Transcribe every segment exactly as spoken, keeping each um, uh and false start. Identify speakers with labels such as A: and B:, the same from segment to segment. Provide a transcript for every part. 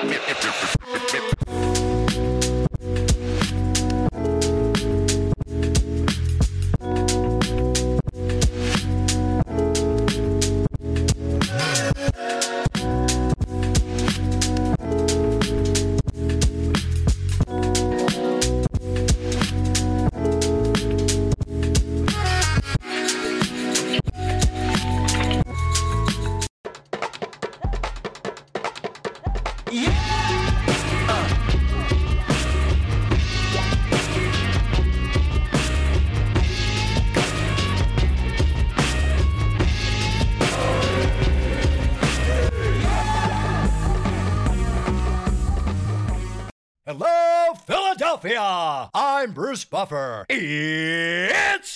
A: Hello, Philadelphia! I'm Bruce Buffer. It's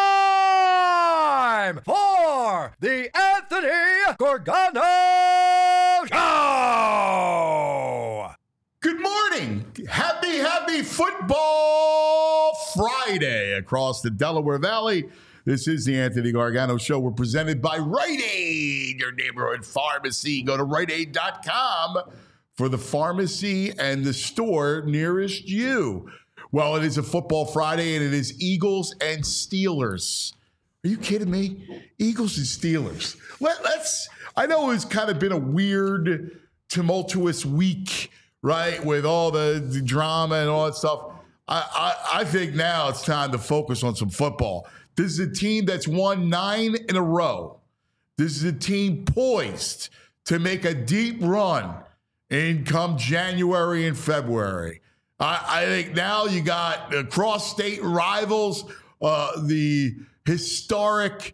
A: time for the Anthony Gargano Show!
B: Good morning. Happy, happy Football Friday across the Delaware Valley. This is the Anthony Gargano Show. We're presented by Rite Aid, your neighborhood pharmacy. Go to rite aid dot com for the pharmacy and the store nearest you. Well, it is a Football Friday, and it is Eagles and Steelers. Are you kidding me? Eagles and Steelers. Let, let's, I know it's kind of been a weird, tumultuous week, right, with all the, the drama and all that stuff. I, I, I think now it's time to focus on some football. This is a team that's won nine in a row. This is a team poised to make a deep run in come January and February. I, I think now you got uh, cross-state rivals, uh, the historic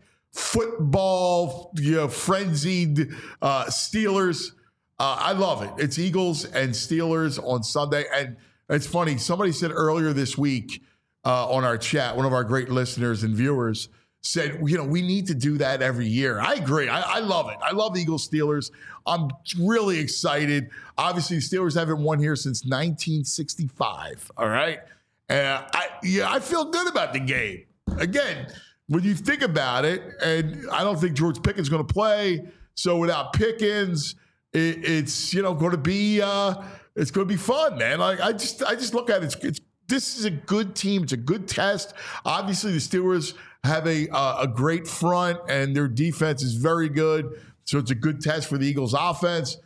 B: football, you know, frenzied uh, Steelers. Uh, I love it. It's Eagles and Steelers on Sunday. And it's funny, somebody said earlier this week uh, on our chat, one of our great listeners and viewers said, you know, we need to do that every year. I agree. I, I love it. I love Eagles Steelers. I'm really excited. Obviously, the Steelers haven't won here since nineteen sixty-five. All right. Uh, I yeah, I feel good about the game. Again, when you think about it, and I don't think George Pickens is going to play. So without Pickens, it, it's you know going to be uh, it's going to be fun, man. Like I just I just look at it. It's, it's this is a good team. It's a good test. Obviously, the Steelers have a uh, a great front, and their defense is very good. So it's a good test for the Eagles' offense.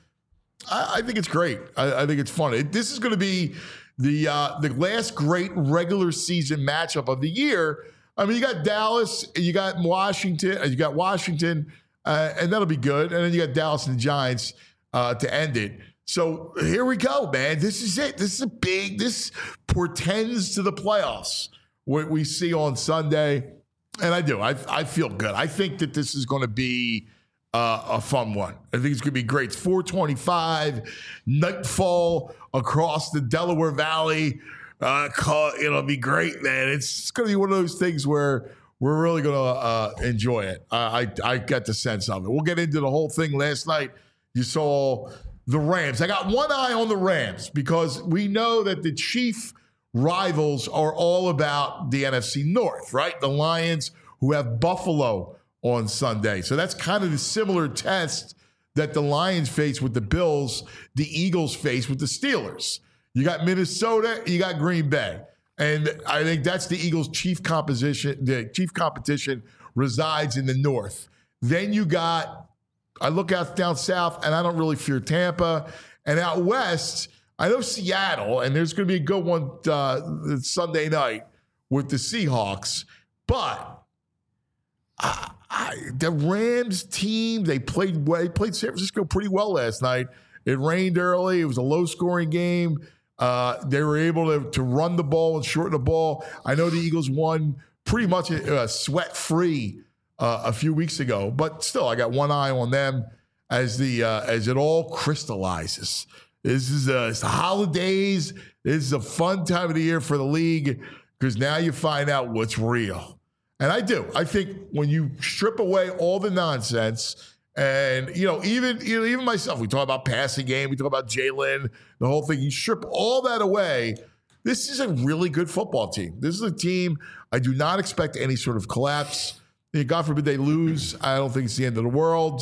B: I, I think it's great. I, I think it's fun. It, this is going to be the uh, the last great regular season matchup of the year. I mean, you got Dallas, you got Washington, you got Washington, uh, and that'll be good. And then you got Dallas and the Giants uh, to end it. So here we go, man. This is it. This is a big. This portends to the playoffs. What we see on Sunday. And I do. I I feel good. I think that this is going to be uh, a fun one. I think it's going to be great. It's four twenty-five, nightfall across the Delaware Valley. Uh, call, it'll be great, man. It's, it's going to be one of those things where we're really going to uh, enjoy it. Uh, I I get the sense of it. We'll get into the whole thing. Last night, you saw the Rams. I got one eye on the Rams because we know that the chief rivals are all about the N F C North, right? The Lions, who have Buffalo on Sunday. So that's kind of the similar test that the Lions face with the Bills, the Eagles face with the Steelers. You got Minnesota, you got Green Bay. And I think that's the Eagles' chief composition, the chief competition resides in the North. Then you got, I look out down south, and I don't really fear Tampa. And out west, I know Seattle, and there's going to be a good one uh, Sunday night with the Seahawks. But uh, I, the Rams team, they played well, they played San Francisco pretty well last night. It rained early. It was a low-scoring game. Uh, they were able to, to run the ball and shorten the ball. I know the Eagles won pretty much uh, sweat-free uh, a few weeks ago, but still, I got one eye on them as the uh, as it all crystallizes. This is uh, it's the holidays. This is a fun time of the year for the league because now you find out what's real. And I do. I think when you strip away all the nonsense. And, you know, even you know, even myself, we talk about passing game, we talk about Jalen, the whole thing. You strip all that away, this is a really good football team. This is a team I do not expect any sort of collapse. God forbid they lose. I don't think it's the end of the world.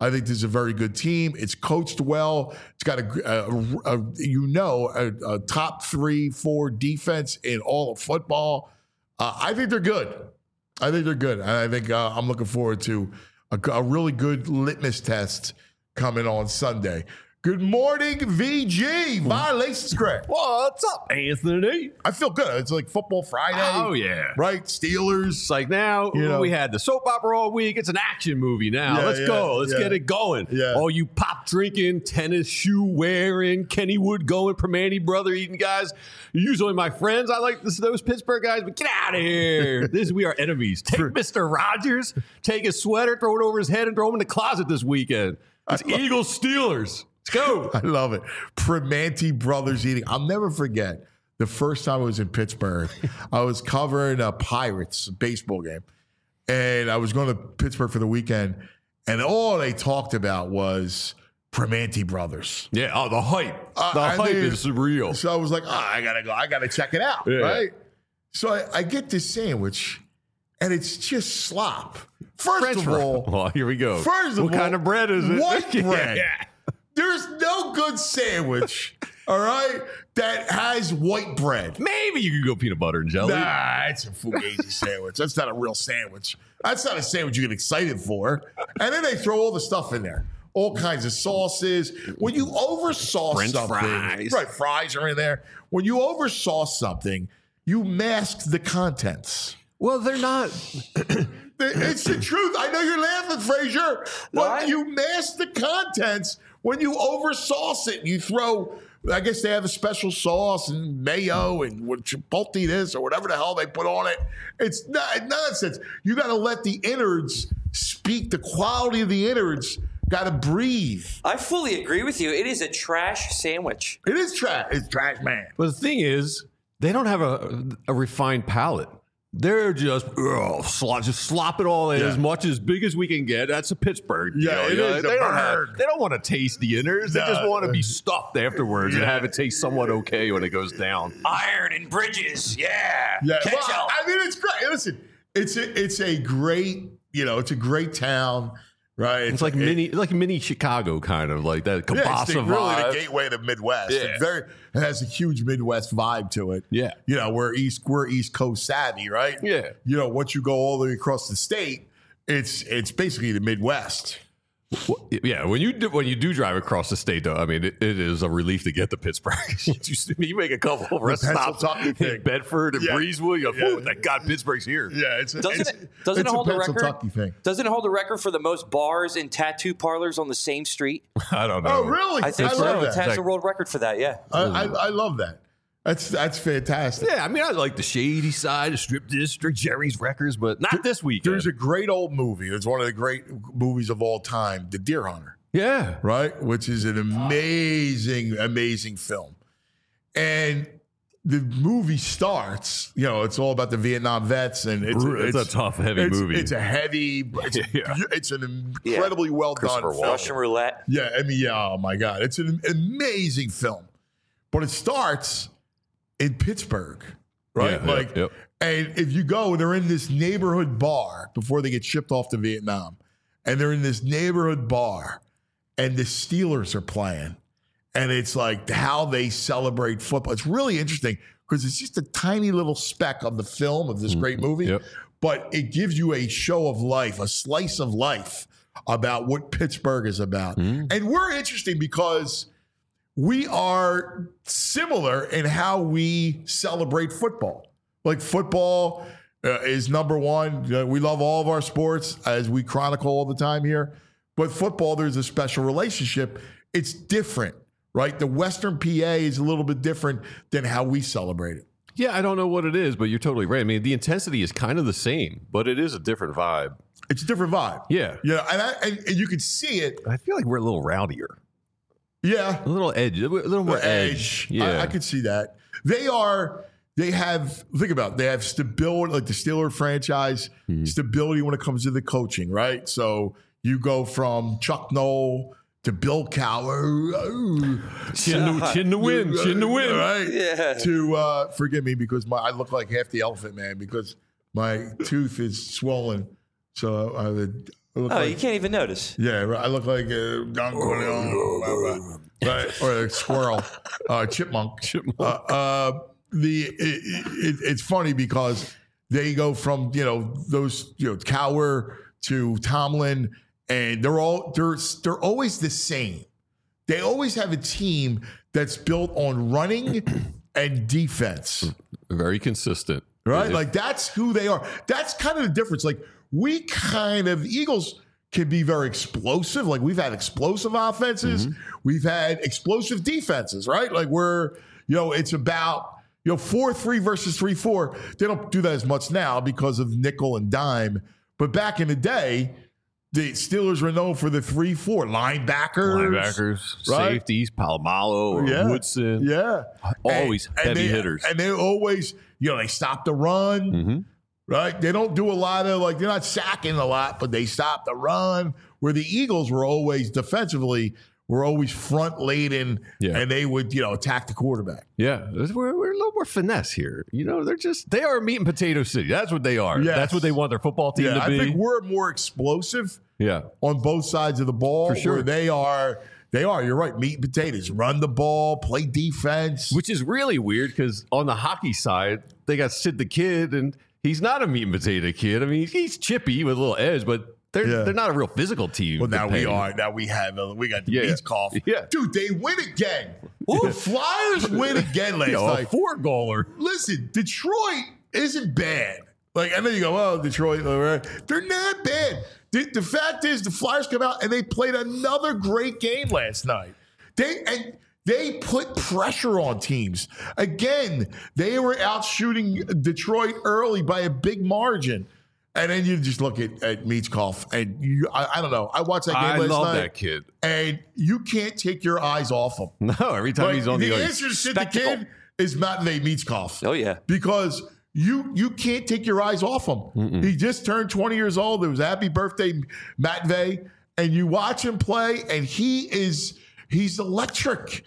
B: I think this is a very good team. It's coached well. It's got a, a, a you know, a, a top three, four defense in all of football. Uh, I think they're good. I think they're good. And I think uh, I'm looking forward to a, a really good litmus test coming on Sunday. Good morning, V G. Violations, Greg.
C: What's up, Anthony?
B: I feel good. It's like Football Friday.
C: Oh, yeah.
B: Right? Steelers.
C: It's like now,
B: You know.
C: we had the soap opera all week. It's an action movie now.
B: Yeah,
C: Let's
B: yeah,
C: go. Let's
B: yeah.
C: get it going.
B: Yeah.
C: All you pop drinking, tennis shoe wearing, Kennywood going, Permane brother eating guys. You're usually my friends. I like this, those Pittsburgh guys, but get out of here. This we are enemies. Take Mister Rogers, take his sweater, throw it over his head, and throw him in the closet this weekend. It's Eagles Steelers. Let's go.
B: I love it. Primanti Brothers eating. I'll never forget the first time I was in Pittsburgh. I was covering a Pirates baseball game, and I was going to Pittsburgh for the weekend, and all they talked about was Primanti Brothers.
C: Yeah, oh, the hype.
B: Uh,
C: the
B: I
C: hype
B: mean,
C: is real.
B: So I was like, oh, I got to go. I got to check it out,
C: Yeah.
B: right? So I, I get this sandwich, and it's just slop. First
C: French
B: of
C: fry.
B: all,
C: Well, here we go.
B: First of
C: what
B: all,
C: kind of bread is it?
B: white bread.
C: Yeah.
B: There's no good sandwich, all right, that has white bread.
C: Maybe you could go peanut butter and jelly.
B: Nah, it's a fugazi sandwich. That's not a real sandwich. That's not a sandwich you get excited for. And then they throw all the stuff in there. All kinds of sauces. When you oversauce
C: French
B: something,
C: fries.
B: right? Fries are in there. When you oversauce something, you mask the contents.
C: Well, they're not.
B: It's the truth. I know you're laughing, Frazier, but
D: What?
B: you mask the contents when you oversauce it. You throw, I guess they have a special sauce and mayo and what chipotle this or whatever the hell they put on it. It's not, nonsense. You got to let the innards speak. The quality of the innards got to breathe.
D: I fully agree with you. It is a trash sandwich.
B: It is trash. It's trash, man.
C: But the thing is, they don't have a, a refined palate. They're just ugh, slop, just slop it all in
B: Yeah.
C: as much as big as we can get. That's a Pittsburgh. you
B: Yeah,
C: know,
B: it
C: you know,
B: is
C: They
B: a
C: don't have.
B: bird.
C: They don't want to taste the innards. They
B: No.
C: just want to be stuffed afterwards and
B: Yeah.
C: have it taste somewhat okay when it goes down.
D: Iron and bridges. Yeah.
B: Yeah,
D: Catch
B: well,
D: up.
B: I mean, it's great. Listen, it's a, it's a great, you know, it's a great town, right?
C: It's like
B: it-
C: mini, like mini Chicago, kind of like that
B: Yeah, it's
C: Kabasa
B: the, really
C: vibe.
B: the gateway to the Midwest.
C: Yeah.
B: It's very, it has a huge Midwest vibe to it.
C: Yeah.
B: You know, we're East, we're East Coast savvy, right?
C: Yeah.
B: You know, once you go all the way across the state, it's it's basically the Midwest.
C: Well, yeah, when you do, when you do drive across the state, though, I mean, it, it is a relief to get to Pittsburgh. you, you make a couple of rest stops
B: Pennsylvania
C: in
B: thing.
C: Bedford and
B: Yeah.
C: Breezeville. You go,
B: Yeah.
C: "Ooh, thank God Pittsburgh's here."
B: Yeah, it's a,
D: Doesn't
B: it's,
D: it- doesn't
B: it's
D: it hold
B: a
D: the record?
B: Pennsylvania thing.
D: Doesn't it hold the record for the most bars and tattoo parlors on the same street?
C: I don't know.
B: Oh, really?
D: I think
B: I
D: so.
B: love
D: It
B: that.
D: has a world record for that. Yeah.
B: I, I, I love that. That's that's fantastic.
C: Yeah, I mean, I like the shady side, the strip district, Jerry's Records, but not this weekend.
B: There's a great old movie. It's one of the great movies of all time, The Deer Hunter.
C: yeah,
B: Right? Which is an amazing, amazing film. And the movie starts, you know, it's all about the Vietnam vets, and it's,
C: It's a tough, heavy
B: it's,
C: movie.
B: It's a heavy, it's,
C: Yeah.
B: it's an incredibly well done
C: Christopher
B: film.
C: Walken.
D: Russian roulette.
B: Yeah, I mean, yeah, oh my God. It's an amazing film. But it starts in Pittsburgh, right?
C: Yeah,
B: like,
C: yep, yep.
B: and if you go, they're in this neighborhood bar before they get shipped off to Vietnam. And they're in this neighborhood bar, and the Steelers are playing. And it's like how they celebrate football. It's really interesting because it's just a tiny little speck of the film of this great movie.
C: Yep.
B: But it gives you a show of life, a slice of life about what Pittsburgh is about. And we're interesting because we are similar in how we celebrate football. Like football uh, is number one. Uh, we love all of our sports, as we chronicle all the time here. But football, there's a special relationship. It's different, right? The Western P A is a little bit different than how we celebrate it.
C: yeah. I don't know what it is, but you're totally right. I mean, the intensity is kind of the same, but it is a different vibe.
B: It's a different vibe.
C: Yeah,
B: Yeah, and, I, and, and you can see it.
C: I feel like we're a little rowdier,
B: Yeah.
C: a little edge, a little more
B: The
C: edge.
B: edge.
C: Yeah,
B: I, I could see that. They are, they have, think about it, they have stability, like the Steeler franchise,
C: Hmm.
B: stability when it comes to the coaching, right? So you go from Chuck Noll to Bill Cowher.
C: chin to, chin to win, chin to win.
B: Right?
D: Yeah.
B: To, uh, forgive me because my I look like half the Elephant Man because my tooth is swollen. So I have a, I look
D: Oh,
B: like,
D: you can't even notice.
B: yeah, I look like a Don Corleone, right, or a squirrel, uh, chipmunk.
C: Chipmunk.
B: Uh, uh, the it, it, it's funny because they go from you know those you know Cowher to Tomlin, and they're all they're they're always the same. They always have a team that's built on running and defense.
C: Very consistent.
B: Right?
C: It-
B: Like that's who they are. That's kind of the difference. Like we kind of, the Eagles can be very explosive. Like we've had explosive offenses.
C: Mm-hmm.
B: We've had explosive defenses, right? Like we're, you know, it's about, you know, four three versus three four. They don't do that as much now because of nickel and dime. But back in the day, the Steelers were known for the three four linebackers.
C: Linebackers,
B: right?
C: safeties, Palomalo or
B: Yeah.
C: Woodson.
B: Yeah.
C: Always
B: And- and
C: heavy
B: they-
C: hitters.
B: And they always, you know, they stop the run.
C: Mm-hmm.
B: Right? They don't do a lot of, like, they're not sacking a lot, but they stop the run. Where the Eagles were always defensively, were always front laden,
C: Yeah.
B: and they would, you know, attack the quarterback.
C: Yeah, we're, we're a little more finesse here. You know, they're just, they are a meat and potato city. That's what they are.
B: Yes.
C: That's what they want their football team
B: Yeah,
C: to
B: I
C: be.
B: think we're more explosive
C: yeah.
B: on both sides of the ball.
C: For sure.
B: Where they are, they are, you're right, meat and potatoes. Run the ball, play defense.
C: Which is really weird because on the hockey side, they got Sid the Kid, and he's not a meat and potato kid. I mean, he's chippy with a little edge, but they're
B: Yeah.
C: they're not a real physical team.
B: Well, now we
C: depending.
B: are. Now we have. Uh, we got the
C: Yeah.
B: Beats cough.
C: Yeah.
B: Dude, they win again. The Flyers win again last
C: You know, a
B: night.
C: four goaler.
B: Listen, Detroit isn't bad. Like I know you go, oh, Detroit, all right. They're not bad. The, the fact is, the Flyers come out and they played another great game last night. They and they put pressure on teams again. They were out shooting Detroit early by a big margin. And then you just look at, at Meatskoff, and you, I, I don't know. I watched that game
C: I
B: last
C: love
B: night,
C: that kid.
B: and you can't take your eyes off him.
C: No, every time
B: Like,
C: he's on the,
B: the
C: ice.
B: answer to Sid the
D: Spectacle.
B: Kid is Matvey Meatskoff.
D: Oh, yeah.
B: Because you you can't take your eyes off him.
C: Mm-mm.
B: He just turned twenty years old. It was happy birthday, Matvey. And you watch him play, and he is he's electric.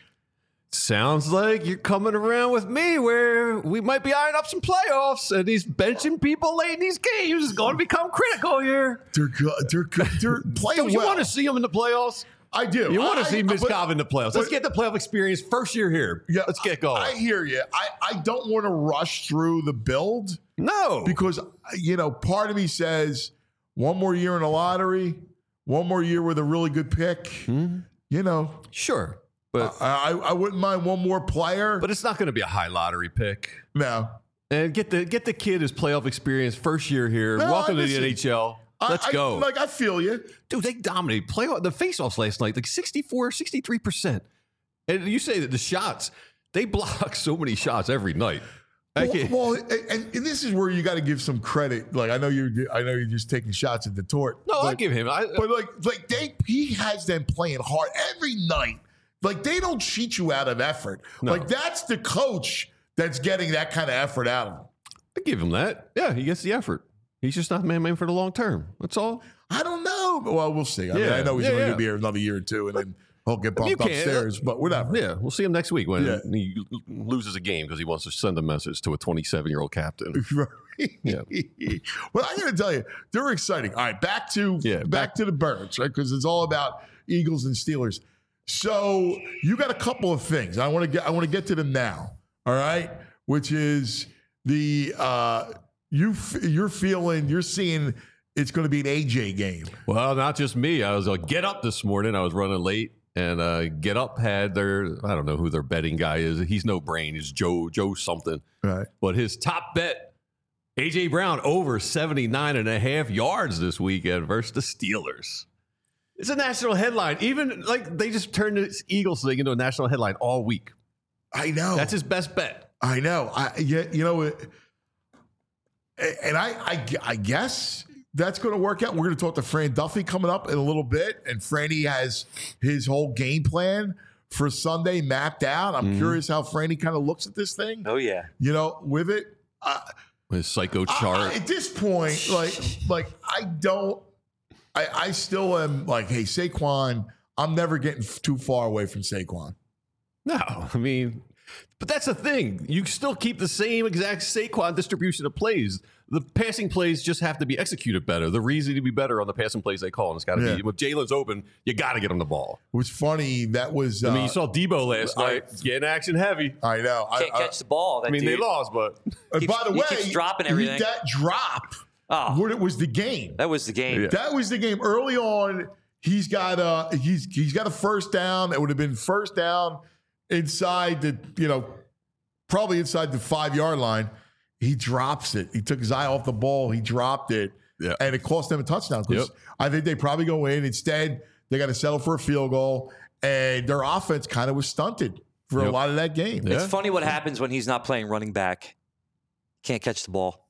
C: Sounds like you're coming around with me where we might be eyeing up some playoffs, and he's benching people late in these games is going to become critical here.
B: They're good. They're good. They're playing
C: Don't you
B: well.
C: want to see him in the playoffs?
B: I do.
C: You want
B: I-
C: to see
B: I-
C: Miz
B: but-
C: Cobb in the playoffs. Let's
B: but-
C: get the playoff experience first year here.
B: Yeah,
C: Let's get going.
B: I hear you. I, I don't want to rush through the build
C: no.
B: because, you know, part of me says one more year in the lottery, one more year with a really good pick.
C: Hmm?
B: You know,
C: Sure. But
B: I, I I wouldn't mind one more player.
C: but it's not going to be a high lottery pick.
B: no.
C: And get the get the kid his playoff experience first year here.
B: No,
C: Welcome
B: I-
C: to the
B: listen,
C: N H L.
B: I-
C: Let's
B: I-
C: go.
B: Like, I feel you.
C: Dude, they dominate playoff the faceoffs last night, like sixty-four, sixty-three percent. And you say that the shots, they block so many shots every night. I
B: Well,
C: can't-
B: well, and, and this is where you got to give some credit. Like I know you're, I know you're just taking shots at the tort.
C: no, I
B: but,
C: give him. I,
B: but like, like they, he has them playing hard every night. Like they don't cheat you out of effort.
C: No.
B: Like that's the coach that's getting that kind of effort out of him.
C: I give him that. Yeah, he gets the effort. He's just not man man for the long term. That's all.
B: I don't know. Well, we'll see. I mean,
C: Yeah.
B: I know he's
C: Yeah,
B: only
C: yeah.
B: going to be here another year or two, and then he'll get
C: I mean,
B: bumped
C: you can't-
B: upstairs. But whatever.
C: Yeah, we'll see him next week when
B: Yeah.
C: he loses a game because he wants to send a message to a twenty-seven year old captain. Yeah.
B: Well, I got to tell you, they're exciting. All right, back to
C: Yeah,
B: back,
C: back-
B: to the Birds, right? Because it's all about Eagles and Steelers. So you got a couple of things. I want to get. I want to get to them now. All right, which is the uh, you. f- You're feeling. You're seeing. It's going to be an A J game.
C: Well, not just me. I was like, get up this morning. I was running late, and uh, Get Up had their, I don't know who their betting guy is. He's no brain. He's Joe, Joe something.
B: Right.
C: But his top bet, A J Brown over seventy-nine and a half yards this weekend versus the Steelers. It's a national headline. Even like they just turned this Eagles thing into a national headline all week.
B: I know.
C: That's his best bet.
B: I know. I yeah, you know, it- and I, I, I guess that's going to work out. We're going to talk to Fran Duffy coming up in a little bit, and Franny has his whole game plan for Sunday mapped out. I'm
C: Mhm.
B: curious how Franny kind of looks at this thing.
D: Oh, yeah.
B: You know, with it. Uh,
C: His psycho
B: I-
C: chart.
B: I- at this point, like, like I don't. I, I still am like, hey, Saquon. I'm never getting f- too far away from Saquon.
C: no, I mean, But that's the thing. You still keep the same exact Saquon distribution of plays. The passing plays just have to be executed better. The reason to be better on the passing plays they call, and it's got to
B: Yeah.
C: be with Jalen's open. You got to get him the ball.
B: It was funny. That was. Uh,
C: I mean, you saw Debo last
B: I-
C: night getting action heavy.
B: I know.
D: Can't
B: I,
D: catch the ball. That
C: I mean,
D: dude.
C: they lost, but
B: I,
D: keeps-
B: by the
D: he
B: way,
D: keeps dropping
B: he-
D: everything.
B: that drop.
D: Oh.
B: What it was the game.
D: That was the game.
C: Yeah.
B: That was the game. Early on, he's got a he's he's got a first down. It would have been first down inside the you know probably inside the five yard line. He drops it. He took his eye off the ball. He dropped it,
C: Yeah.
B: and it cost them a touchdown. 'Cause
C: Yep.
B: I think they probably go in instead. They got to settle for a field goal, and their offense kind of was stunted for a
C: Yep.
B: lot of that game.
C: Yeah.
D: It's funny what happens when he's not playing running back. Can't catch the ball.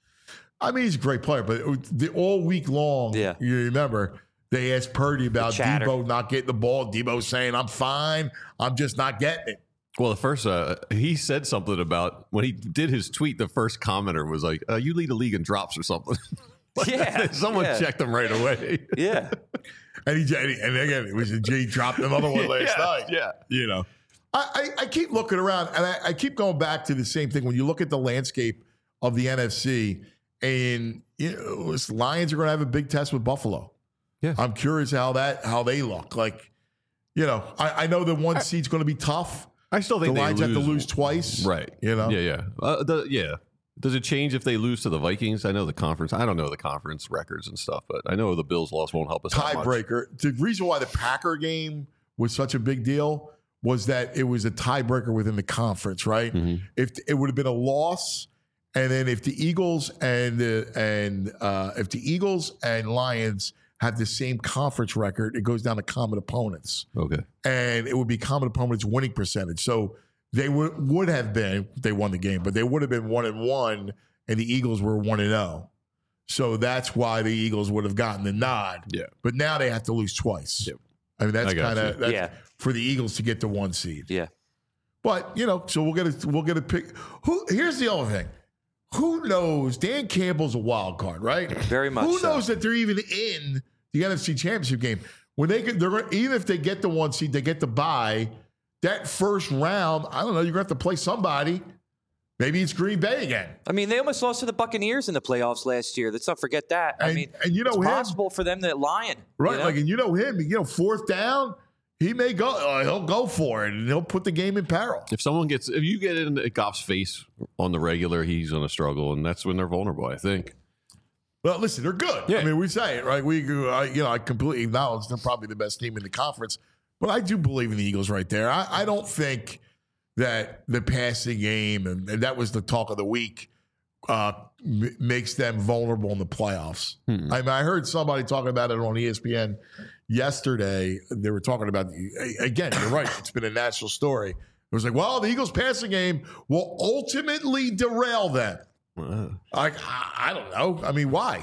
B: I mean, he's a great player, but it was the, all week long,
D: Yeah.
B: you remember, they asked Purdy about
D: chatter.
B: Debo not getting the ball. Debo saying, I'm fine. I'm just not getting it.
C: well, the first uh, he said something about when he did his tweet. The first commenter was like, uh, "You lead the league in drops or something." Like,
D: Yeah,
C: someone
D: yeah.
C: checked him right away.
D: Yeah.
B: And he and again, it was a G dropped another one last
C: Yeah,
B: night.
C: yeah.
B: You know. I, I, I keep looking around and I, I keep going back to the same thing. When you look at the landscape of the N F C, and you know, it's- Lions are going to have a big test with Buffalo.
C: Yeah.
B: I'm curious how that how they look. Like, you know, I, I know the one seed's going to be tough.
C: I still think
B: The
C: they
B: Lions
C: lose.
B: have to lose twice.
C: Right.
B: You know?
C: Yeah, yeah. Uh, the, yeah. Does it change if they lose to the Vikings? I know the conference. I don't know the conference records and stuff, but I know the Bills' loss won't help us that much.
B: Tiebreaker. The reason why the Packer game was such a big deal was that it was a tiebreaker within the conference, right?
C: Mhm.
B: If it would have been a loss, and then if the Eagles and the and uh, if the Eagles and Lions have the same conference record, it goes down to common opponents,
C: Okay.
B: and it would be common opponents winning percentage. So they would would have been they won the game, but they would have been one and one, and the Eagles were one and zero. So that's why the Eagles would have gotten the nod.
C: Yeah.
B: But now they have to lose twice.
C: Yep.
B: I mean, that's
C: I got
B: kind of
C: you.
B: that's
D: Yeah.
B: for the Eagles to get the one seed.
D: Yeah.
B: But you know, so we'll get a we'll get a pick. Who? Here's the other thing. Who knows? Dan Campbell's a wild card, right?
D: Very much
B: Who
D: so.
B: knows that they're even in the N F C Championship game when they get, they're going even if they get the one seed, they get the bye. That first round, I don't know. You're going to have to play somebody. Maybe it's Green Bay again.
D: I mean, they almost lost to the Buccaneers in the playoffs last year. Let's not forget that. I
B: And-
D: mean,
B: and you know
D: it's
B: him.
D: possible for them to lion.
B: Right,
D: you know?
B: like, and you know him, you know, fourth down, he may go, uh, he'll go for it, and he'll put the game in peril.
C: If someone gets, if you get in Goff's face on the regular, he's going to struggle, and that's when they're vulnerable, I think.
B: Well, listen, they're good.
C: Yeah.
B: I mean, we say it, right? We, I, you know, I completely acknowledge they're probably the best team in the conference, but I do believe in the Eagles right there. I, I don't think that the passing game, and, and that was the talk of the week, uh, m- makes them vulnerable in the playoffs.
C: Hmm.
B: I mean, I heard somebody talking about it on E S P N yesterday. They were talking about, again, you're right, it's been a national story. It was like, well, the Eagles passing game will ultimately derail them.
C: Uh,
B: I, I, I don't know. I mean, why?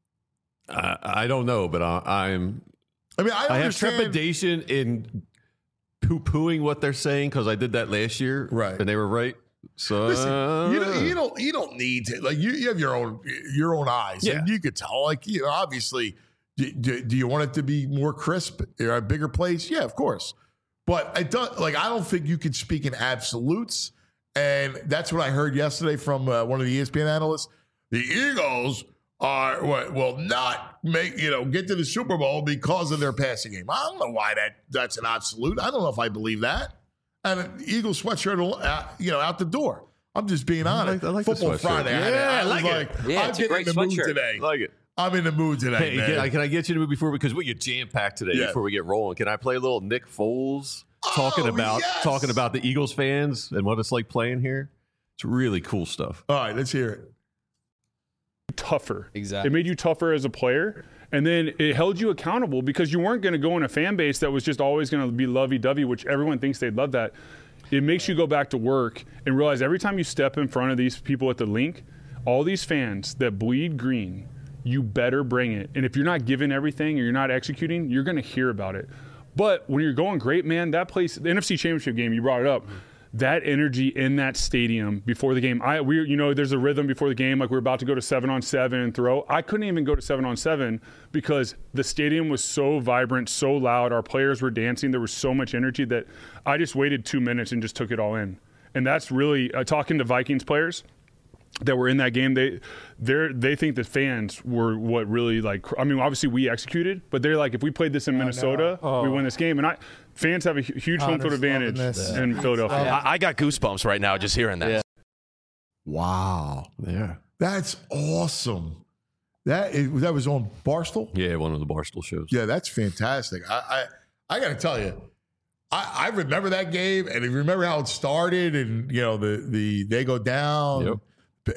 C: I, I don't know, but I, I'm.
B: I mean, I,
C: I have
B: understand.
C: trepidation in poo-pooing what they're saying because I did that last year,
B: Right.
C: And they were right. So
B: Listen, you don't, you don't you don't need to like you, you have your own your own eyes,
C: Yeah.
B: and you could tell. Like, you know, obviously, do, do, do you want it to be more crisp or a bigger place? Yeah, of course. But I don't like. I don't think you could speak in absolutes, and that's what I heard yesterday from uh, one of the E S P N analysts. The Eagles are what will not make you know get to the Super Bowl because of their passing game. I don't know why that that's an absolute. I don't know if I believe that. And an Eagles sweatshirt, uh, you know, out the door. I'm just being honest.
C: I like the
B: Football
C: sweatshirt.
B: Friday. I,
C: Yeah,
B: I
C: I
B: was
C: like
B: like,
C: it.
D: Yeah,
B: I'm
D: it's a
B: getting
D: great
B: in the mood
D: sweatshirt.
B: today.
C: I like it.
B: I'm in the mood today,
C: Hey,
B: man.
C: can I, can I get you to move before because we get jam packed today
B: Yeah.
C: before we get rolling? Can I play a little Nick Foles talking
B: Oh,
C: about
B: yes!
C: talking about the Eagles fans and what it's like playing here? It's really cool stuff.
B: All right, let's hear it.
E: Tougher.
F: Exactly.
E: It made you tougher as a player. And then it held you accountable because you weren't going to go in a fan base that was just always going to be lovey-dovey, which everyone thinks they'd love that. It makes you go back to work and realize every time you step in front of these people at the link, all these fans that bleed green, you better bring it. And if you're not giving everything or you're not executing, you're going to hear about it. But when you're going great, man, that place, the N F C Championship game, you brought it up. That energy in that stadium before the game, I we you know there's a rhythm before the game, like we're about to go to seven on seven and throw. I couldn't even go to seven on seven because the stadium was so vibrant, so loud. Our players were dancing. There was so much energy that I just waited two minutes and just took it all in. And that's really uh, talking to Vikings players that were in that game. They they they think the fans were what really like. I mean, obviously we executed, but they're like, if we played this in Minnesota, oh. we win this game. And I fans have a huge home field advantage yeah. in Philadelphia.
F: I, I got goosebumps right now just hearing that.
B: Yeah. Wow.
C: Yeah.
B: That's awesome. That is, that was on Barstool?
C: Yeah, one of the Barstool shows.
B: Yeah, that's fantastic. I I, I got to tell you, I, I remember that game, and I remember how it started, and you know the the they go down.
C: Yep.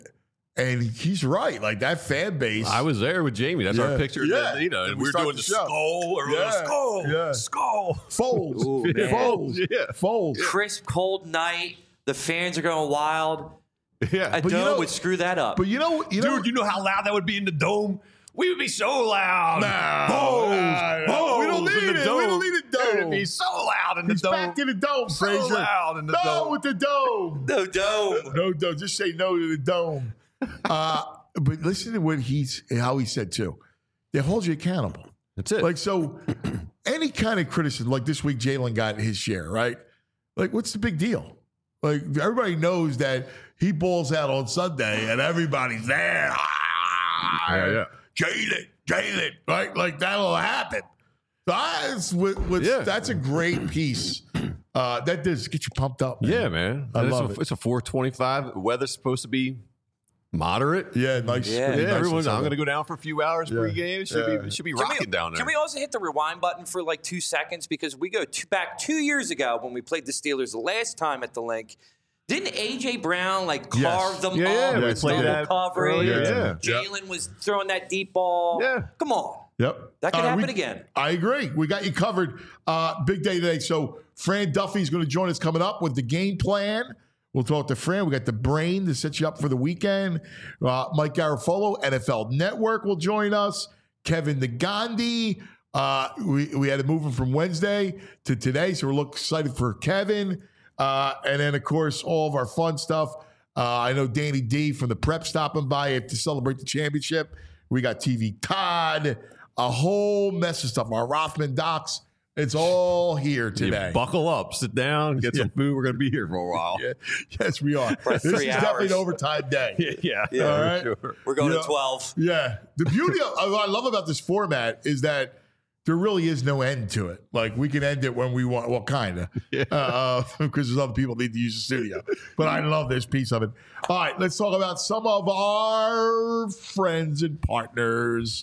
B: And he's right. Like that fan base.
C: I was there with Jamie. That's
B: yeah.
C: our picture.
B: Yeah.
C: That, you know, and we, we were doing the, the skull or
B: yeah.
C: skull.
B: Yeah.
C: Skull.
B: Folds.
D: Ooh,
B: Folds.
C: Yeah.
B: Folds.
D: Crisp, cold night. The fans are going wild.
C: Yeah.
D: A
B: but
D: dome
B: you know,
D: would screw that up.
B: But you know, you know,
C: dude, you know how loud that would be in the dome? We would be so loud.
B: Nah,
C: Bones,
B: nah,
C: bones
B: we don't need
C: in the
B: it.
C: dome.
B: We don't need a dome.
C: It would be so loud in the
B: He's
C: dome.
B: back to the dome,
C: so
B: Frazier.
C: loud in the
B: no
C: dome.
B: with the dome.
D: no dome.
B: No dome. Just say no to the dome. Uh, but listen to what he's how he said too. They hold you accountable.
C: That's it.
B: Like so, any kind of criticism, like this week, Jalen got his share, right? Like, what's the big deal? Like everybody knows that he balls out on Sunday, and everybody's there. Ah,
C: yeah, yeah.
B: Jalen, Jalen, right? Like that'll happen. So I, it's, with, with,
C: Yeah.
B: That's a great piece. Uh, that does get you pumped up, man.
C: Yeah, man.
B: I
C: And
B: love
C: it's a,
B: it.
C: It's a four twenty-five. Weather's supposed to be moderate.
B: Yeah, nice.
D: Yeah.
B: pretty
C: Yeah,
B: nice
C: everyone's.
B: and
C: I'm going to
B: southern.
C: go down for a few hours
B: Yeah.
C: pre-game. It should
B: Yeah.
C: be. It should be
G: Can
C: rocking
G: we,
C: down there.
G: Can we also hit the rewind button for like two seconds? Because we go two, back two years ago when we played the Steelers the last time at the link. Didn't A J Brown like
B: Yes.
G: carve them
C: Yeah,
G: up
C: yeah,
B: we
G: with
B: played
G: double
C: that
G: coverage?
C: earlier, yeah.
G: Jalen was throwing that deep ball.
C: Yeah.
G: Come on.
B: Yep.
G: That could
B: Uh,
G: happen
B: we-
G: again.
B: I agree. We got you covered. Uh, big day today. So Fran Duffy's going to join us coming up with the game plan. We'll talk to Fran. We got the brain to set you up for the weekend. Uh, Mike Garafolo, N F L Network, will join us. Kevin Nagandi. Uh, we, we had to move him from Wednesday to today, so we're looking excited for Kevin. Uh, and then, of course, all of our fun stuff. Uh, I know Danny D from the Prep stopping by to celebrate the championship. We got T V Todd, a whole mess of stuff. Our Rothman docs. It's all here today.
C: You buckle up, sit down, get some food. We're going to be here for a while.
B: Yeah. Yes, we are.
G: For
B: This
G: three
B: is definitely an
G: hours.
B: overtime day.
C: Yeah, yeah,
G: Yeah.
B: All
C: for
B: right.
C: sure.
G: We're going
B: Yeah.
G: to twelve.
B: Yeah. The beauty of what I love about this format is that there really is no end to it. Like we can end it when we want. Well, kind of,
C: Yeah.
B: uh, because there's other people need to use the studio. But I love this piece of it. All right, let's talk about some of our friends and partners.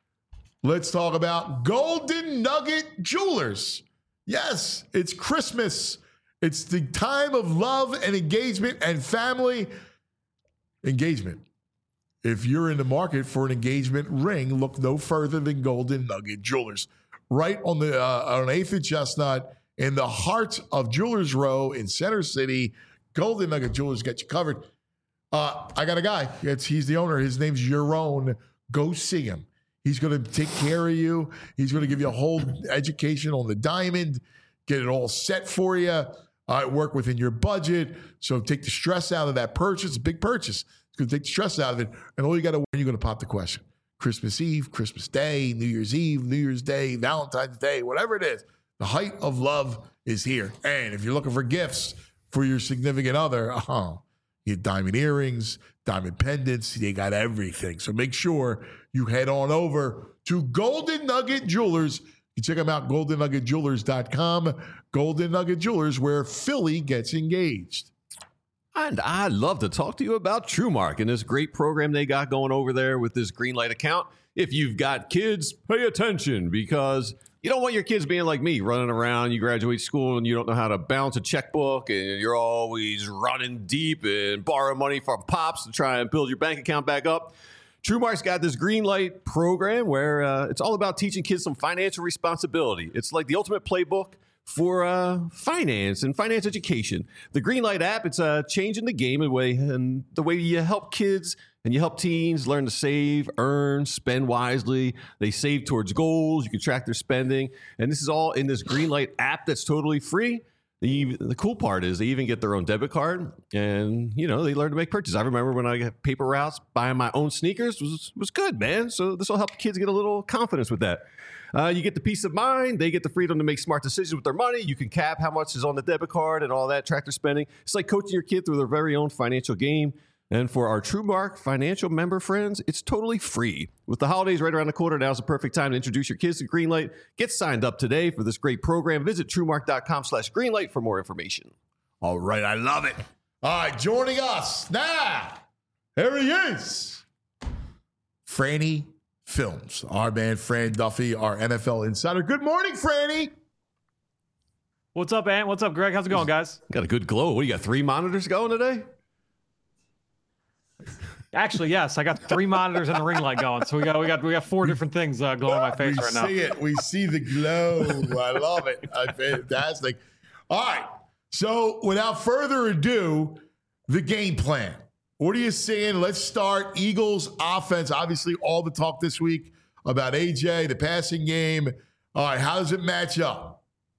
B: Let's talk about Golden Nugget Jewelers. Yes, it's Christmas. It's the time of love and engagement and family engagement. If you're in the market for an engagement ring, look no further than Golden Nugget Jewelers. Right on the uh, on eighth and Chestnut, in the heart of Jewelers Row in Center City, Golden Nugget Jewelers got you covered. Uh, I got a guy. It's, he's the owner. His name's Yaron. Go see him. He's going to take care of you. He's going to give you a whole education on the diamond, get it all set for you, uh, work within your budget. So take the stress out of that purchase. It's a big purchase. It's going to take the stress out of it. And all you got to, you're going to pop the question. Christmas Eve, Christmas Day, New Year's Eve, New Year's Day, Valentine's Day, whatever it is. The height of love is here. And if you're looking for gifts for your significant other, uh-huh, you get diamond earrings, diamond pendants. They got everything. So make sure you head on over to Golden Nugget Jewelers. You check them out, golden nugget jewelers dot com. Golden Nugget Jewelers, where Philly gets engaged.
C: And I'd love to talk to you about TrueMark and this great program they got going over there with this Greenlight account. If you've got kids, pay attention because you don't want your kids being like me, running around. You graduate school and you don't know how to balance a checkbook and you're always running deep and borrow money from pops to try and build your bank account back up. TrueMark's got this Greenlight program where uh, it's all about teaching kids some financial responsibility. It's like the ultimate playbook for uh, finance and finance education. The Greenlight app, it's uh, changing the game in way and the way you help kids and you help teens learn to save, earn, spend wisely. They save towards goals. You can track their spending. And this is all in this Greenlight app that's totally free. The, the cool part is they even get their own debit card, and you know they learn to make purchases. I remember when I got paper routes, buying my own sneakers was was good, man. So this will help the kids get a little confidence with that. Uh, you get the peace of mind. They get the freedom to make smart decisions with their money. You can cap how much is on the debit card and all that, track their spending. It's like coaching your kid through their very own financial game. And for our TrueMark financial member friends, it's totally free. With the holidays right around the corner, now's the perfect time to introduce your kids to Greenlight. Get signed up today for this great program. Visit TrueMark.com slash Greenlight for more information.
B: All right, I love it. All right, joining us now, here he is, Franny Films, our man Fran Duffy, our N F L insider. Good morning, Franny.
H: What's up, Ant? What's up, Greg? How's it going, guys?
C: Got a good glow. What, you got three monitors going today?
H: Actually, yes, I got three monitors and a ring light going. So we got we got we got four different things uh, glowing on my face
B: we
H: right now.
B: We see it. We see the glow. I love it. Uh, fantastic. All right. So without further ado, the game plan. What are you seeing? Let's start. Eagles offense. Obviously, all the talk this week about A J, the passing game. All right. How does it match up?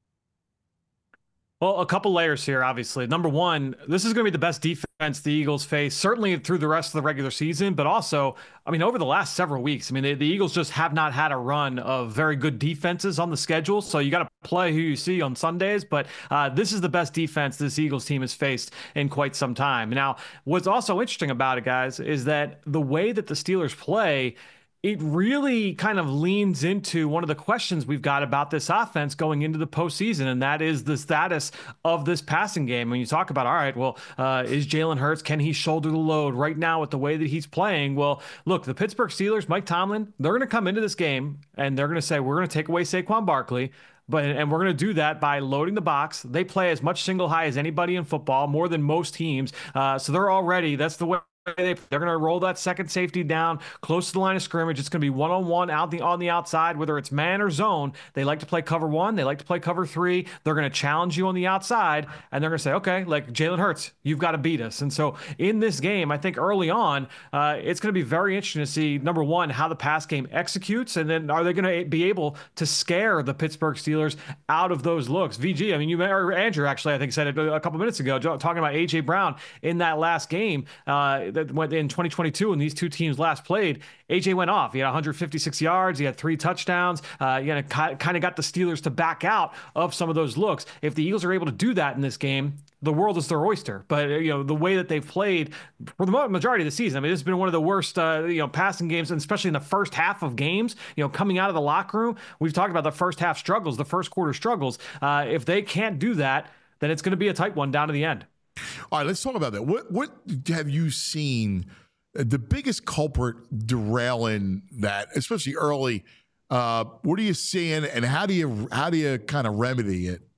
H: Well, a couple layers here, obviously. Number one, this is going to be the best defense the Eagles face, certainly through the rest of the regular season, but also, I mean, over the last several weeks. I mean, the, the Eagles just have not had a run of very good defenses on the schedule, so you got to play who you see on Sundays, but uh, this is the best defense this Eagles team has faced in quite some time. Now, what's also interesting about it, guys, is that the way that the Steelers play, it really kind of leans into one of the questions we've got about this offense going into the postseason, and that is the status of this passing game. When you talk about, all right, well, uh, is Jalen Hurts, can he shoulder the load right now with the way that he's playing? Well, look, the Pittsburgh Steelers, Mike Tomlin, they're going to come into this game, and they're going to say, we're going to take away Saquon Barkley, But and we're going to do that by loading the box. They play as much single high as anybody in football, more than most teams. Uh, so they're already, that's the way. They're going to roll that second safety down close to the line of scrimmage. It's going to be one-on-one out the on the outside, whether it's man or zone. They like to play cover one. They like to play cover three. They're going to challenge you on the outside, and they're going to say, okay, like Jalen Hurts, you've got to beat us. And so in this game, I think early on, uh, it's going to be very interesting to see, number one, how the pass game executes, and then are they going to be able to scare the Pittsburgh Steelers out of those looks? V G, I mean, you or Andrew actually, I think, said it a couple minutes ago, talking about A J Brown in that last game. Uh, that went in twenty twenty-two when these two teams last played. A J went off. He had one hundred fifty-six yards. He had three touchdowns. Uh, you know, kind of got the Steelers to back out of some of those looks. If the Eagles are able to do that in this game, the world is their oyster. But you know, the way that they've played for the majority of the season, I mean, it's been one of the worst, uh, you know, passing games, and especially in the first half of games. You know, coming out of the locker room, we've talked about the first half struggles, the first quarter struggles. Uh, if they can't do that, then it's going to be a tight one down to the end.
B: All right, let's talk about that. What what have you seen the biggest culprit derailing that, especially early? Uh, what are you seeing, and how do you how do you kind of remedy it?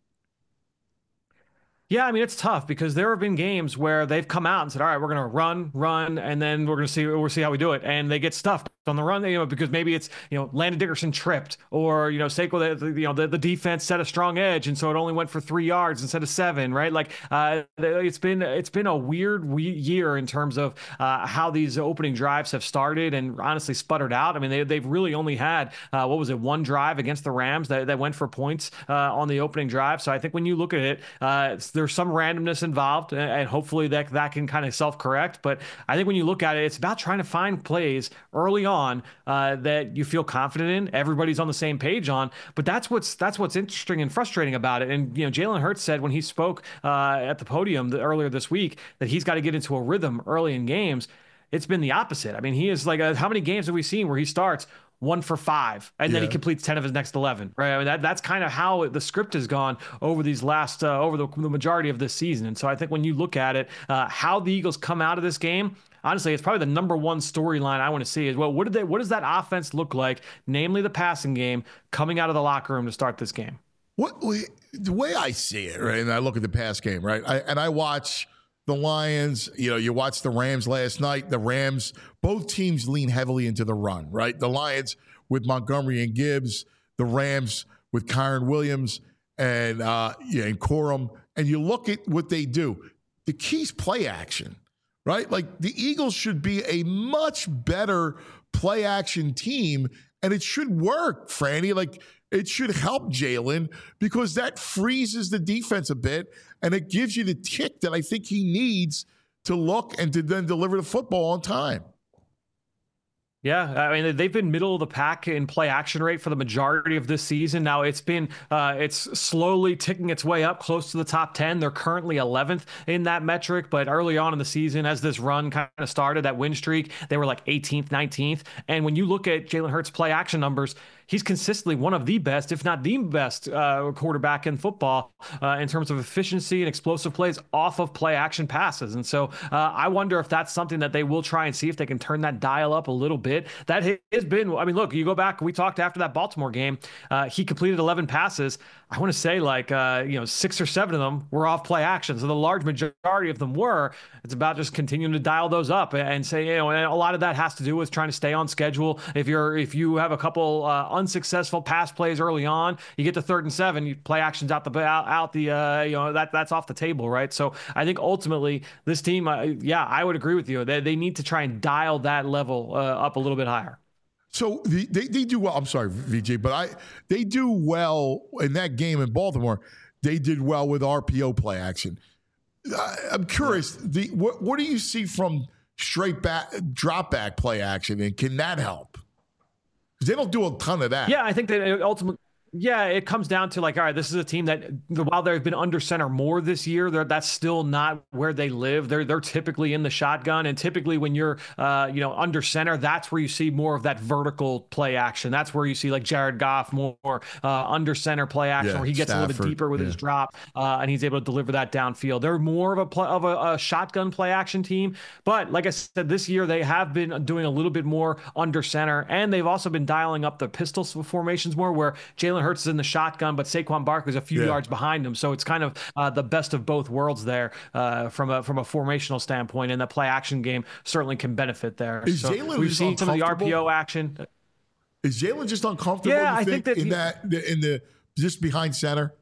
H: Yeah, I mean, it's tough because there have been games where they've come out and said, all right, we're going to run, run, and then we're going to see we'll see how we do it. And they get stuffed on the run, you know, because maybe it's, you know, Landon Dickerson tripped, or, you know, Saquon, the, you know, the, the defense set a strong edge, and so it only went for three yards instead of seven, right? Like, uh, it's been it's been a weird year in terms of uh, how these opening drives have started and honestly sputtered out. I mean, they, they've really only had, uh, what was it, one drive against the Rams that, that went for points uh, on the opening drive. So I think when you look at it, uh, there's some randomness involved, and hopefully that that can kind of self-correct. But I think when you look at it, it's about trying to find plays early on uh, that you feel confident in, everybody's on the same page on. But that's what's that's what's interesting and frustrating about it. And you know, Jalen Hurts said when he spoke uh, at the podium the, earlier this week that he's got to get into a rhythm early in games. It's been the opposite. I mean, he is like, a, how many games have we seen where he starts one for five, and yeah. then he completes ten of his next eleven, right? I mean, that, that's kind of how the script has gone over these last, uh, over the, the majority of this season. And so I think when you look at it, uh, how the Eagles come out of this game, honestly, it's probably the number one storyline I want to see is, well, what did they, what does that offense look like, namely the passing game, coming out of the locker room to start this game?
B: What the way I see it, right? And I look at the pass game, right? I, and I watch the Lions, you know, you watched the Rams last night. The Rams, both teams lean heavily into the run, right? The Lions with Montgomery and Gibbs, the Rams with Kyron Williams and uh, yeah, and Corum. And you look at what they do. The key's play action, right? Like the Eagles should be a much better play action team, and it should work, Franny. Like it should help Jalen because that freezes the defense a bit and it gives you the tick that I think he needs to look and to then deliver the football on time.
H: Yeah, I mean, they've been middle of the pack in play action rate for the majority of this season. Now it's been, uh, it's slowly ticking its way up close to the top ten. They're currently eleventh in that metric, but early on in the season, as this run kind of started, that win streak, they were like eighteenth, nineteenth. And when you look at Jalen Hurts' play action numbers, he's consistently one of the best, if not the best, uh, quarterback in football uh, in terms of efficiency and explosive plays off of play action passes. And so uh, I wonder if that's something that they will try and see if they can turn that dial up a little bit. That has been, I mean, look, you go back, we talked after that Baltimore game, uh, he completed eleven passes. I want to say like, uh, you know, six or seven of them were off play action. So the large majority of them were. It's about just continuing to dial those up and say, you know, and a lot of that has to do with trying to stay on schedule. If you're, if you have a couple uh, unsuccessful pass plays early on, you get to third and seven, you play actions out the, out, out the, uh, you know, that that's off the table, right? So I think ultimately this team, uh, yeah, I would agree with you. They, they need to try and dial that level uh, up a little bit higher.
B: So the, they they do well. I'm sorry, V J, but I they do well in that game in Baltimore. They did well with R P O play action. I, I'm curious. The what what do you see from straight back drop back play action, and can that help? Because they don't do a ton of that.
H: Yeah, I think that ultimately. Yeah, it comes down to like, all right, this is a team that while they've been under center more this year, that's still not where they live. They're they're typically in the shotgun, and typically when you're uh, you know under center, that's where you see more of that vertical play action. That's where you see like Jared Goff more uh, under center play action, yeah, where he gets Stafford, a little bit deeper with yeah. his drop uh, and he's able to deliver that downfield. They're more of a play, of a, a shotgun play action team, but like I said, this year they have been doing a little bit more under center, and they've also been dialing up the pistol formations more, where Jalen Hurts is in the shotgun, but Saquon Barkley's a few yeah. yards behind him. So it's kind of uh, the best of both worlds there uh, from a from a formational standpoint, and the play action game certainly can benefit there.
B: Is
H: so
B: Jalen
H: we've seen some of the R P O action.
B: Is Jalen just uncomfortable?
H: Yeah, I
B: think,
H: think that
B: in
H: he,
B: that in the just behind center.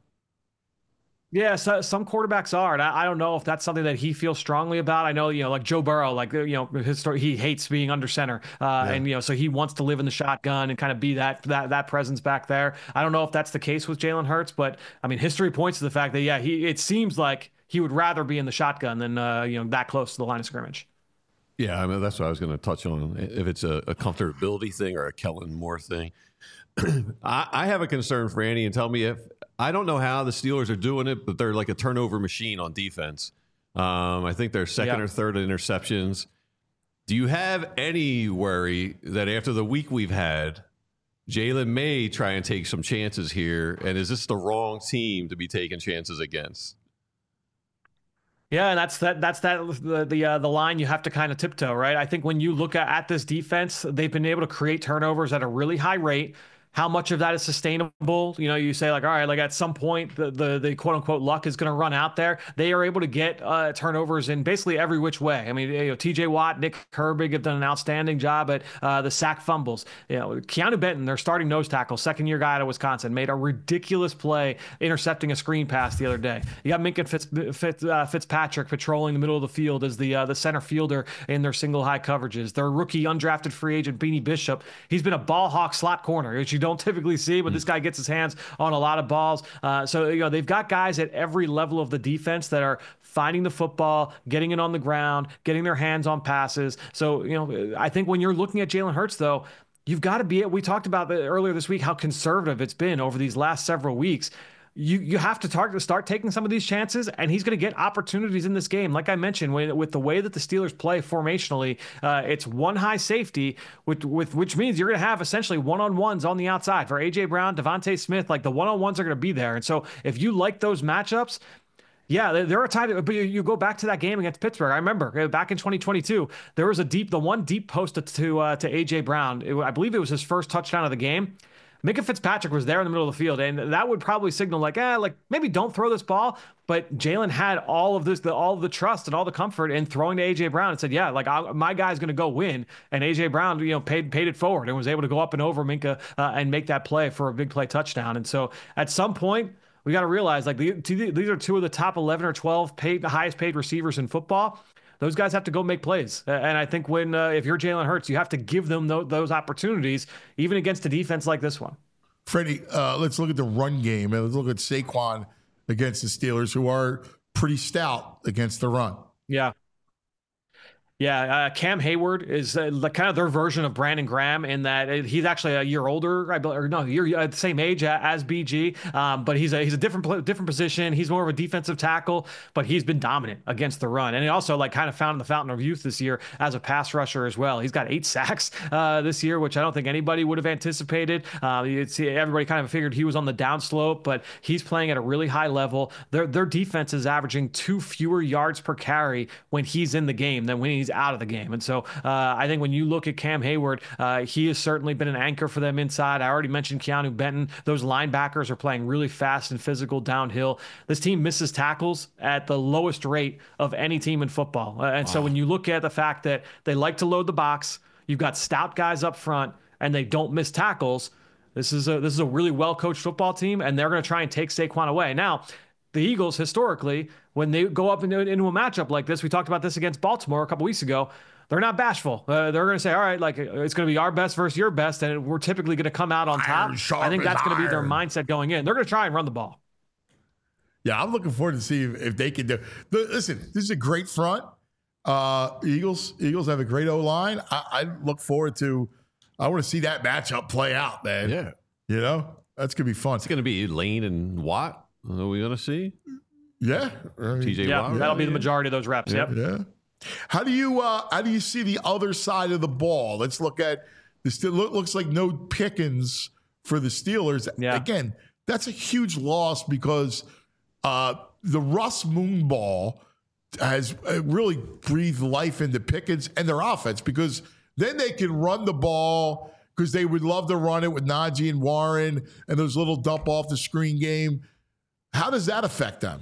H: Yeah, so some quarterbacks are, and I, I don't know if that's something that he feels strongly about. I know, you know, like Joe Burrow, like, you know, his story, he hates being under center, uh, yeah. and you know, so he wants to live in the shotgun and kind of be that that that presence back there. I don't know if that's the case with Jalen Hurts, but I mean, history points to the fact that yeah, he it seems like he would rather be in the shotgun than uh, you know that close to the line of scrimmage.
C: Yeah, I mean, that's what I was going to touch on. If it's a, a comfortability thing or a Kellen Moore thing, I, I have a concern for Andy, and tell me if. I don't know how the Steelers are doing it, but they're like a turnover machine on defense. Um, I think they're second yeah. or third in interceptions. Do you have any worry that after the week we've had, Jalen may try and take some chances here? And is this the wrong team to be taking chances against?
H: Yeah, and that's that. That's that. The the uh, the line you have to kind of tiptoe, right? I think when you look at, at this defense, they've been able to create turnovers at a really high rate. How much of that is sustainable? You know, you say like, all right, like at some point the the, the quote unquote luck is going to run out there. They are able to get uh, turnovers in basically every which way. I mean, you know, T J Watt, Nick Herbig have done an outstanding job at uh, the sack fumbles. You know, Keanu Benton, their starting nose tackle, second year guy out of Wisconsin, made a ridiculous play intercepting a screen pass the other day. You got Minka Fitz, Fitz, uh, Fitzpatrick patrolling the middle of the field as the uh, the center fielder in their single high coverages. Their rookie undrafted free agent Beanie Bishop, he's been a ball hawk slot corner, which you don't typically see, but this guy gets his hands on a lot of balls. Uh, so, you know, they've got guys at every level of the defense that are finding the football, getting it on the ground, getting their hands on passes. So, you know, I think when you're looking at Jalen Hurts, though, you've got to be, we talked about earlier this week, how conservative it's been over these last several weeks. You you have to target, start taking some of these chances, and he's going to get opportunities in this game. Like I mentioned, when, with the way that the Steelers play formationally, uh, it's one high safety, with, with which means you're going to have essentially one-on-ones on the outside. For A J Brown, Devontae Smith, like the one-on-ones are going to be there. And so if you like those matchups, yeah, there are times, but you go back to that game against Pittsburgh. I remember back in twenty twenty-two, there was a deep, the one deep post to uh, to A J Brown. It, I believe it was his first touchdown of the game. Minka Fitzpatrick was there in the middle of the field, and that would probably signal like, ah, like maybe don't throw this ball. But Jalen had all of this, the, all of the trust and all the comfort in throwing to A J Brown and said, yeah, like I, my guy's going to go win. And A J Brown, you know, paid paid it forward and was able to go up and over Minka uh, and make that play for a big play touchdown. And so at some point, we got to realize like the, these are two of the top eleven or twelve paid, the highest paid receivers in football. Those guys have to go make plays. And I think when, uh, if you're Jalen Hurts, you have to give them th- those opportunities, even against a defense like this one.
B: Freddie, uh, let's look at the run game and let's look at Saquon against the Steelers, who are pretty stout against the run.
H: Yeah. Yeah, uh, Cam Hayward is uh, the, kind of their version of Brandon Graham in that uh, he's actually a year older, I believe, or no, year uh, the same age as B G, um, but he's a he's a different different position. He's more of a defensive tackle, but he's been dominant against the run, and he also like kind of found in the fountain of youth this year as a pass rusher as well. He's got eight sacks uh, this year, which I don't think anybody would have anticipated. Uh, it's, everybody kind of figured he was on the downslope, but he's playing at a really high level. Their their defense is averaging two fewer yards per carry when he's in the game than when he's out of the game. And so uh, I think when you look at Cam Hayward, uh, he has certainly been an anchor for them inside. I already mentioned Keanu Benton. Those linebackers are playing really fast and physical downhill. This team misses tackles at the lowest rate of any team in football. Uh, and wow. So when you look at the fact that they like to load the box, you've got stout guys up front, and they don't miss tackles, this is a, this is a really well-coached football team, and they're going to try and take Saquon away. Now, the Eagles, historically, when they go up into, into a matchup like this, we talked about this against Baltimore a couple weeks ago, they're not bashful. Uh, they're going to say, all right, like it's going to be our best versus your best, and we're typically going to come out on top. I think that's going to be their mindset going in. They're going to try and run the ball.
B: Yeah, I'm looking forward to see if, if they can do. Listen, this is a great front. Uh, Eagles, Eagles have a great O line. I, I look forward to. I want to see that matchup play out, man.
C: Yeah,
B: you know that's gonna be fun.
C: It's gonna be Lane and Watt. Are we gonna see?
B: Yeah,
C: T J
H: yeah,
C: Watt.
H: That'll be
C: yeah.
H: the majority of those reps.
B: Yeah,
H: yep.
B: Yeah. How do you uh, how do you see the other side of the ball? Let's look at this. Still looks like no Pickens for the Steelers.
H: Yeah.
B: Again, that's a huge loss because uh, the Russ Moonball has really breathed life into Pickens and their offense, because then they can run the ball, because they would love to run it with Najee and Warren and those little dump off the screen game. How does that affect them?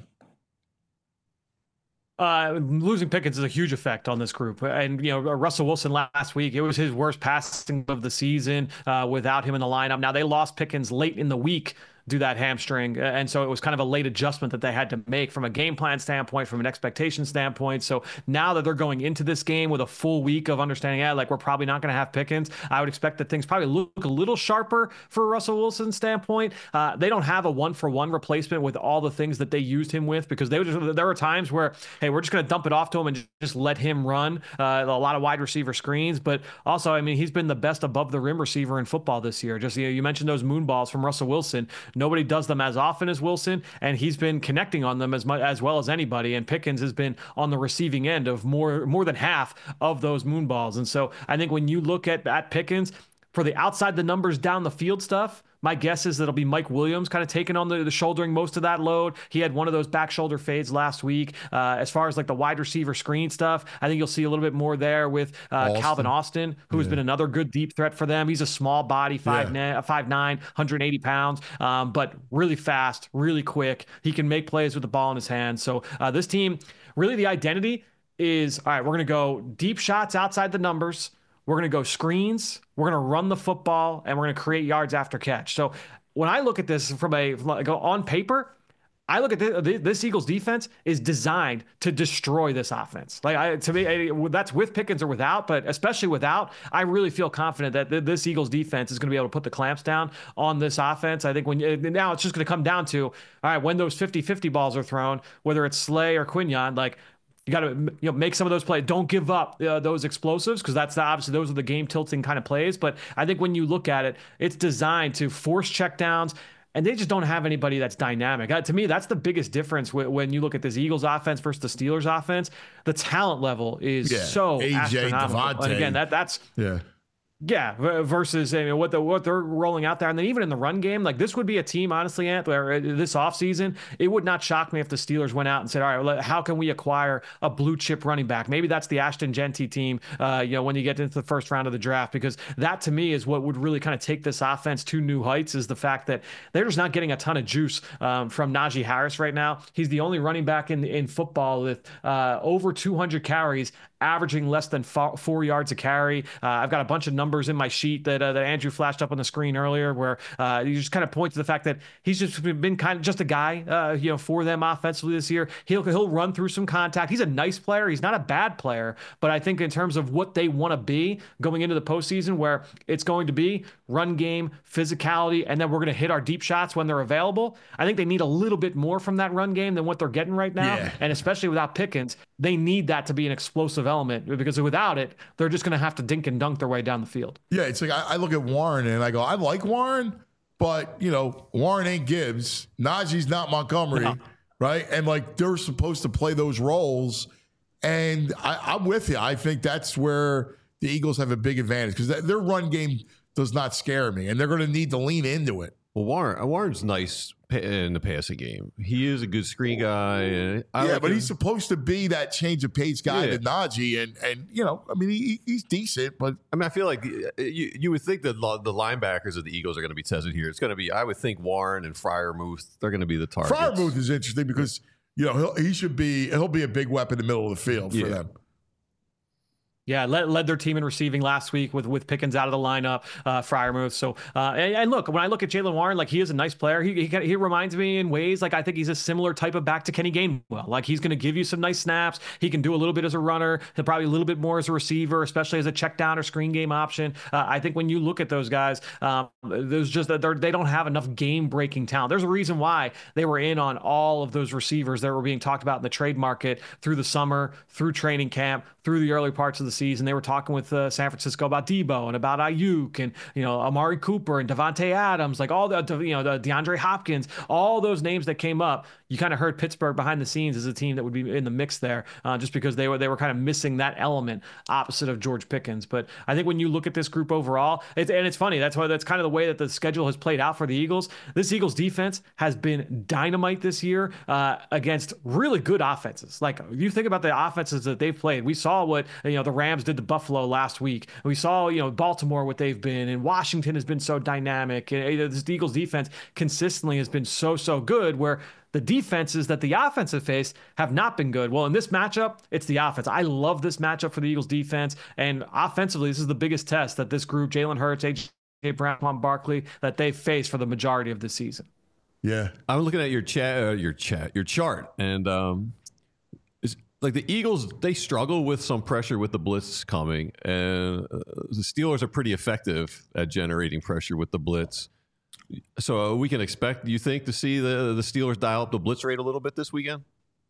H: Uh, losing Pickens is a huge effect on this group. And, you know, Russell Wilson last week, it was his worst passing of the season uh, without him in the lineup. Now, they lost Pickens late in the week do that hamstring. And so it was kind of a late adjustment that they had to make from a game plan standpoint, from an expectation standpoint. So now that they're going into this game with a full week of understanding, yeah, like we're probably not going to have Pickens, I would expect that things probably look a little sharper for Russell Wilson's standpoint. Uh, they don't have a one-for-one replacement with all the things that they used him with, because they would, there were times where, hey, we're just going to dump it off to him and just let him run uh, a lot of wide receiver screens. But also, I mean, he's been the best above the rim receiver in football this year. Just, you know, you mentioned those moon balls from Russell Wilson. Nobody does them as often as Wilson, and he's been connecting on them as much as well as anybody. And Pickens has been on the receiving end of more more than half of those moon balls. And so I think when you look at at Pickens for the outside the numbers down the field stuff, my guess is that it'll be Mike Williams kind of taking on the, the shouldering most of that load. He had one of those back shoulder fades last week. Uh, as far as like the wide receiver screen stuff, I think you'll see a little bit more there with uh, Austin. Calvin Austin, who yeah. has been another good deep threat for them. He's a small body, five yeah. five nine, one hundred eighty pounds, um, but really fast, really quick. He can make plays with the ball in his hands. So uh, this team, really the identity is, all right, we're going to go deep shots outside the numbers. We're going to go screens, we're going to run the football, and we're going to create yards after catch. So when I look at this from a like on paper, I look at this, this Eagles defense is designed to destroy this offense. Like I, to me, I, that's with Pickens or without, but especially without, I really feel confident that this Eagles defense is going to be able to put the clamps down on this offense. I think when now it's just going to come down to, all right, when those fifty-fifty balls are thrown, whether it's Slay or Quinyon, like, you got to you know make some of those plays. Don't give up uh, those explosives, because that's the, obviously those are the game tilting kind of plays. But I think when you look at it, it's designed to force checkdowns, and they just don't have anybody that's dynamic. Uh, to me, that's the biggest difference w- when you look at this Eagles offense versus the Steelers offense. The talent level is yeah. so A J, astronomical. And again, that that's
B: yeah.
H: Yeah, versus I mean, what the what they're rolling out there. And then even in the run game, like this would be a team, honestly, Ant, where this offseason, it would not shock me if the Steelers went out and said, all right, how can we acquire a blue chip running back? Maybe that's the Ashton Genty team, uh, you know, when you get into the first round of the draft, because that to me is what would really kind of take this offense to new heights, is the fact that they're just not getting a ton of juice um, from Najee Harris right now. He's the only running back in, in football with uh, over two hundred carries, averaging less than four, four yards a carry. Uh, I've got a bunch of numbers numbers in my sheet that uh, that Andrew flashed up on the screen earlier, where uh, you just kind of point to the fact that he's just been kind of just a guy, uh, you know, for them offensively this year. He'll he'll run through some contact. He's a nice player. He's not a bad player, but I think in terms of what they want to be going into the postseason, where it's going to be run game, physicality, and then we're going to hit our deep shots when they're available. I think they need a little bit more from that run game than what they're getting right now,
B: Yeah.
H: and especially without Pickens, they need that to be an explosive element, because without it, they're just going to have to dink and dunk their way down the field.
B: Yeah, it's like I, I look at Warren and I go, I like Warren, but you know, Warren ain't Gibbs. Najee's not Montgomery,
H: No.
B: right? And like they're supposed to play those roles. And I, I'm with you. I think that's where the Eagles have a big advantage because their run game does not scare me, and they're going to need to lean into it.
C: Well, Warren, Warren's nice pa- in the passing game. He is a good screen guy. And I
B: yeah,
C: like
B: but
C: him.
B: he's supposed to be that change of pace guy
C: Yeah.
B: to Najee, and and you know, I mean, he, he's decent, but
C: I mean, I feel like uh, you, you would think that the the linebackers of the Eagles are going to be tested here. It's going to be, I would think, Warren and Freiermuth. They're going to be the targets.
B: Freiermuth is interesting because you know he'll, he should be he'll be a big weapon in the middle of the field for
C: Yeah.
B: them.
H: Yeah, led, led their team in receiving last week with with Pickens out of the lineup, uh, Freiermuth. So, uh, and, and look, when I look at Jaylen Warren, like he is a nice player. He, he he reminds me in ways like I think he's a similar type of back to Kenny Gainwell. Like he's going to give you some nice snaps. He can do a little bit as a runner. He'll probably a little bit more as a receiver, especially as a check down or screen game option. Uh, I think when you look at those guys, um, there's just that they don't have enough game breaking talent. There's a reason why they were in on all of those receivers that were being talked about in the trade market through the summer, through training camp, through the early parts of the season. They were talking with uh, San Francisco about Debo and about Ayuk and, you know, Amari Cooper and Devontae Adams, like all the, you know, the DeAndre Hopkins, all those names that came up. You kind of heard Pittsburgh behind the scenes as a team that would be in the mix there, uh, just because they were they were kind of missing that element opposite of George Pickens. But I think when you look at this group overall, it's, and it's funny, that's why that's kind of the way that the schedule has played out for the Eagles. This Eagles defense has been dynamite this year uh, against really good offenses. Like you think about the offenses that they've played. We saw what, you know, the Rams did to Buffalo last week. We saw, you know, Baltimore, what they've been, and Washington has been so dynamic. And uh, this Eagles defense consistently has been so, so good, where the defenses that the offense have faced have not been good. Well, in this matchup, it's the offense. I love this matchup for the Eagles defense. And offensively, this is the biggest test that this group, Jalen Hurts, A J Brown, Juan Barkley, that they've faced for the majority of the season.
B: Yeah.
C: I'm looking at your chat, uh, your chat, your chart, and um, it's like the Eagles, they struggle with some pressure with the blitz coming, and uh, the Steelers are pretty effective at generating pressure with the blitz. So uh, we can expect, you think, to see the the Steelers dial up the blitz rate a little bit this weekend?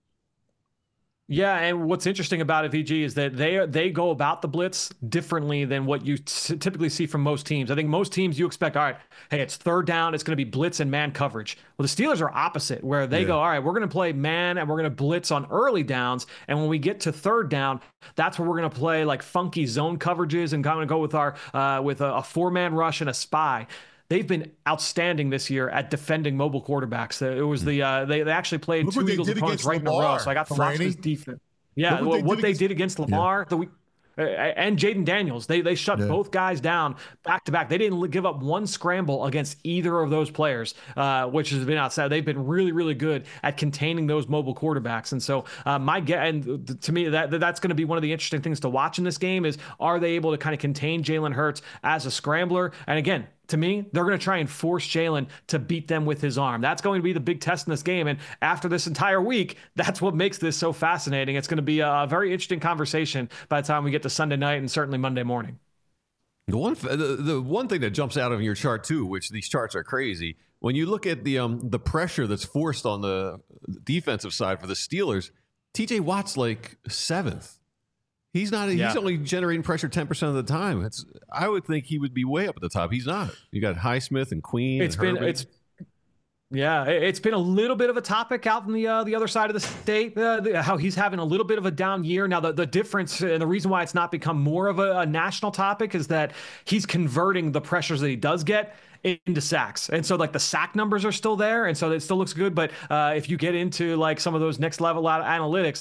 H: Yeah, and what's interesting about it, V G, is that they they go about the blitz differently than what you t- typically see from most teams. I think most teams you expect, all right, hey, it's third down, it's going to be blitz and man coverage. Well, the Steelers are opposite, where they
B: Yeah.
H: go, all right, we're going to play man and we're going to blitz on early downs, and when we get to third down, that's where we're going to play like funky zone coverages and kind of go with our uh, with a, a four man rush and a spy. They've been outstanding this year at defending mobile quarterbacks. It was the uh, they they actually played
B: Look
H: two
B: what they
H: Eagles
B: did
H: opponents
B: against
H: right in a row.
B: Lamar,
H: So I got to watch
B: Franny.
H: this defense. Yeah,
B: Look what
H: what,
B: they
H: what
B: did
H: they
B: against-
H: did against Lamar the week. uh, And Jaden Daniels, they they shut
B: Yeah.
H: both guys down back to back. They didn't li- give up one scramble against either of those players, uh, which has been outside. They've been really, really good at containing those mobile quarterbacks. And so uh, my get, and th- to me, that that's going to be one of the interesting things to watch in this game is, are they able to kind of contain Jalen Hurts as a scrambler? And again, to me, they're going to try and force Jalen to beat them with his arm. That's going to be the big test in this game. And after this entire week, that's what makes this so fascinating. It's going to be a very interesting conversation by the time we get to Sunday night and certainly Monday morning.
C: The one, the, the one thing that jumps out of your chart too, which these charts are crazy, when you look at the um the pressure that's forced on the defensive side for the Steelers, T J Watt's like seventh. He's not.
H: Yeah.
C: He's only generating pressure ten percent of the time. It's. I would think he would be way up at the top. He's not. You got Highsmith and Queen.
H: It's
C: and
H: been
C: Herbert.
H: it's yeah, it- it's been a little bit of a topic out in the uh, the other side of the state. Uh, the, how he's having a little bit of a down year now. The the difference and the reason why it's not become more of a, a national topic is that he's converting the pressures that he does get into sacks. And so like the sack numbers are still there. And so it still looks good. But uh, if you get into like some of those next level out analytics, like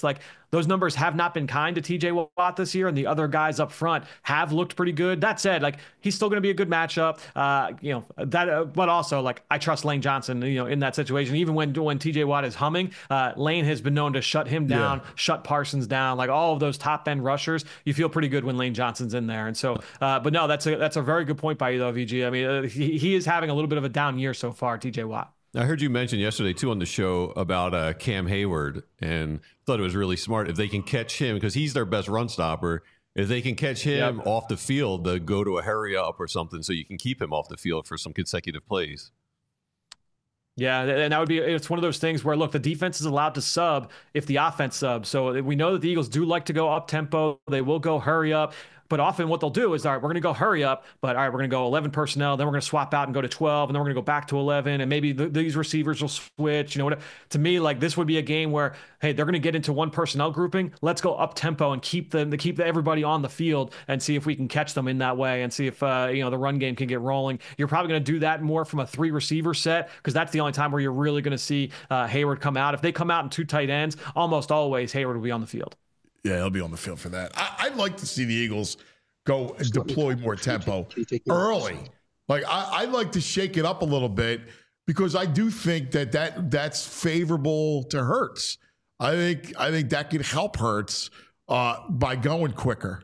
H: those numbers have not been kind to T J Watt this year, and the other guys up front have looked pretty good. That said, like, he's still going to be a good matchup. Uh, you know that, uh, but also like I trust Lane Johnson, you know, in that situation. Even when when T J Watt is humming, uh, Lane has been known to shut him down, yeah. shut Parsons down, like all of those top end rushers. You feel pretty good when Lane Johnson's in there, and so. Uh, but no, that's a that's a very good point by you though, V G. I mean, uh, he he is having a little bit of a down year so far, T J Watt.
C: I heard you mention yesterday, too, on the show about uh, Cam Hayward, and thought it was really smart. If they can catch him, because he's their best run stopper, if they can catch him yep. off the field, to go to a hurry up or something so you can keep him off the field for some consecutive plays.
H: Yeah, and that would be, it's one of those things where, look, the defense is allowed to sub if the offense subs. So we know that the Eagles do like to go up tempo. They will go hurry up. But often what they'll do is, all right, we're going to go hurry up, but all right, we're going to go eleven personnel, then we're going to swap out and go to twelve, and then we're going to go back to eleven, and maybe the, these receivers will switch. You know what? To me, like, this would be a game where, hey, they're going to get into one personnel grouping. Let's go up tempo and keep them to keep everybody on the field and see if we can catch them in that way, and see if uh, you know the run game can get rolling. You're probably going to do that more from a three receiver set, because that's the only time where you're really going to see uh, Hayward come out. If they come out in two tight ends, almost always Hayward will be on the field.
B: Yeah, he'll be on the field for that. I, I'd like to see the Eagles go and deploy more tempo early. Like, I, I'd like to shake it up a little bit, because I do think that, that that's favorable to Hurts. I think I think that could help Hurts uh, by going quicker.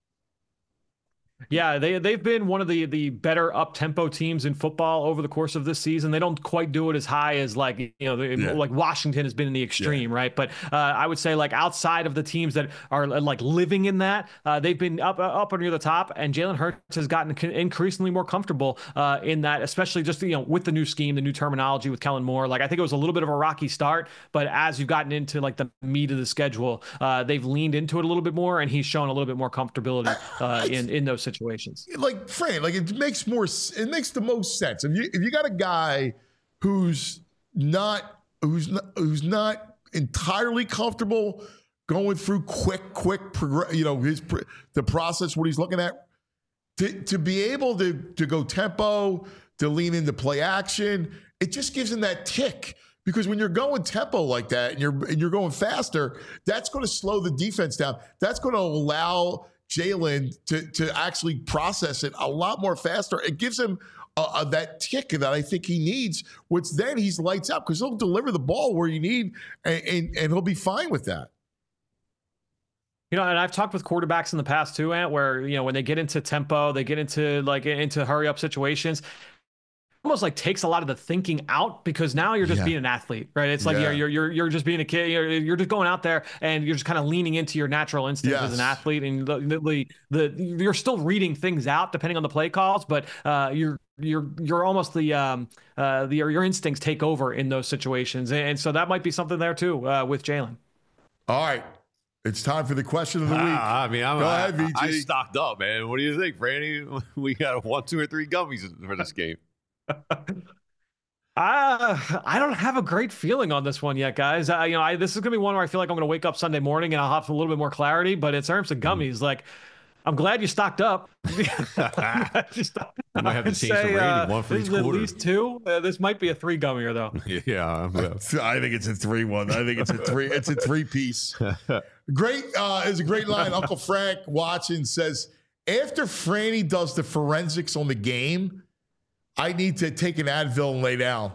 H: Yeah, they they've been one of the the better up tempo teams in football over the course of this season. They don't quite do it as high as like you know the, yeah. like Washington has been in the extreme, yeah. right? But uh, I would say like outside of the teams that are like living in that, uh, they've been up up near the top. And Jalen Hurts has gotten increasingly more comfortable uh, in that, especially just you know with the new scheme, the new terminology with Kellen Moore. Like I think it was a little bit of a rocky start, but as you've gotten into like the meat of the schedule, uh, they've leaned into it a little bit more, and he's shown a little bit more comfortability uh, in in those situations.
B: Like Fran, like it makes more, it makes the most sense. If you if you got a guy who's not who's not who's not entirely comfortable going through quick, quick, you know, his the process, what he's looking at, to to be able to to go tempo, to lean into play action, it just gives him that tick. Because when you're going tempo like that and you're and you're going faster, that's going to slow the defense down. That's going to allow Jalen to, to actually process it a lot more faster. It gives him uh, uh, that tick that I think he needs, which then he's lights out, because he'll deliver the ball where you need, and, and, and he'll be fine with that.
H: You know, and I've talked with quarterbacks in the past too, Ant, where, you know, when they get into tempo, they get into like into hurry up situations, almost like takes a lot of the thinking out, because now you're just yeah. being an athlete, right? It's like yeah. you're, you're you're just being a kid. You're, you're just going out there and you're just kind of leaning into your natural instincts yes. as an athlete, and the, the the you're still reading things out depending on the play calls, but uh, you're you're you're almost the um uh the your instincts take over in those situations, and, and so that might be something there too uh, with Jalen.
B: All right. It's time for the question of the week.
C: Ah, I mean, I'm,
B: Go
C: I,
B: ahead, V G.
C: I stocked up, man. What do you think, Franny? We got one, two, or three gummies for this game.
H: Uh, I don't have a great feeling on this one yet, guys. Uh, you know, I, this is gonna be one where I feel like I'm gonna wake up Sunday morning and I'll have a little bit more clarity. But in terms of gummies, mm. like, I'm glad you stocked up. I
C: might have to change say, the rating. Uh, one for
H: this
C: each
H: is
C: quarter.
H: At least two. Uh, this might be a three gummier though.
C: yeah, yeah,
B: I think it's a three one. I think it's a three. It's a three piece. Great uh, is a great line. Uncle Frank watching says, after Franny does the forensics on the game, I need to take an Advil and lay down.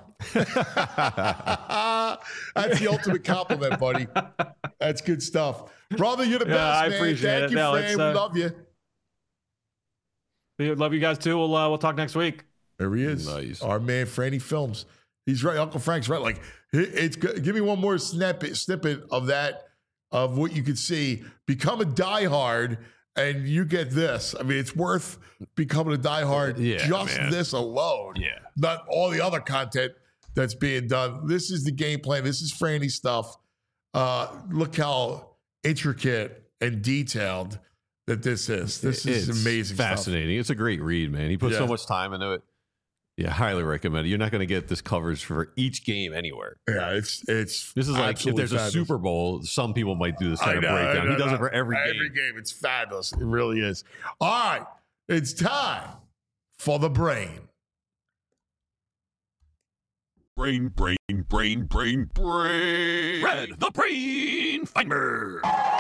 B: That's the ultimate compliment, buddy. That's good stuff. Brother, you're the
H: yeah,
B: best,
H: I
B: man.
H: appreciate
B: Thank
H: it.
B: you,
H: no,
B: Fran.
H: uh,
B: we love you.
H: Love you guys too. We'll uh, we'll talk next week.
B: There he is.
C: Nice.
B: Our man, Franny Films. He's right. Uncle Frank's right. Like, it's give me one more snippet snippet of that, of what you could see. Become a diehard, and you get this. I mean, it's worth becoming a diehard
C: yeah,
B: just
C: man.
B: this alone.
C: Yeah.
B: Not all the other content that's being done. This is the game plan. This is Franny stuff. Uh, look how intricate and detailed that this is. This is
C: it's
B: amazing
C: fascinating.
B: stuff.
C: It's a great read, man. He put
B: Yeah.
C: so much time into it. Yeah, highly recommend it. You're not going to get this coverage for each game anywhere.
B: Yeah, it's it's.
C: This is like if there's a
B: fabulous.
C: Super Bowl, some people might do this kind
B: I
C: of
B: know,
C: breakdown.
B: I know,
C: He does
B: I
C: it for every game.
B: Every game. It's fabulous. It really is. All right. It's time for the brain.
C: Brain, brain, brain, brain, brain.
F: Red, the brain finder.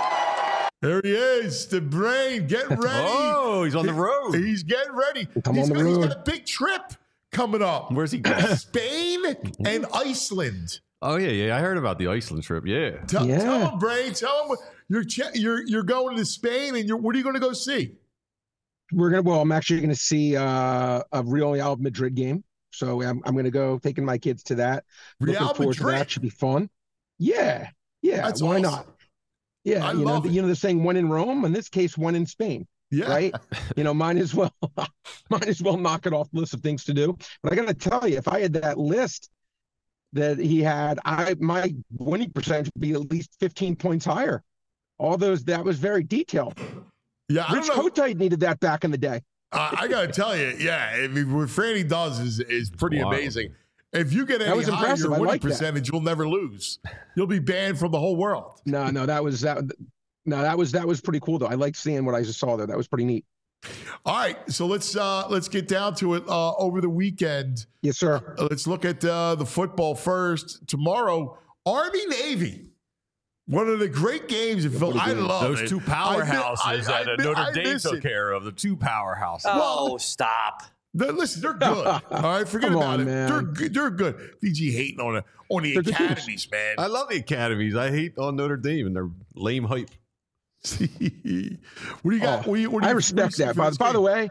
B: There he is, the brain. Get ready.
C: Oh, he's on the road.
B: He's getting ready.
I: I'm
B: he's
I: on the
B: got,
I: road.
B: He's got a big trip coming up.
C: Where's he going?
B: Spain and Iceland.
C: Oh yeah, yeah. I heard about the Iceland trip. Yeah.
B: Tell,
I: Yeah.
B: tell him, Brain. Tell him you're you're you're going to Spain, and you're what are you going to go see?
I: We're gonna. Well, I'm actually gonna see uh, a Real Madrid game. So I'm I'm gonna go taking my kids to that.
B: Real
I: Looking forward to
B: Madrid?
I: that. Should be fun. Yeah, yeah.
B: That's
I: why
B: awesome.
I: not? Yeah,
B: I
I: you know,
B: love
I: the,
B: it.
I: you know the saying, one in Rome. In this case, one in Spain.
B: Yeah.
I: Right? You know, might as well, might as well knock it off the list of things to do. But I got to tell you, if I had that list that he had, I my winning percentage would be at least fifteen points higher. All those, that was very detailed.
B: Yeah, I
I: Rich
B: don't know.
I: Kotite needed that back in the day.
B: Uh, I got to tell you, yeah, I mean, what Franny does is is pretty
C: Wild.
B: amazing. If you get
I: That
B: any
I: was
B: higher
I: impressive.
B: your
I: I
B: winning
I: like that.
B: percentage, you'll never lose. You'll be banned from the whole world.
I: No, no, that was that. No, that was that was pretty cool though. I liked seeing what I just saw there. That was pretty neat.
B: All right, so let's uh, let's get down to it. Uh, over the weekend,
I: Yes, sir.
B: uh, let's look at uh, the football first. Tomorrow, Army Navy. One of the great games. If I love
C: Those
B: it.
C: two
B: I
C: powerhouses
B: miss- I- I
C: that uh,
B: miss-
C: Notre
B: I
C: Dame
B: miss
C: took
B: it.
C: care of. The two powerhouses.
G: Oh, stop.
B: They're- listen, they're good. All right, forget
I: Come
B: about
I: on,
B: it.
I: man.
B: They're good. They're good. V G hating on the on the
I: They're good teams.
B: academies, man.
C: I love the academies. I hate on Notre Dame and their lame hype.
B: what do you got?
I: Oh,
B: what do you, what do
I: I
B: you,
I: respect
B: what do you
I: that.
B: see
I: By,
B: for this
I: by the
B: game?
I: way,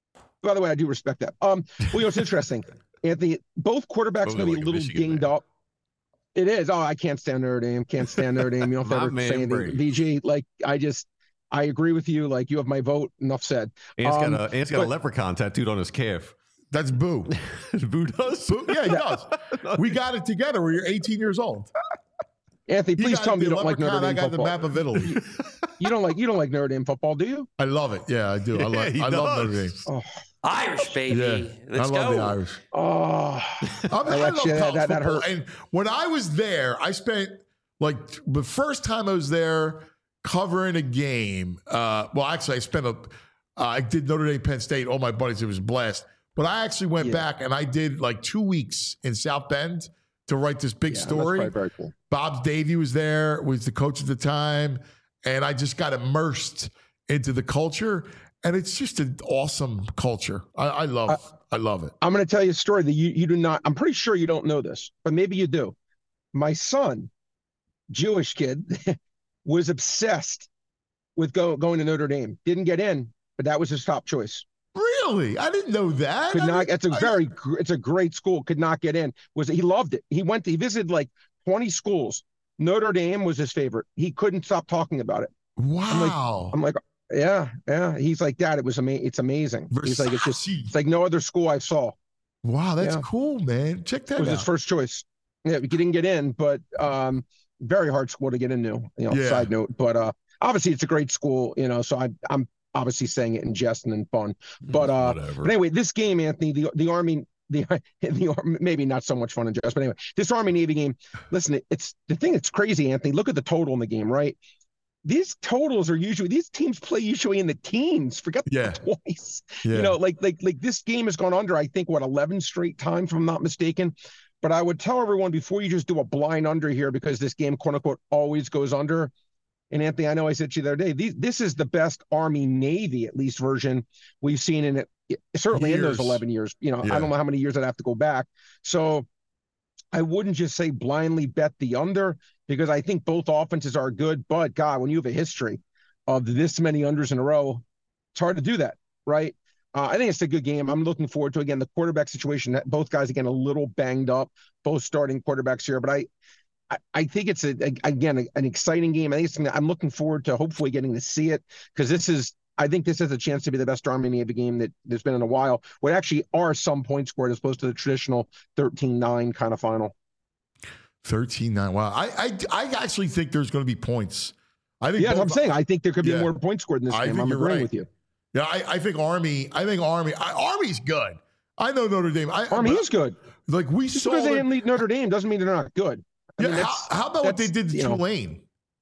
I: by the way, I do respect that. Um, well, you know, it's interesting. Anthony, both quarterbacks
C: Those are
I: maybe
C: like
I: a
C: a
I: little
C: Michigan
I: dinged
C: man.
I: up. It is. Oh, I can't stand Notre Dame. Can't stand Notre Dame. You don't
C: My
I: ever
C: man,
I: say anything.
C: Brady.
I: V G, like I just, I agree with you. Like you have my vote. Enough said.
C: Ant's
I: Um,
C: got, a, Ant's got
I: but-
C: a leprechaun tattooed on his calf.
B: That's Boo.
C: Boo does?
B: Boo. Yeah, he does. We got it together when you're eighteen years old.
I: Anthony,
B: He
I: please
B: got
I: tell me
B: the
I: you don't like
B: leprechaun,
I: Notre
B: I
I: Dame
B: got the
I: football.
B: map of Italy.
I: You don't like you don't like Notre Dame football, do you?
B: I love it. Yeah, I do. I,
C: Yeah,
B: love,
C: he
B: I love Notre Dame.
C: does.
I: Oh,
G: Irish, baby.
B: Yeah,
G: Let's
B: I love
G: go.
B: the Irish.
I: oh.
B: I, mean,
I: I
B: I
I: let
B: love
I: you-
B: college
I: that- that
B: football.
I: hurt.
B: And when I was there, I spent like the first time I was there covering a game. Uh, well, actually, I spent a. Uh, I did Notre Dame, Penn State. All my buddies, it was a blast. But I actually went
I: Yeah.
B: back and I did like two weeks in South Bend to write this big
I: Yeah, that's
B: story.
I: probably very cool.
B: Bob Davey was there, was the coach at the time, and I just got immersed into the culture. And it's just an awesome culture. I, I love,
I: I-
B: I love it.
I: I'm going to tell you a story that you, you do not, I'm pretty sure you don't know this, but maybe you do. My son, Jewish kid, was obsessed with go, going to Notre Dame. Didn't get in, but that was his top choice.
B: Really, I didn't know that.
I: Could
B: I
I: not,
B: didn't-
I: it's a
B: I-
I: very, gr- it's a great school. Could not get in. Was He loved it. He went, to, he visited like twenty schools. Notre Dame was his favorite. He couldn't stop talking about it.
B: Wow.
I: I'm like, yeah, yeah. He's like, Dad, it was amazing. It's amazing. He's like, it's just,
B: Versace.
I: it's like no other school I saw.
B: Wow, that's
I: Yeah.
B: cool, man. Check that
I: It was
B: out.
I: his first choice. Yeah, he didn't get in, but um, very hard school to get into. You know,
B: Yeah.
I: side note. But uh, obviously, it's a great school. You know, so I, I'm obviously saying it in jest and in fun. But uh,
C: Whatever.
I: but anyway, this game, Anthony, the the Army, the the Ar- maybe not so much fun in jest, but anyway, this Army Navy game. Listen, it's the thing that's crazy, Anthony. Look at the total in the game, right? These totals are usually these teams play usually in the teens. Forget the
B: Yeah.
I: twice.
B: Yeah.
I: You know, like like like this game has gone under, I think, what, eleven straight times, if I'm not mistaken. But I would tell everyone before you just do a blind under here, because this game, quote unquote, always goes under. And Anthony, I know I said to you the other day, these, this is the best Army Navy, at least, version we've seen in it, certainly in those
B: Years.
I: eleven years. You know,
B: Yeah.
I: I don't know how many years I'd have to go back. So I wouldn't just say blindly bet the under, because I think both offenses are good. But God, when you have a history of this many unders in a row, it's hard to do that, right? Uh, I think it's a good game. I'm looking forward to, again, the quarterback situation. That both guys, again, a little banged up, both starting quarterbacks here. But I, I, I think it's, a, a again, a, an exciting game. I think it's something that I'm looking forward to hopefully getting to see it, because this is, I think this has a chance to be the best Army Navy game that there's been in a while, where actually are some points scored as opposed to the traditional thirteen nine kind of final.
B: thirteen nine. Wow. I, I I actually think there's going to be points. I think
I: Yeah, that's what I'm
B: both-
I: saying. I think there could be
B: Yeah.
I: more points scored in this
B: I
I: game.
B: think
I: I'm
B: you're
I: agreeing
B: right.
I: with you.
B: Yeah, I, I think Army. I think Army. I, Army's good. I know Notre Dame. I,
I: Army
B: but,
I: is good.
B: Like we
I: Just
B: saw.
I: because they
B: them-
I: didn't lead Notre Dame doesn't mean they're not good. I
B: yeah,
I: mean,
B: how,
I: that's-
B: how about what they
I: that's,
B: did to
I: you know,
B: Tulane?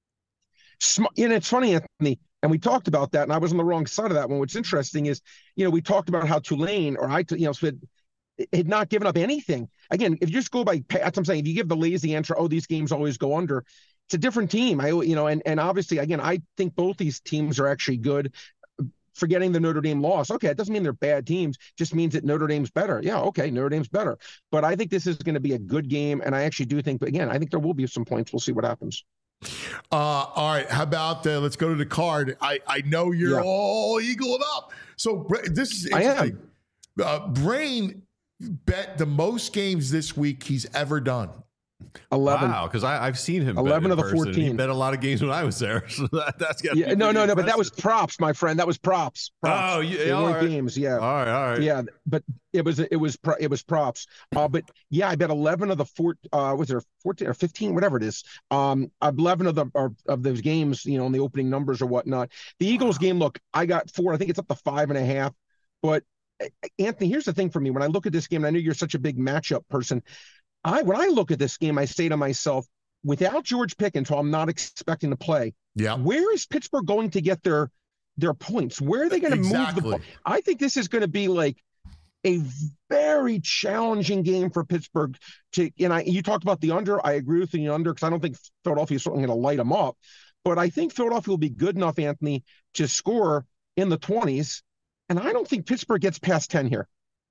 I: sm- and it's funny, Anthony, and we talked about that, and I was on the wrong side of that one. What's interesting is, you know, we talked about how Tulane, or I, you know, said had not given up anything. Again, if you just go by, that's what I'm saying. If you give the lazy answer, oh, these games always go under. It's a different team. I, you know, and and obviously, again, I think both these teams are actually good. Forgetting the Notre Dame loss, okay, it doesn't mean they're bad teams. Just means that Notre Dame's better. Yeah, okay, Notre Dame's better. But I think this is going to be a good game, and I actually do think. But again, I think there will be some points. We'll see what happens.
B: Uh, all right, how about uh, let's go to the card. I I know you're yeah. all eagled up. So this is interesting. I am. Uh, Brain bet the most games this week he's ever done.
I: eleven.
C: Wow, because I've seen him.
I: eleven of the
C: person.
I: fourteen.
C: He bet a lot of games when I was there. So that, that's got
I: yeah, no, no, impressive. no. But that was props, my friend. That was props. props.
C: Oh, yeah,
I: they
C: all
I: weren't
C: right.
I: games. Yeah.
C: All right, all right.
I: Yeah, but it was it was it was props. Uh, but yeah, I bet eleven of the four. Uh, was there fourteen or fifteen, whatever it is? Um, eleven of the or, of those games, you know, in the opening numbers or whatnot. The Eagles game. Look, I got four. I think it's up to five and a half. But Anthony, here's the thing for me. When I look at this game, and I know you're such a big matchup person. I when I look at this game, I say to myself, without George Pickens, who I'm not expecting to play,
B: yeah,
I: where is Pittsburgh going to get their their points? Where are they going to
B: exactly.
I: move the ball? I think this is going to be like a very challenging game for Pittsburgh to. And I, you talked about the under. I agree with the under because I don't think Philadelphia is certainly going to light them up, but I think Philadelphia will be good enough, Anthony, to score in the twenties. And I don't think Pittsburgh gets past ten here.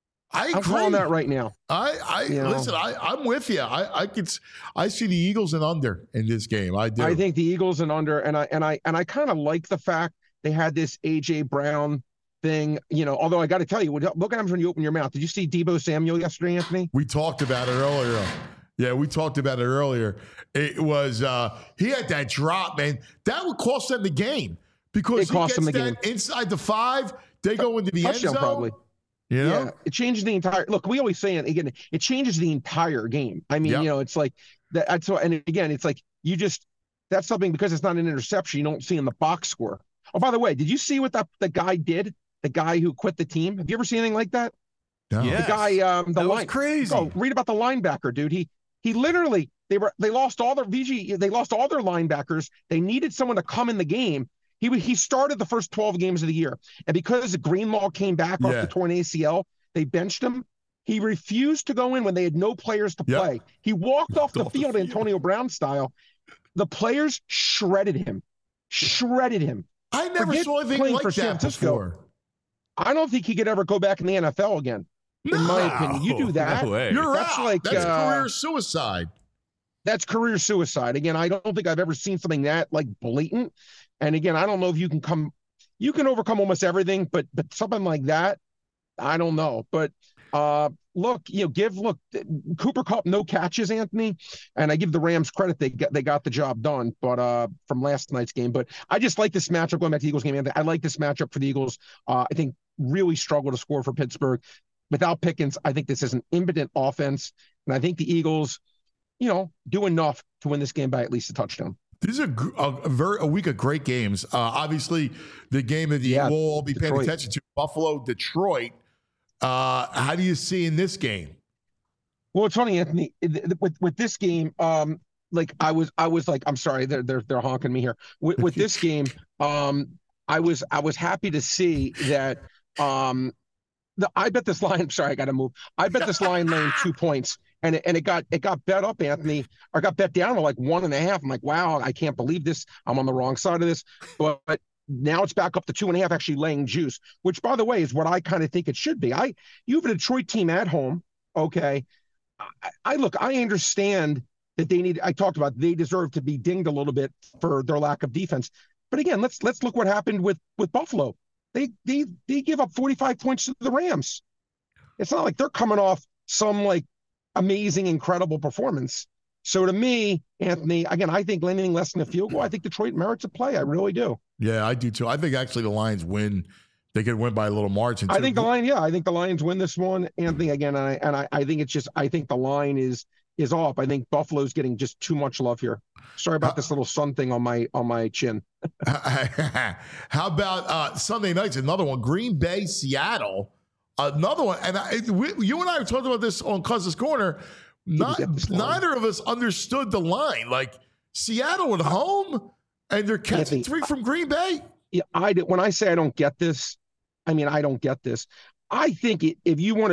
B: I
I: I'm calling that right now.
B: I, I you know? listen. I, I'm with you. I, I could. I see the Eagles and under in this game. I do.
I: I think the Eagles and under, and I and I and I kind of like the fact they had this A J Brown thing. You know, although I got to tell you, look what happens when you open your mouth. Did you see Deebo Samuel yesterday, Anthony?
B: We talked about it earlier. Yeah, we talked about it earlier. It was uh, he had that drop, man. That would cost them the game because
I: it cost
B: he gets
I: them the
B: that
I: game
B: inside the five. They go into the
I: Touchdown,
B: end zone.
I: Probably.
B: You know?
I: Yeah, it changes the entire look. We always say it again. It changes the entire game. I mean, yep. you know, it's like that. That's so, and again, it's like you just that's something because it's not an interception. You don't see in the box score. Oh, by the way, did you see what that the guy did? The guy who quit the team. Have you ever seen anything like that?
B: No.
C: Yes.
I: The guy, um, the
C: that
I: line,
C: was crazy.
I: Oh, read about the linebacker, dude. He he literally they were they lost all their V G. They lost all their linebackers. They needed someone to come in the game. He he started the first twelve games of the year, and because Greenlaw came back off
B: yeah.
I: the torn A C L. They benched him. He refused to go in when they had no players to
B: yep.
I: play. He walked off the
B: off
I: field,
B: the field,
I: Antonio Brown style. The players shredded him, shredded him.
B: I never
I: Forget
B: saw anything like
I: for
B: that
I: San Francisco.
B: before.
I: I don't think he could ever go back in the N F L again.
B: No.
I: In my opinion, you do that.
C: No way.
B: You're
I: that's
B: out.
I: like
B: that's
I: uh,
B: career suicide.
I: That's career suicide. Again, I don't think I've ever seen something that like blatant. And again, I don't know if you can come, you can overcome almost everything, but but something like that. I don't know, but uh, look, you know, give look Cooper Kupp no catches, Anthony, and I give the Rams credit they got they got the job done, but uh, from last night's game. But I just like this matchup going back to the Eagles game, Anthony. I like this matchup for the Eagles. Uh, I think really struggle to score for Pittsburgh without Pickens. I think this is an impotent offense, and I think the Eagles, you know, do enough to win this game by at least a touchdown.
B: This is a, a, a very a week of great games. Uh, obviously, the game that
I: yeah,
B: we'll all be paying
I: Detroit.
B: attention to: Buffalo, Detroit. Uh, how do you see in this game?
I: Well, it's funny, Anthony. With with this game, um, like I was, I was like, I'm sorry, they're they're they're honking me here. With, with this game, um, I was I was happy to see that. Um, the I bet this line. I'm sorry, I got to move. I bet this line laying two points, and it, and it got it got bet up, Anthony, or got bet down to like one and a half. I'm like, wow, I can't believe this. I'm on the wrong side of this, but. but now it's back up to two and a half, actually laying juice, which, by the way, is what I kind of think it should be. I you have a Detroit team at home, okay? I, I look, I understand that they need. I talked about they deserve to be dinged a little bit for their lack of defense, but again, let's let's look what happened with with Buffalo. They they they give up forty-five points to the Rams. It's not like they're coming off some like amazing, incredible performance. So to me, Anthony, again, I think anything less than a field goal, I think Detroit merits a play. I really do.
B: Yeah, I do too. I think actually the Lions win. They could win by a little margin too.
I: I think the line, yeah, I think the Lions win this one, Anthony. Again, and I and I, I think it's just I think the line is is off. I think Buffalo's getting just too much love here. Sorry about uh, this little sun thing on my on my chin.
B: How about uh, Sunday nights? Another one. Green Bay, Seattle. Another one. And I, we, you and I were talking about this on Cousins Corner. Not, neither of us understood the line. Like Seattle at home, and they're catching three from Green Bay.
I: Yeah, I did. When I say I don't get this, I mean I don't get this. I think it, if you want to be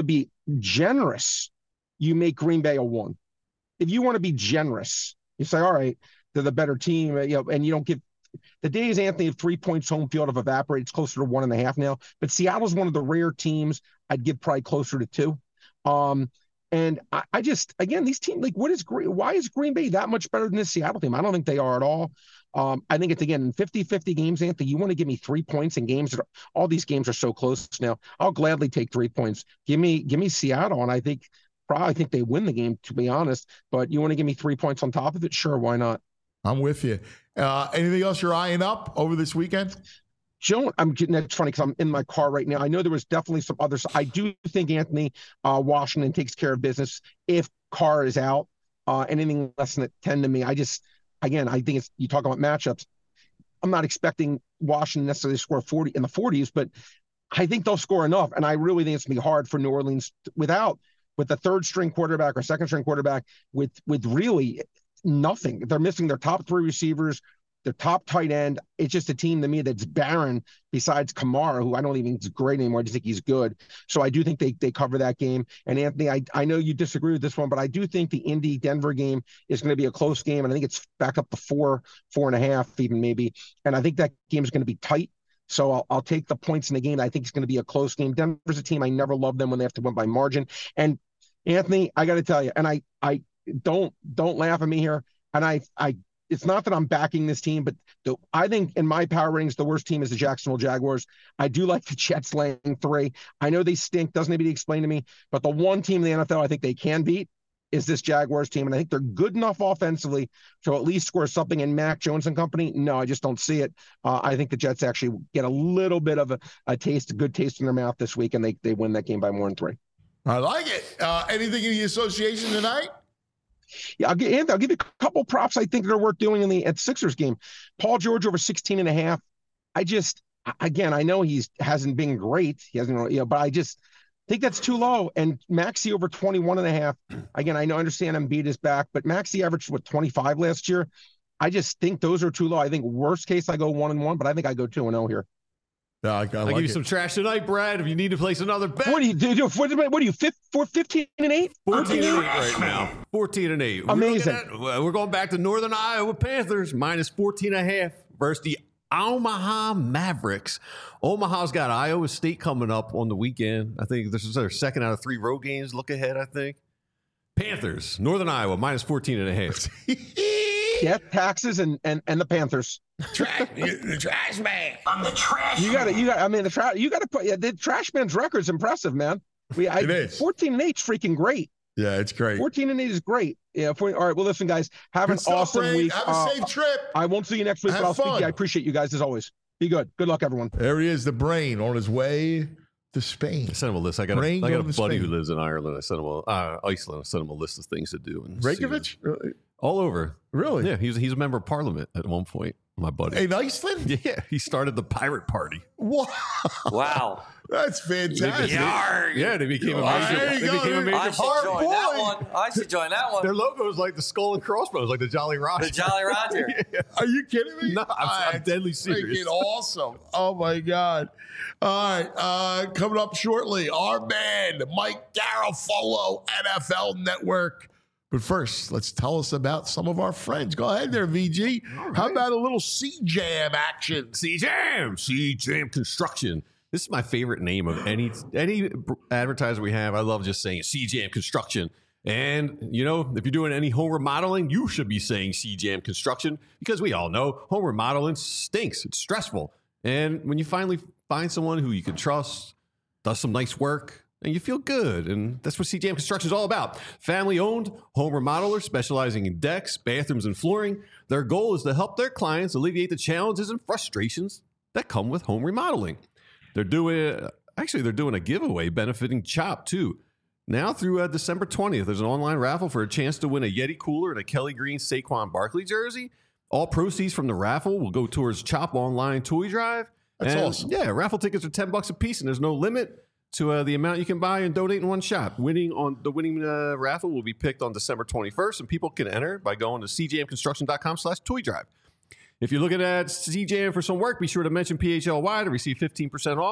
I: generous, you make Green Bay a one. If you want to be generous, you say, all right, they're the better team, you know, and you don't give the days, Anthony, of three points home field have evaporated. It's closer to one and a half now. But Seattle's one of the rare teams I'd give probably closer to two. Um, and I, I just, again, these teams, like, what is Green, why is Green Bay that much better than this Seattle team? I don't think they are at all. Um, I think it's, again, fifty-fifty games, Anthony. You want to give me three points in games that are, all these games are so close now. I'll gladly take three points. Give me, give me Seattle, and I think probably think they win the game, to be honest. But you want to give me three points on top of it? Sure, why not?
B: I'm with you. Uh, anything else you're eyeing up over this weekend?
I: Joe, I'm getting that's funny because I'm in my car right now. I know there was definitely some others. I do think Anthony uh, Washington takes care of business if Carr is out. Uh, anything less than a ten to me, I just again I think it's you talk about matchups. I'm not expecting Washington necessarily to score forty in the forties, but I think they'll score enough. And I really think it's gonna be hard for New Orleans without with the third string quarterback or second string quarterback with with really nothing. They're missing their top three receivers, their top tight end. It's just a team to me that's barren besides Kamara, who I don't even think is great anymore. I just think he's good. So I do think they they cover that game. And Anthony, I, I know you disagree with this one, but I do think the Indy-Denver game is going to be a close game. And I think it's back up to four, four and a half even maybe. And I think that game is going to be tight. So I'll, I'll take the points in the game. I think it's going to be a close game. Denver's a team I never loved them when they have to win by margin. And Anthony, I got to tell you, and I I don't don't laugh at me here. And I I it's not that I'm backing this team, but the, I think in my power ratings, the worst team is the Jacksonville Jaguars. I do like the Jets laying three. I know they stink. Doesn't need to explain to me. But the one team in the N F L I think they can beat is this Jaguars team. And I think they're good enough offensively to at least score something in Mac Jones and company. No, I just don't see it. Uh, I think the Jets actually get a little bit of a, a taste, a good taste in their mouth this week, and they, they win that game by more than three.
B: I like it. Uh, anything in the association tonight?
I: Yeah, I'll, get, I'll give you a couple props I think that are worth doing in the at Sixers game. Paul George over sixteen and a half. I just, again, I know he's hasn't been great. He hasn't, you know, but I just think that's too low. And Maxey over twenty-one and a half. Again, I know, I understand Embiid is back, but Maxey averaged, what, twenty-five last year? I just think those are too low. I think worst case I go one and one, but I think I go two and oh here.
B: Yeah, I, I
C: I'll
B: like
C: give you
B: it.
C: some trash tonight, Brad. If you need to place another bet,
I: What do you do? What, what are you? Fifth, four, fifteen and eight?
C: fourteen and eight right now. Fourteen and eight.
I: Amazing.
C: We're, at, we're going back to Northern Iowa Panthers minus fourteen and a half versus the Omaha Mavericks. Omaha's got Iowa State coming up on the weekend. I think this is their second out of three road games. Look ahead, I think. Panthers, Northern Iowa minus fourteen and a half.
I: Yeah, taxes and and and the Panthers.
B: Trash, the trash man.
F: I'm the trash.
I: You got to, you got. I mean, the trash. You got to put. Yeah, the trash man's record's impressive, man. We, I,
B: It is.
I: fourteen and eight's freaking great.
B: Yeah, it's great.
I: Fourteen and eight is great. Yeah. For, all right. Well, listen, guys. Have
B: Good
I: an
B: stuff,
I: awesome
B: Brain.
I: week.
B: Have a
I: Uh,
B: safe trip.
I: I won't see you next week,
B: Have
I: but I'll speak to
B: fun.
I: you. I appreciate you guys as always. Be good. Good luck, everyone.
B: There he is, the Brain, on his way to Spain.
C: I sent him a list. I got a,
B: Brain
C: I got a
B: going to
C: buddy
B: Spain.
C: who lives in Ireland. I sent him a, uh, Iceland. I sent him a list of things to do. And see
B: Reykjavik?
C: what- all over.
B: Really?
C: Yeah, he's he's a member of Parliament at one point. My buddy.
B: In Iceland?
C: Yeah, he started the pirate party.
B: Wow.
G: Wow.
B: That's fantastic.
C: Yeah, they became a
B: There
C: major.
B: you
C: They
B: go.
C: became a major
G: I should
B: Hard
G: join
B: boy.
G: that one. I should join that one.
C: Their logo is like the skull and crossbones, like the Jolly Roger.
G: The Jolly Roger.
B: Are you kidding me?
C: No, I'm- I'm
B: That's
C: deadly serious.
B: Freaking awesome. Oh, my God. All right. Uh, coming up shortly, our man, Mike Garafolo, N F L Network. But first, let's tell us about some of our friends. Go ahead there, V G. How about a little C-Jam action?
C: C-Jam, C-Jam Construction. This is my favorite name of any any advertiser we have. I love just saying C-Jam Construction. And, you know, if you're doing any home remodeling, you should be saying C-Jam Construction because we all know home remodeling stinks. It's stressful. And when you finally find someone who you can trust, does some nice work, and you feel good. And that's what C-Jam Construction is all about. Family-owned home remodeler specializing in decks, bathrooms, and flooring. Their goal is to help their clients alleviate the challenges and frustrations that come with home remodeling. They're doing, actually, they're doing a giveaway benefiting CHOP, too. Now through uh, December twentieth, there's an online raffle for a chance to win a Yeti cooler and a Kelly Green Saquon Barkley jersey. All proceeds from the raffle will go towards CHOP Online Toy Drive.
B: That's
C: And,
B: awesome.
C: Yeah, raffle tickets are ten bucks a piece, and there's no limit to uh, the amount you can buy and donate in one shot. Winning on the winning uh, raffle will be picked on December twenty-first, and people can enter by going to c j m construction dot com slash toy drive. If you're looking at C J M for some work, be sure to mention P H L Y to receive fifteen percent off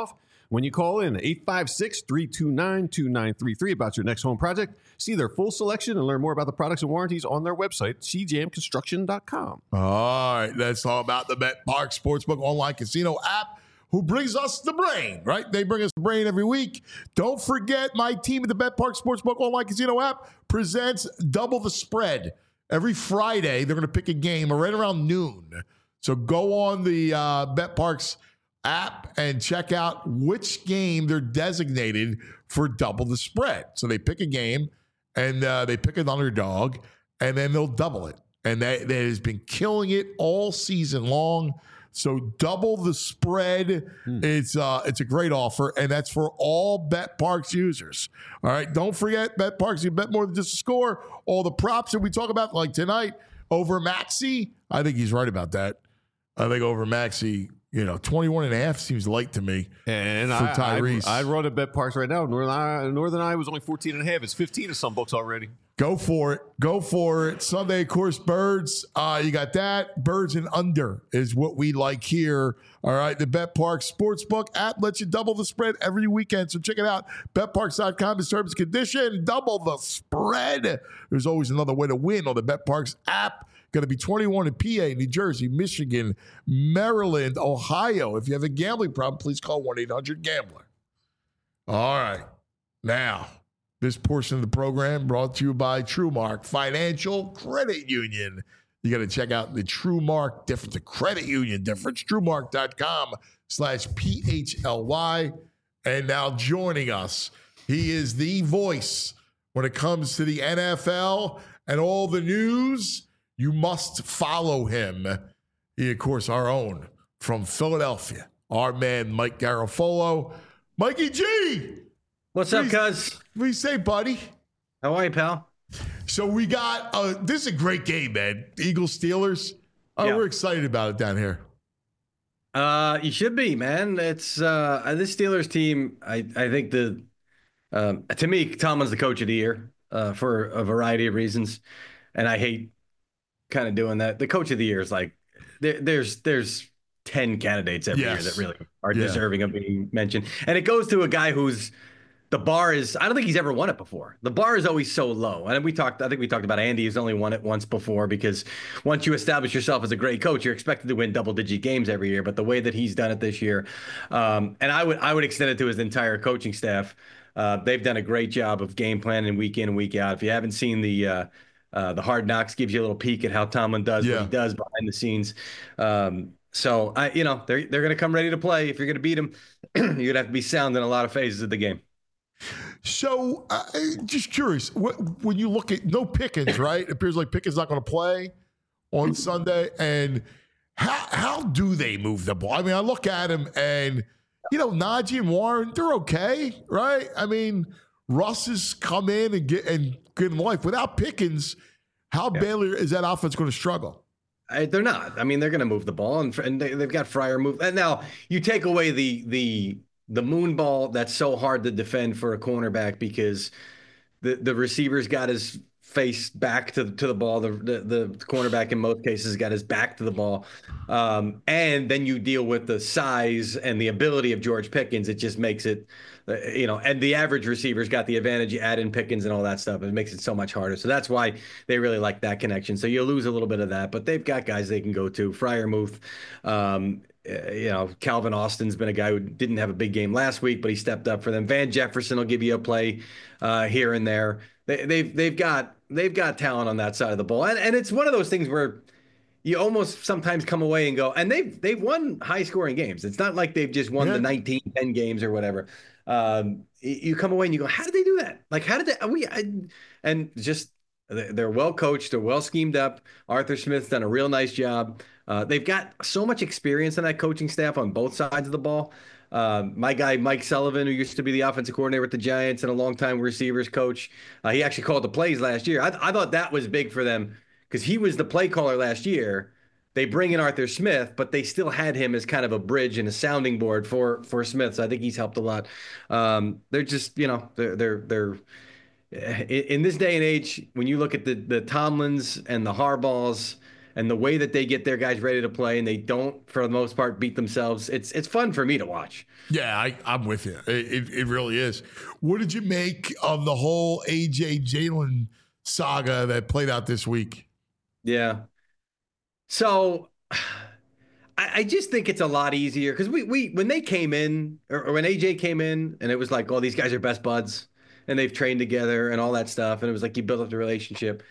C: when you call in eight five six, three two nine, two nine three three about your next home project. See their full selection and learn more about the products and warranties on their website, c jam construction dot com.
B: All right, let's talk about the BetParx Sportsbook online casino app, who brings us the brain, right? They bring us the brain every week. Don't forget, my team at the BetParx Sportsbook online casino app presents Double the Spread. Every Friday, they're going to pick a game right around noon. So go on the uh, BetParx app and check out which game they're designated for Double the Spread. So they pick a game, and uh, they pick an underdog, and then they'll double it. And that, that has been killing it all season long. So double the spread. Hmm. It's uh, it's a great offer, and that's for all BetParx users. All right, don't forget BetParx. You bet more than just a score. All the props that we talk about, like tonight, over Maxey. I think he's right about that. I think over Maxey, you know, twenty-one and a half seems light to me.
C: And
B: for
C: I,
B: Tyrese.
C: I, I'd run at BetParx right now. Northern Eye, Northern Eye was only fourteen and a half. It's fifteen in some books already.
B: Go for it. Go for it. Sunday, of course, birds. Uh, you got that. Birds and under is what we like here. All right. The BetParx Sportsbook app lets you double the spread every weekend. So check it out. Bet Parx dot com is terms and condition. Double the spread. There's always another way to win on the BetParx app. Going to be twenty-one in P A, New Jersey, Michigan, Maryland, Ohio. If you have a gambling problem, please call one eight hundred gambler. All right. Now, this portion of the program brought to you by TrueMark Financial Credit Union. You got to check out the TrueMark difference, the credit union difference, TrueMark dot com slash P H L Y. And now joining us, he is the voice when it comes to the N F L and all the news. You must follow him. He, of course, our own from Philadelphia, our man, Mike Garafolo. Mikey G!
J: What's up, cuz?
B: What do you say, buddy?
J: How are you, pal?
B: So we got, uh, this is a great game, man. Eagles, Steelers. Oh, yeah. We're excited about it down here.
J: Uh, you should be, man. It's uh, this Steelers team, I, I think the, um, to me, Tomlin's the coach of the year uh, for a variety of reasons. And I hate kind of doing that. The coach of the year is like, there, there's, there's ten candidates every yes. year that really are yeah. deserving of being mentioned. And it goes to a guy who's, the bar is, I don't think he's ever won it before. The bar is always so low. And we talked, I think we talked about Andy, who's only won it once before, because once you establish yourself as a great coach, you're expected to win double digit games every year. But the way that he's done it this year, um, and I would, I would extend it to his entire coaching staff. Uh, they've done a great job of game planning week in and week out. If you haven't seen the, uh, uh, the Hard Knocks, gives you a little peek at how Tomlin does yeah. what he does behind the scenes. Um, so I, you know, they're, they're going to come ready to play. If you're going to beat them, you're going to have to be sound in a lot of phases of the game.
B: So, uh, just curious, what, when you look at no Pickens, right? It appears like Pickens not going to play on Sunday. And how how do they move the ball? I mean, I look at him and, you know, Najee and Warren, they're okay, right? I mean, Russ has come in and get and give him life. Without Pickens, how yeah. badly is that offense going to struggle?
J: I, they're not. I mean, they're going to move the ball, and, and they, they've got Fryer move. And now you take away the the. the moon ball that's so hard to defend for a cornerback because the, the receiver's got his face back to, to the ball. The, the, the cornerback in most cases got his back to the ball. Um, and then you deal with the size and the ability of George Pickens. It just makes it, uh, you know, and the average receiver's got the advantage. You add in Pickens and all that stuff. It makes it so much harder. So that's why they really like that connection. So you lose a little bit of that, but they've got guys they can go to. Freiermuth, um, Uh, you know, Calvin Austin's been a guy who didn't have a big game last week, but he stepped up for them. Van Jefferson will give you a play uh, here and there. They, they've they've got they've got talent on that side of the ball, and and it's one of those things where you almost sometimes come away and go, and they've they've won high scoring games. It's not like they've just won yeah. the nineteen ten games or whatever. Um, you come away and you go, how did they do that? Like, how did they? We I, and just they're well coached, they're well schemed up. Arthur Smith's done a real nice job. Uh, they've got so much experience in that coaching staff on both sides of the ball. Um, my guy, Mike Sullivan, who used to be the offensive coordinator with the Giants and a longtime receivers coach, uh, he actually called the plays last year. I, I thought that was big for them because he was the play caller last year. They bring in Arthur Smith, but they still had him as kind of a bridge and a sounding board for for Smith. So I think he's helped a lot. Um, they're just, you know, they're they're they're in, in this day and age, when you look at the the Tomlins and the Harbaughs and the way that they get their guys ready to play, and they don't, for the most part, beat themselves. It's it's fun for me to watch.
B: Yeah, I, I'm with you. It, it, it really is. What did you make of the whole A J Jalen saga that played out this week?
J: Yeah. So I, I just think it's a lot easier because we we when they came in, or, or when A J came in, and it was like, oh, these guys are best buds, and they've trained together and all that stuff, and it was like you build up the relationship.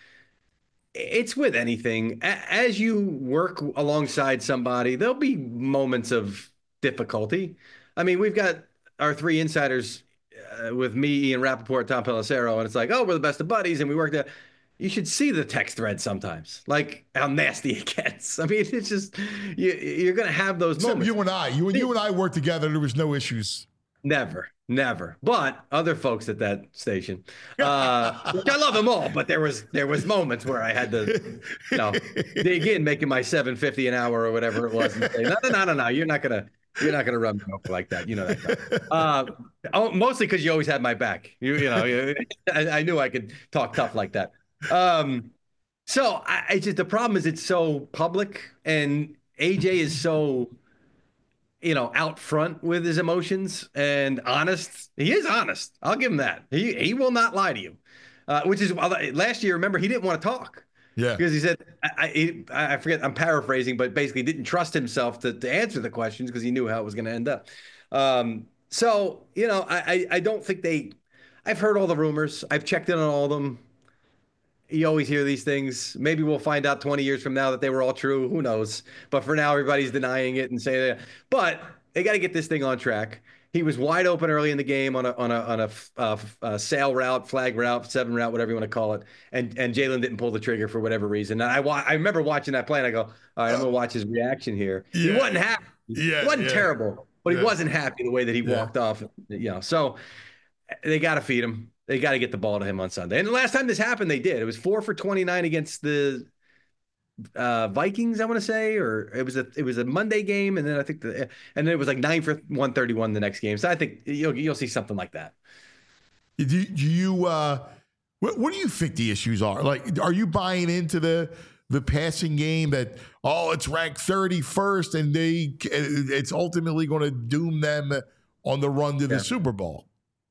J: It's with anything. As you work alongside somebody, there'll be moments of difficulty. I mean, we've got our three insiders uh, with me, Ian Rappaport, Tom Pelissero, and it's like, oh, we're the best of buddies, and we work there. You should see the text thread sometimes, like how nasty it gets. I mean, it's just, you, you're going to have those
B: Except
J: moments.
B: you and I, you and you and I worked together. There was no issues. Never.
J: Never. But other folks at that station, uh, which I love them all, but there was there was moments where I had to, you know, dig in, making my seven fifty an hour or whatever it was, and say, no, no, no, no, no, you're not gonna you're not gonna rub me off like that. You know that. Uh, oh, mostly because you always had my back. You you know, you, I, I knew I could talk tough like that. Um, so I, I just the problem is it's so public, and A J is so, you know, out front with his emotions and honest. He is honest. I'll give him that. He he will not lie to you, uh, which is last year. Remember, he didn't want to talk.
B: Yeah,
J: because he said I, I I forget. I'm paraphrasing, but basically didn't trust himself to to answer the questions because he knew how it was going to end up. Um, so you know, I, I I don't think they. I've heard all the rumors. I've checked in on all of them. You always hear these things. Maybe we'll find out twenty years from now that they were all true. Who knows? But for now, everybody's denying it and saying that. But they got to get this thing on track. He was wide open early in the game on a on a on a, uh, a sail route, flag route, seven route, whatever you want to call it. And and Jalen didn't pull the trigger for whatever reason. And I I remember watching that play, and I go, all right, I'm gonna watch his reaction here. Yeah. He wasn't happy. Yeah, he wasn't yeah. terrible, but yeah. he wasn't happy the way that he yeah. walked off. You know, so they got to feed him. They got to get the ball to him on Sunday. And the last time this happened, they did. It was four for twenty-nine against the uh, Vikings, I want to say, or it was a it was a Monday game, and then I think the and then it was like nine for one thirty-one the next game. So I think you'll you'll see something like that.
B: Do, do you uh, what, what do you think the issues are? Like, are you buying into the the passing game that oh, it's ranked thirty-first and they it's ultimately going to doom them on the run to the yeah. Super Bowl?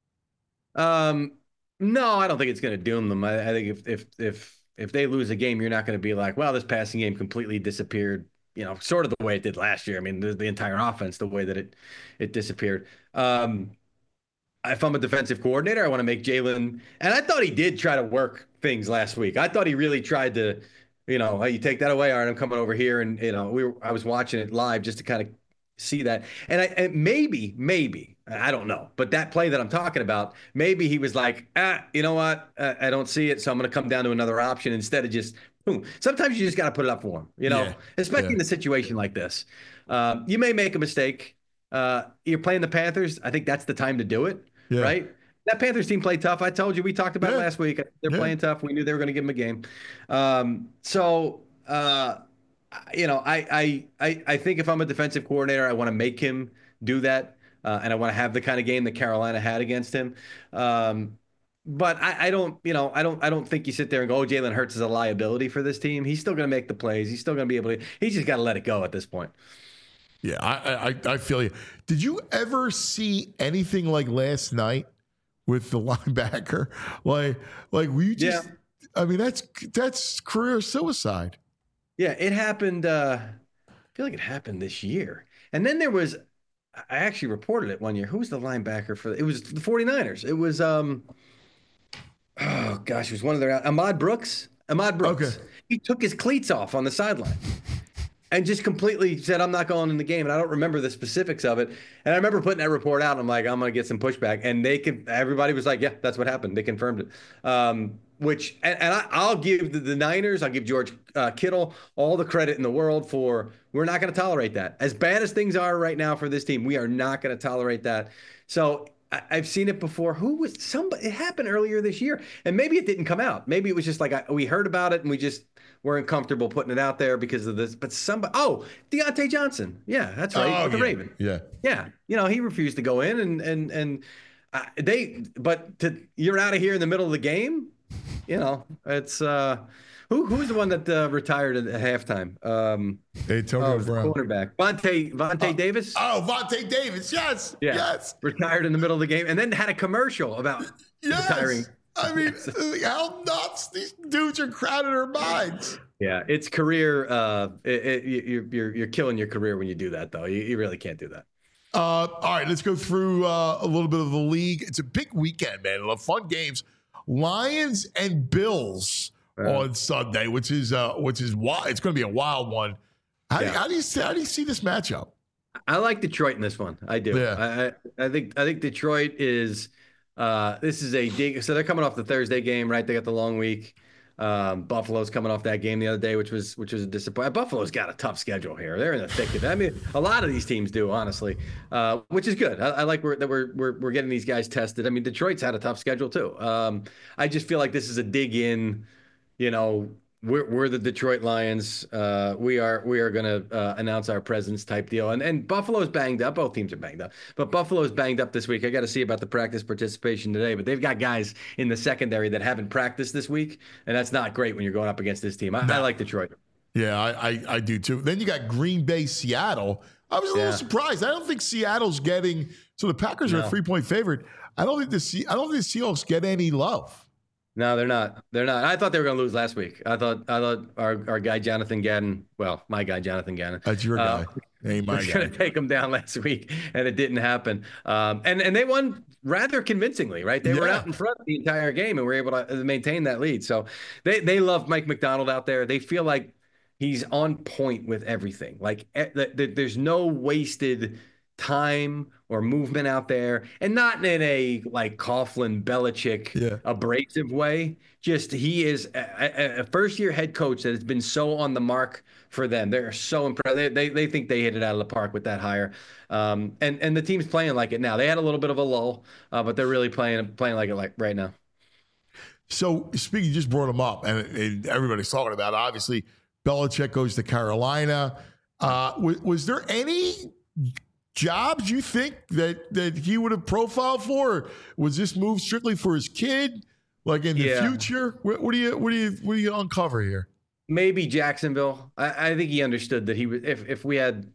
J: Um. No, I don't think it's going to doom them. I, I think if if if if they lose a game, you're not going to be like, well, this passing game completely disappeared. You know, sort of the way it did last year. I mean, the, the entire offense, the way that it it disappeared. Um, if I'm a defensive coordinator, I want to make Jalen, and I thought he did try to work things last week. I thought he really tried to, you know, hey, you take that away, all right, I'm coming over here, and you know, we were, I was watching it live just to kind of see that, and I and maybe maybe. I don't know. But that play that I'm talking about, maybe he was like, ah, you know what? Uh, I don't see it. So I'm going to come down to another option instead of just, boom. Sometimes you just got to put it up for him, you know, yeah. especially yeah. in a situation like this. Um, you may make a mistake. Uh, you're playing the Panthers. I think that's the time to do it, yeah. right? That Panthers team played tough. I told you, we talked about yeah. it last week. They're yeah. playing tough. We knew they were going to give them a game. Um, so, uh, you know, I, I, I, I think if I'm a defensive coordinator, I want to make him do that. Uh, and I want to have the kind of game that Carolina had against him. Um, but I, I don't, you know, I don't, I don't think you sit there and go, oh, Jalen Hurts is a liability for this team. He's still going to make the plays. He's still going to be able to. He's just got to let it go at this point.
B: Yeah, I, I, I feel you. Did you ever see anything like last night with the linebacker? Like, like we just. Yeah. I mean, that's that's career suicide.
J: Yeah, it happened. Uh, I feel like it happened this year, and then there was. I actually reported it one year. Who was the linebacker for it? Was the 49ers. It was um oh gosh, it was one of their Ahmad Brooks. Ahmad Brooks. Okay. He took his cleats off on the sideline and just completely said, I'm not going in the game. And I don't remember the specifics of it. And I remember putting that report out. And I'm like, I'm gonna get some pushback. And they could everybody was like, yeah, that's what happened. They confirmed it. Um Which and, and I, I'll give the, the Niners, I'll give George uh, Kittle all the credit in the world for we're not going to tolerate that. As bad as things are right now for this team, we are not going to tolerate that. So I, I've seen it before. Who was somebody? It happened earlier this year, and maybe it didn't come out. Maybe it was just like I, we heard about it and we just weren't comfortable putting it out there because of this. But somebody, oh, Deontay Johnson, yeah, that's right,
B: oh,
J: with the
B: yeah.
J: Raven,
B: yeah,
J: yeah. You know, he refused to go in, and and and uh, they. But to, you're out of here in the middle of the game. You know, it's uh, Who who's the one that uh, retired at halftime? Um,
B: Antonio
J: oh,
B: Brown.
J: Cornerback. Vontae Vontae
B: uh,
J: Davis.
B: Oh, Vontae Davis. Yes.
J: Yeah.
B: Yes.
J: Retired in the middle of the game and then had a commercial about
B: yes.
J: retiring.
B: I mean, how nuts these dudes are crowding our minds.
J: Yeah, it's career. Uh, it, it, you're you're you're killing your career when you do that, though. You, you really can't do that.
B: Uh, all right, let's go through uh, a little bit of the league. It's a big weekend, man. A lot of fun games. Lions and Bills uh, on Sunday, which is uh, which is wild. It's going to be a wild one. How,
J: yeah.
B: do, how do you see, how do you see this matchup?
J: I like Detroit in this one. I do.
B: Yeah.
J: I, I think I think Detroit is. Uh, this is a dig. So they're coming off the Thursday game, right? They got the long week. Um, Buffalo's coming off that game the other day, which was which was a disappointment. Buffalo's got a tough schedule here. They're in the thick of it. I mean, a lot of these teams do, honestly, uh, which is good. I, I like we're, that we're we're we're getting these guys tested. I mean, Detroit's had a tough schedule too. Um, I just feel like this is a dig in. You know, we're we're the Detroit Lions. Uh, we are we are going to uh, announce our presence type deal. And and Buffalo's banged up. Both teams are banged up, but Buffalo's banged up this week. I got to see about the practice participation today. But they've got guys in the secondary that haven't practiced this week, and that's not great when you're going up against this team. I, no. I like Detroit.
B: Yeah, I, I I do too. Then you got Green Bay, Seattle. I was a little
J: Yeah.
B: surprised. I don't think Seattle's getting. So the Packers are
J: No.
B: a three point favorite. I don't think the Se- I don't think the Seahawks get any love.
J: No, they're not. They're not. I thought they were going to lose last week. I thought I thought our, our guy Jonathan Gannon, well, my guy Jonathan Gannon.
B: That's your guy.
J: Uh,
B: Ain't my
J: was
B: guy.
J: going to take them down last week, and it didn't happen. Um, and and they won rather convincingly, right? They were
B: Yeah.
J: out in front the entire game, and were able to maintain that lead. So they they love Mike McDonald out there. They feel like he's on point with everything. Like eh, th- th- there's no wasted time or movement out there, and not in a like Coughlin, Belichick,
B: Yeah.
J: abrasive way. Just he is a, a first year head coach that has been so on the mark for them. They're so impressed. They, they they think they hit it out of the park with that hire. Um, and and the team's playing like it now. They had a little bit of a lull, uh, but they're really playing playing like it like right now.
B: So speaking, you just brought him up, and, and everybody's talking about it. Obviously, Belichick goes to Carolina. Uh, was, was there any jobs you think that that he would have profiled for? Or was this move strictly for his kid? Like in the
J: Yeah.
B: future, what, what do you what do you what do you uncover here?
J: Maybe Jacksonville. I, I think he understood that he was if if we had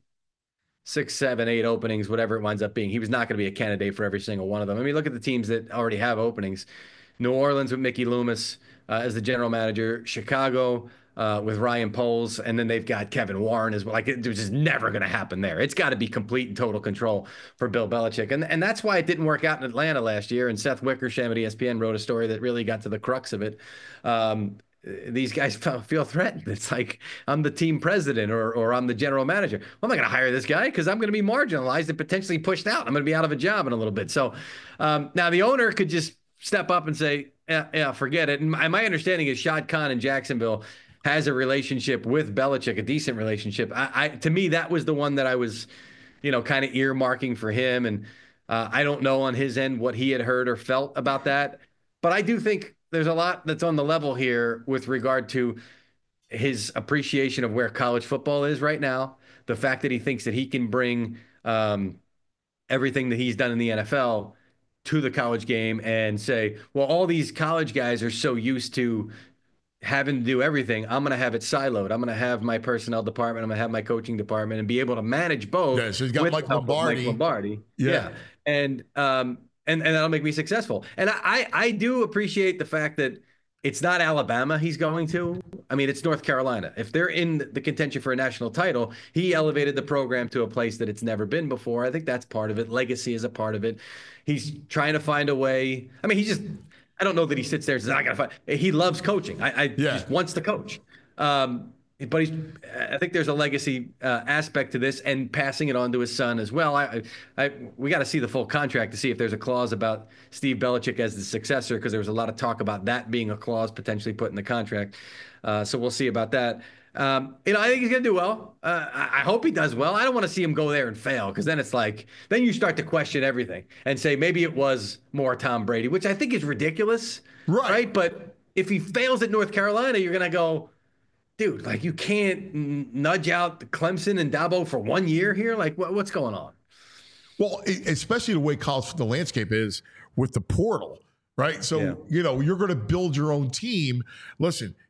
J: six, seven, eight openings, whatever it winds up being, he was not going to be a candidate for every single one of them. I mean, look at the teams that already have openings. New Orleans with Mickey Loomis uh, as the general manager, Chicago uh, with Ryan Poles, and then they've got Kevin Warren as well. Like, it was just never going to happen there. It's got to be complete and total control for Bill Belichick. And, and that's why it didn't work out in Atlanta last year. And Seth Wickersham at E S P N wrote a story that really got to the crux of it. Um, these guys feel threatened. It's like, I'm the team president or or I'm the general manager. Well, I'm not going to hire this guy because I'm going to be marginalized and potentially pushed out. I'm going to be out of a job in a little bit. So um, now the owner could just step up and say, yeah, yeah, forget it. And my, my understanding is Shad Khan in Jacksonville has a relationship with Belichick, a decent relationship. I, I to me, that was the one that I was, you know, kind of earmarking for him. And uh, I don't know on his end what he had heard or felt about that. But I do think there's a lot that's on the level here with regard to his appreciation of where college football is right now. The fact that he thinks that he can bring um, everything that he's done in the N F L to the college game and say, well, all these college guys are so used to having to do everything. I'm going to have it siloed. I'm going to have my personnel department. I'm going to have my coaching department and be able to manage both.
B: Yeah, so he's got
J: with
B: Mike
J: the help of
B: Lombardi.
J: Mike Lombardi.
B: Yeah.
J: yeah. And, um, and, and that'll make me successful. And I, I do appreciate the fact that it's not Alabama he's going to. I mean, it's North Carolina. If they're in the contention for a national title, he elevated the program to a place that it's never been before. I think that's part of it. Legacy is a part of it. He's trying to find a way. I mean, he just, I don't know that he sits there and says, I got to find. He loves coaching. I, I
B: Yeah.
J: just wants to coach. Um, but he's, I think there's a legacy uh, aspect to this and passing it on to his son as well. I, I, we got to see the full contract to see if there's a clause about Steve Belichick as the successor, because there was a lot of talk about that being a clause potentially put in the contract. Uh, so we'll see about that. Um, you know, I think he's going to do well. Uh, I, I hope he does well. I don't want to see him go there and fail, because then it's like, then you start to question everything and say maybe it was more Tom Brady, which I think is ridiculous.
B: Right.
J: Right. But if he fails at North Carolina, you're going to go, dude, like, you can't n- nudge out Clemson and Dabo for one year here. Like, what, what's going on?
B: Well, e- especially the way college the landscape is with the portal, right? So,
J: Yeah.
B: you know, you're going to build your own team. Listen,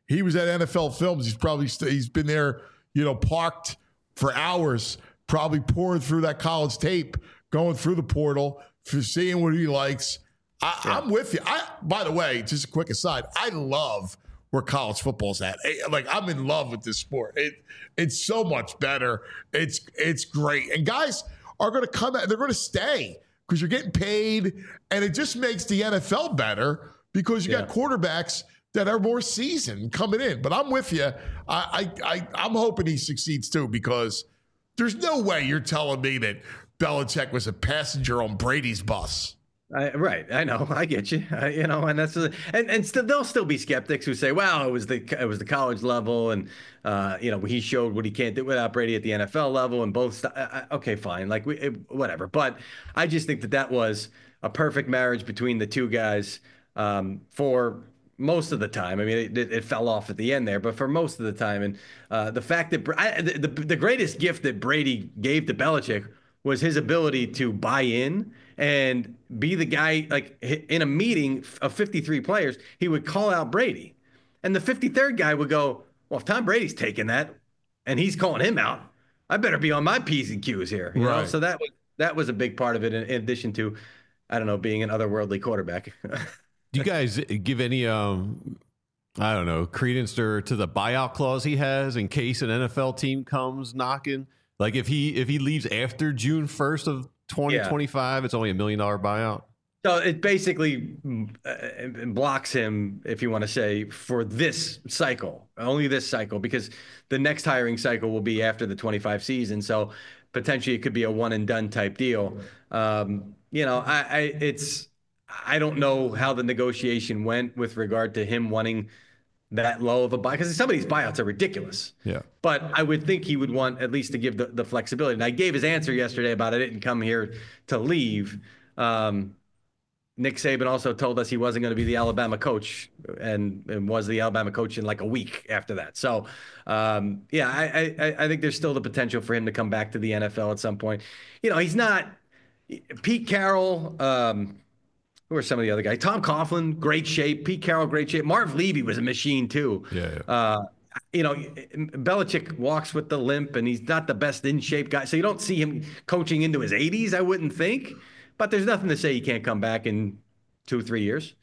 B: He was at N F L Films. He's probably st- he's been there, you know, parked for hours, probably pouring through that college tape, going through the portal, for seeing what he likes. I, yeah. I'm with you. I, by the way, just a quick aside, I love where college football's at. Like, I'm in love with this sport. It it's so much better. It's it's great. And guys are going to come out. They're going to stay because you're getting paid, and it just makes the N F L better because you yeah. got quarterbacks that are more seasoned coming in. But I'm with you. I, I, I, I'm hoping he succeeds too, because there's no way you're telling me that Belichick was a passenger on Brady's bus.
J: I, right, I know, I get you, I, you know, and that's a, and and still there'll still be skeptics who say, "Well, it was the it was the college level, and uh, you know, he showed what he can't do without Brady at the N F L level, and both." St- I, okay, fine, like we, it, whatever. But I just think that that was a perfect marriage between the two guys um, for most of the time. I mean, it, it, it fell off at the end there, but for most of the time, and uh, the fact that I, the, the the greatest gift that Brady gave to Belichick was his ability to buy in and be the guy. Like, in a meeting of fifty-three players, he would call out Brady, and the fifty-third guy would go, "Well, if Tom Brady's taking that and he's calling him out, I better be on my P's and Q's here." You right. know? So that was that was a big part of it, in, in addition to, I don't know, being an otherworldly quarterback.
C: Do you guys give any, um, I don't know, credence to, to the buyout clause he has in case an N F L team comes knocking? Like, if he if he leaves after June first of twenty twenty-five, yeah. it's only a million dollar buyout.
J: So it basically uh, blocks him, if you want to say, for this cycle, only this cycle, because the next hiring cycle will be after the twenty-five season. So potentially it could be a one and done type deal. Um, you know, I, I it's I don't know how the negotiation went with regard to him wanting that low of a buy, because some of these buyouts are ridiculous.
C: Yeah.
J: But I would think he would want at least to give the, the flexibility. And I gave his answer yesterday about I didn't come here to leave. Um, Nick Saban also told us he wasn't going to be the Alabama coach, and, and was the Alabama coach in like a week after that. So, um, yeah, I, I, I think there's still the potential for him to come back to the N F L at some point. You know, he's not Pete Carroll. Um, Who are some of the other guys? Tom Coughlin, great shape. Pete Carroll, great shape. Marv Levy was a machine too.
C: Yeah. yeah.
J: Uh, you know, Belichick walks with the limp, and he's not the best in shape guy. So you don't see him coaching into his eighties, I wouldn't think. But there's nothing to say he can't come back in two or three years.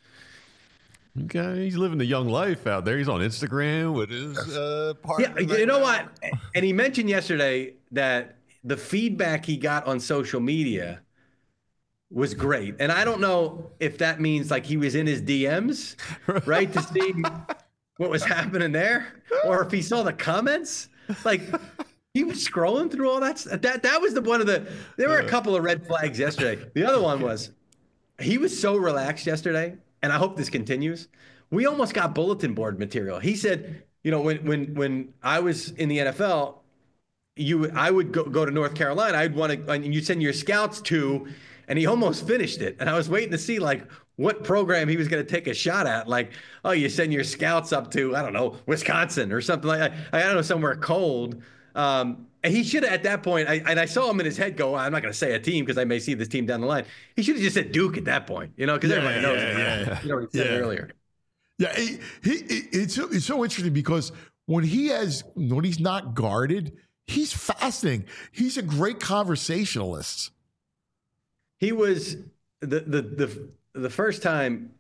C: Okay, he's living the young life out there. He's on Instagram with his uh, partner.
J: Yeah, you know what? And he mentioned yesterday that the feedback he got on social media was great. And I don't know if that means like he was in his D Ms, right, to see what was happening there, or if he saw the comments. Like, he was scrolling through all that. That that was the one of the. There were a couple of red flags yesterday. The other one was he was so relaxed yesterday, and I hope this continues. We almost got bulletin board material. He said, you know, when when when I was in the N F L, you I would go, go to North Carolina. I'd want to, and you send your scouts to. And he almost finished it. And I was waiting to see, like, what program he was going to take a shot at. Like, oh, you send your scouts up to, I don't know, Wisconsin or something like that. I don't know, somewhere cold. Um, and he should have, at that point, I, and I saw him in his head go, I'm not going to say a team because I may see this team down the line. He should have just said Duke at that point, you know, because yeah, everybody knows yeah, yeah, yeah. You know what he said yeah. earlier.
B: Yeah, he, he, it's, it's so interesting because when he has, when he's not guarded, he's fascinating. He's a great conversationalist.
J: He was the, the the the first time.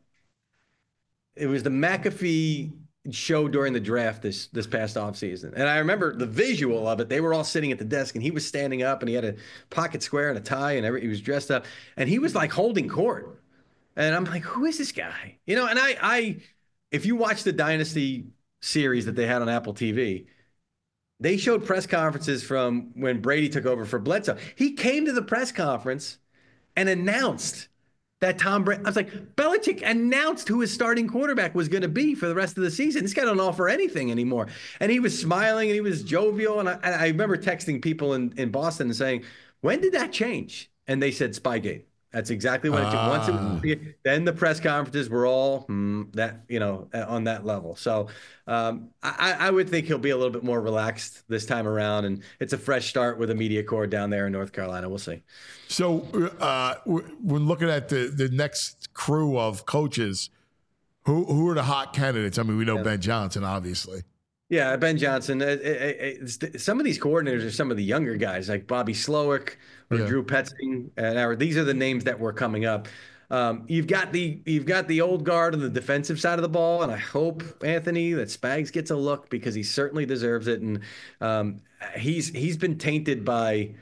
J: It was the McAfee show during the draft this this past offseason. And I remember the visual of it. They were all sitting at the desk, and he was standing up, and he had a pocket square and a tie, and every, he was dressed up, and he was like holding court. And I'm like, who is this guy? You know, and I I if you watch the Dynasty series that they had on Apple T V, they showed press conferences from when Brady took over for Bledsoe. He came to the press conference and announced that Tom Brady, I was like, Belichick announced who his starting quarterback was going to be for the rest of the season. This guy don't offer anything anymore. And he was smiling and he was jovial. And I, and I remember texting people in, in Boston and saying, when did that change? And they said Spygate. That's exactly what it took. Once it was, then the press conferences were all hmm, that, you know, on that level. So um, I, I would think he'll be a little bit more relaxed this time around, and it's a fresh start with a media corps down there in North Carolina. We'll see.
B: So uh, when looking at the the next crew of coaches, Who who are the hot candidates? I mean, we know
J: Yeah.
B: Ben Johnson, obviously.
J: Yeah, Ben Johnson. Uh, uh, uh, some of these coordinators are some of the younger guys, like Bobby Slowick or
B: Yeah.
J: Drew Petzing. And our, these are the names that were coming up. Um, you've got the you've got the old guard on the defensive side of the ball, and I hope, Anthony, that Spags gets a look because he certainly deserves it. And um, he's he's been tainted by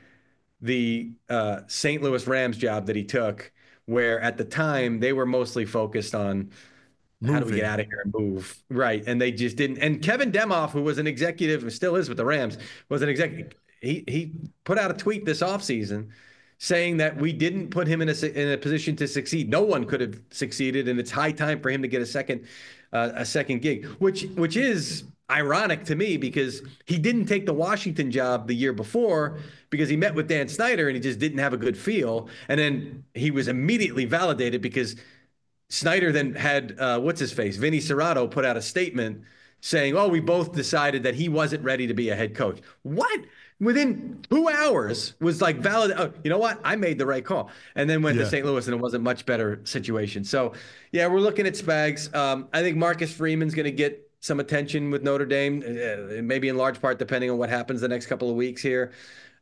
J: the uh, Saint Louis Rams job that he took, where at the time they were mostly focused on how do we
B: Moving.
J: get out of here and move? Right. And they just didn't. And Kevin Demoff, who was an executive, who still is with the Rams, was an executive. He he put out a tweet this offseason saying that we didn't put him in a in a position to succeed. No one could have succeeded, and it's high time for him to get a second uh, a second gig, which which is ironic to me because he didn't take the Washington job the year before because he met with Dan Snyder and he just didn't have a good feel, and then he was immediately validated because Snyder then had, uh, what's his face, Vinny Serrato put out a statement saying, oh, we both decided that he wasn't ready to be a head coach. What? Within two hours was like valid. Oh, you know what? I made the right call. And then went
B: Yeah.
J: to Saint Louis and it was a much better situation. So, yeah, we're looking at Spags. Um, I think Marcus Freeman's going to get some attention with Notre Dame, uh, maybe in large part depending on what happens the next couple of weeks here.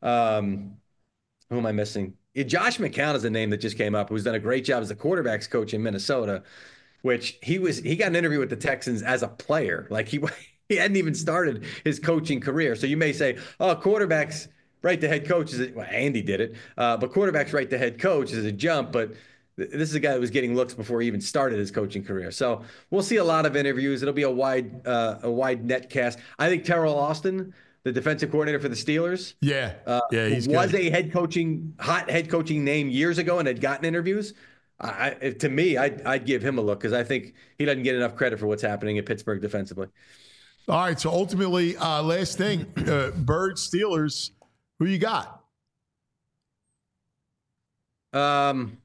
J: Um, who am I missing? Yeah, Josh McCown is a name that just came up, who's done a great job as the quarterbacks coach in Minnesota, which he was, he got an interview with the Texans as a player. Like he, he hadn't even started his coaching career. So you may say, oh, quarterbacks right to head coach is, a, well, Andy did it, uh, but quarterbacks right to head coach is a jump. But th- this is a guy that was getting looks before he even started his coaching career. So we'll see a lot of interviews. It'll be a wide, uh, a wide net cast. I think Terrell Austin, the defensive coordinator for the Steelers,
B: Yeah.
J: uh,
B: yeah, he's
J: was
B: good.
J: a head coaching, hot head coaching name years ago and had gotten interviews. I, I- to me, I'd, I'd give him a look because I think he doesn't get enough credit for what's happening at Pittsburgh defensively.
B: All right, so ultimately, uh, last thing, uh, Birds, Steelers, who you got?
J: Um,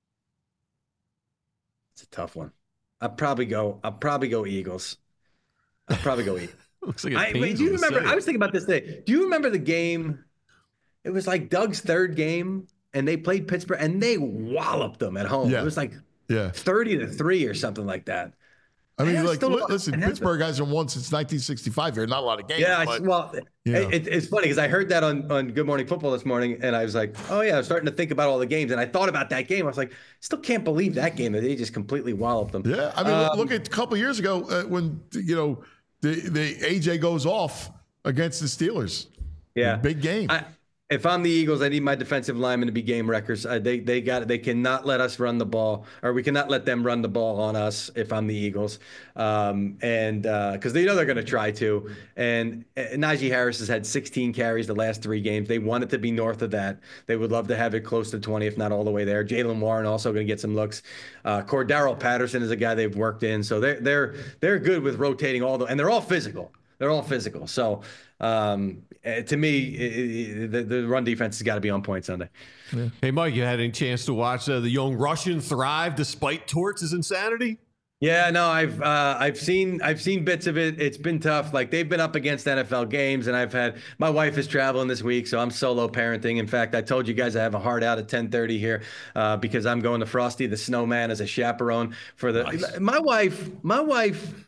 J: it's a tough one. I'd probably go. I'd probably go Eagles. I'd probably go Eagles.
C: Looks like it
J: I,
C: pains
J: wait, do you
C: him to
J: remember?
C: say
J: I
C: it.
J: was thinking about this today. Do you remember the game? It was like Doug's third game, and they played Pittsburgh, and they walloped them at home.
B: Yeah.
J: It was like
B: Yeah.
J: thirty to three or something like that.
B: I mean,
J: I
B: like,
J: still
B: li-
J: don't-
B: listen,
J: it happened.
B: Pittsburgh hasn't won since nineteen sixty-five here. Not a lot of games.
J: Yeah, I,
B: but,
J: well,
B: you know.
J: it, it's funny because I heard that on, on Good Morning Football this morning, and I was like, oh, yeah, I was starting to think about all the games, and I thought about that game. I was like, still can't believe that game that they just completely walloped them.
B: yeah, I mean, look-
J: Um,
B: look at a couple years ago uh, when, you know, the, the A J goes off against the Steelers.
J: Yeah,
B: Big game.
J: I, if I'm the Eagles, I need my defensive linemen to be game wreckers. Uh, they they got they cannot let us run the ball, or we cannot let them run the ball on us. If I'm the Eagles, um, and because uh, they know they're going to try to. And uh, Najee Harris has had sixteen carries the last three games. They want it to be north of that. They would love to have it close to twenty, if not all the way there. Jalen Warren also going to get some looks. Uh, Cordero Patterson is a guy they've worked in, so they're they're they're good with rotating all the, and they're all physical. They're all physical. So um, uh, to me, it, it, the, the run defense has got to be on point Sunday.
C: Hey, Mike, you had any chance to watch uh, the young Russian thrive despite Torts' insanity?
J: Yeah, no, I've uh, I've seen I've seen bits of it. It's been tough. Like they've been up against N F L games, and I've had my wife is traveling this week, so I'm solo parenting. In fact, I told you guys I have a hard out at ten thirty here uh, because I'm going to Frosty the Snowman as a chaperone for the.
C: Nice.
J: My wife, my wife.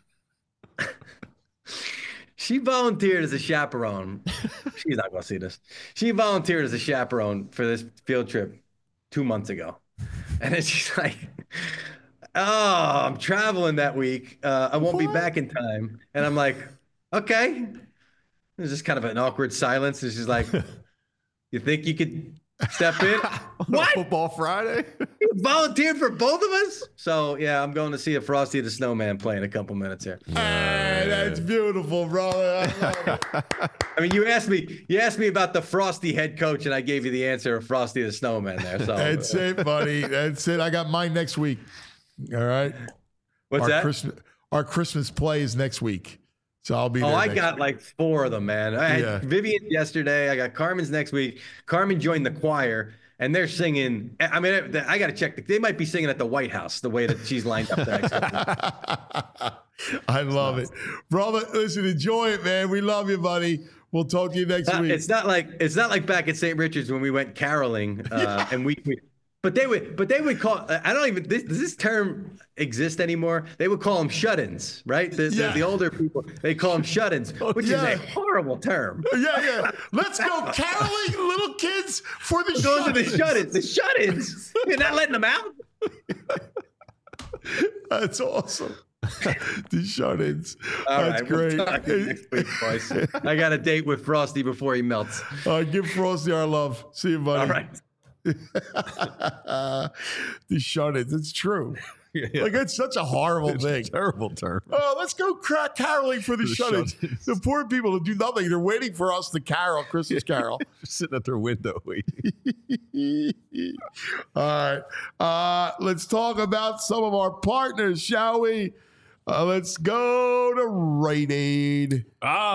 J: She volunteered as a chaperone. She's not going to see this. She volunteered as a chaperone for this field trip two months ago. And then she's like, oh, I'm traveling that week. Uh, I won't
C: What?
J: be back in time. And I'm like, okay. There's just kind of an awkward silence. And she's like, you think you could step in? What?
C: Football Friday?
J: You volunteered for both of us? So, yeah, I'm going to see a Frosty the Snowman play in a couple minutes here.
B: Hey, that's beautiful, brother. I love it.
J: I mean, you asked me, you asked me about the Frosty head coach, and I gave you the answer of Frosty the Snowman there. So
B: That's it, buddy. That's it. I got mine next week. All right.
J: what's
B: our
J: that?
B: Christmas, our Christmas play is next week. So I'll be there.
J: Oh, I
B: next
J: got
B: week.
J: like four of them, man. I had
B: Yeah.
J: Vivian yesterday. I got Carmen's next week. Carmen joined the choir, and they're singing. I mean, I got to check. They might be singing at the White House the way that she's lined up the next couple of
B: I love it. Brother, listen, enjoy it, man. We love you, buddy. We'll talk to you next
J: Not-
B: week.
J: It's not like it's not like back at Saint Richard's when we went caroling, uh, and we, we But they would, but they would call. I don't even. This, does this term exist anymore? They would call them shut-ins, right? The,
B: Yeah.
J: the, the older people, they call them shut-ins, which
B: yeah.
J: is a horrible term.
B: Yeah, yeah. Let's go caroling, little kids, for the
J: Those are the
B: shut-ins.
J: shut-ins. The shut-ins. You're not letting them out.
B: That's awesome. The shut-ins.
J: All
B: That's
J: right,
B: great.
J: We'll talk next week, boys. I got a date with Frosty before he melts.
B: All right, give Frosty our love. See you, buddy.
J: All right.
B: The shut-ins. It's true.
C: Yeah.
B: Like, it's such a horrible
C: It's
B: thing.
C: a terrible term.
B: Oh, let's go crack caroling for the,
C: For the
B: shut-ins.
C: shut-ins.
B: The poor people who do nothing. They're waiting for us to carol, Christmas carol.
C: Just sitting at their window waiting.
B: All right. Uh, let's talk about some of our partners, shall we? Uh, let's go to Rite Aid.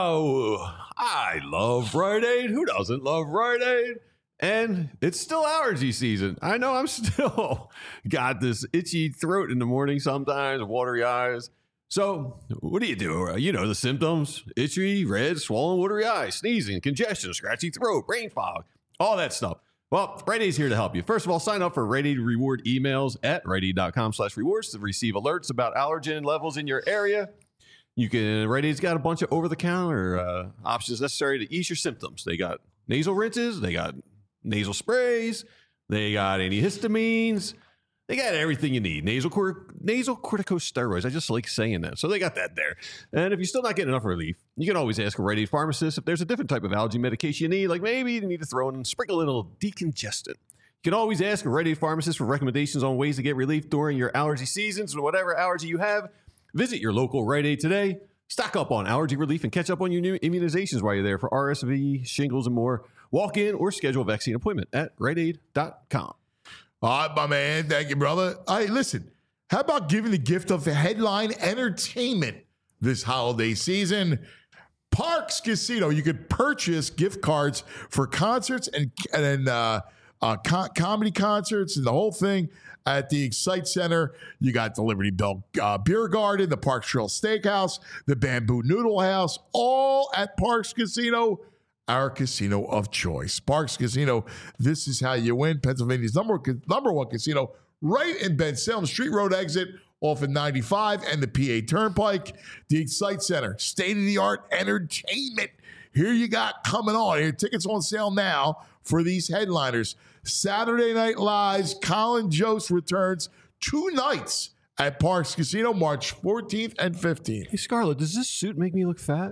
C: Oh, I love Rite Aid. Who doesn't love Rite Aid? And it's still allergy season. I know I'm still got this itchy throat in the morning sometimes, watery eyes. So what do you do? You know the symptoms: itchy, red, swollen, watery eyes, sneezing, congestion, scratchy throat, brain fog, all that stuff. Well, Rite Aid's here to help you. First of all, sign up for Rite Aid reward emails at riteaid.com slash rewards to receive alerts about allergen levels in your area. You can, Rite Aid's got a bunch of over-the-counter uh, options necessary to ease your symptoms. They got nasal rinses, they got nasal sprays, they got antihistamines, they got everything you need. Nasal cor- nasal corticosteroids. I just like saying that. So they got that there. And if you're still not getting enough relief, you can always ask a Rite Aid pharmacist if there's a different type of allergy medication you need. Like maybe you need to throw in and sprinkle in a little decongestant. You can always ask a Rite Aid pharmacist for recommendations on ways to get relief during your allergy seasons and whatever allergy you have. Visit your local Rite Aid today. Stock up on allergy relief and catch up on your new immunizations while you're there for R S V, shingles, and more. Walk in or schedule a vaccine appointment at rite aid dot com.
B: All right, my man. Thank you, brother. Hey, listen, how about giving the gift of headline entertainment this holiday season? Parks Casino. You could purchase gift cards for concerts and, and uh, uh, co- comedy concerts and the whole thing at the Excite Center. You got the Liberty Bell uh, Beer Garden, the Parks Trail Steakhouse, the Bamboo Noodle House, all at Parks Casino. Our casino of choice. Parks Casino, this is how you win. Pennsylvania's number, number one casino, right in Ben Salem Street Road exit off of ninety-five and the P A Turnpike. The Excite Center, state-of-the-art entertainment. Here you got coming on. Here, tickets on sale now for these headliners. Saturday Night Live's Colin Jost returns two nights at Parks Casino, March fourteenth and fifteenth.
C: Hey, Scarlett, does this suit make me look fat?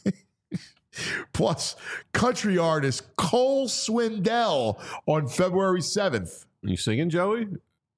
B: Plus, country artist Cole Swindell on February seventh.
C: Are you singing, Joey?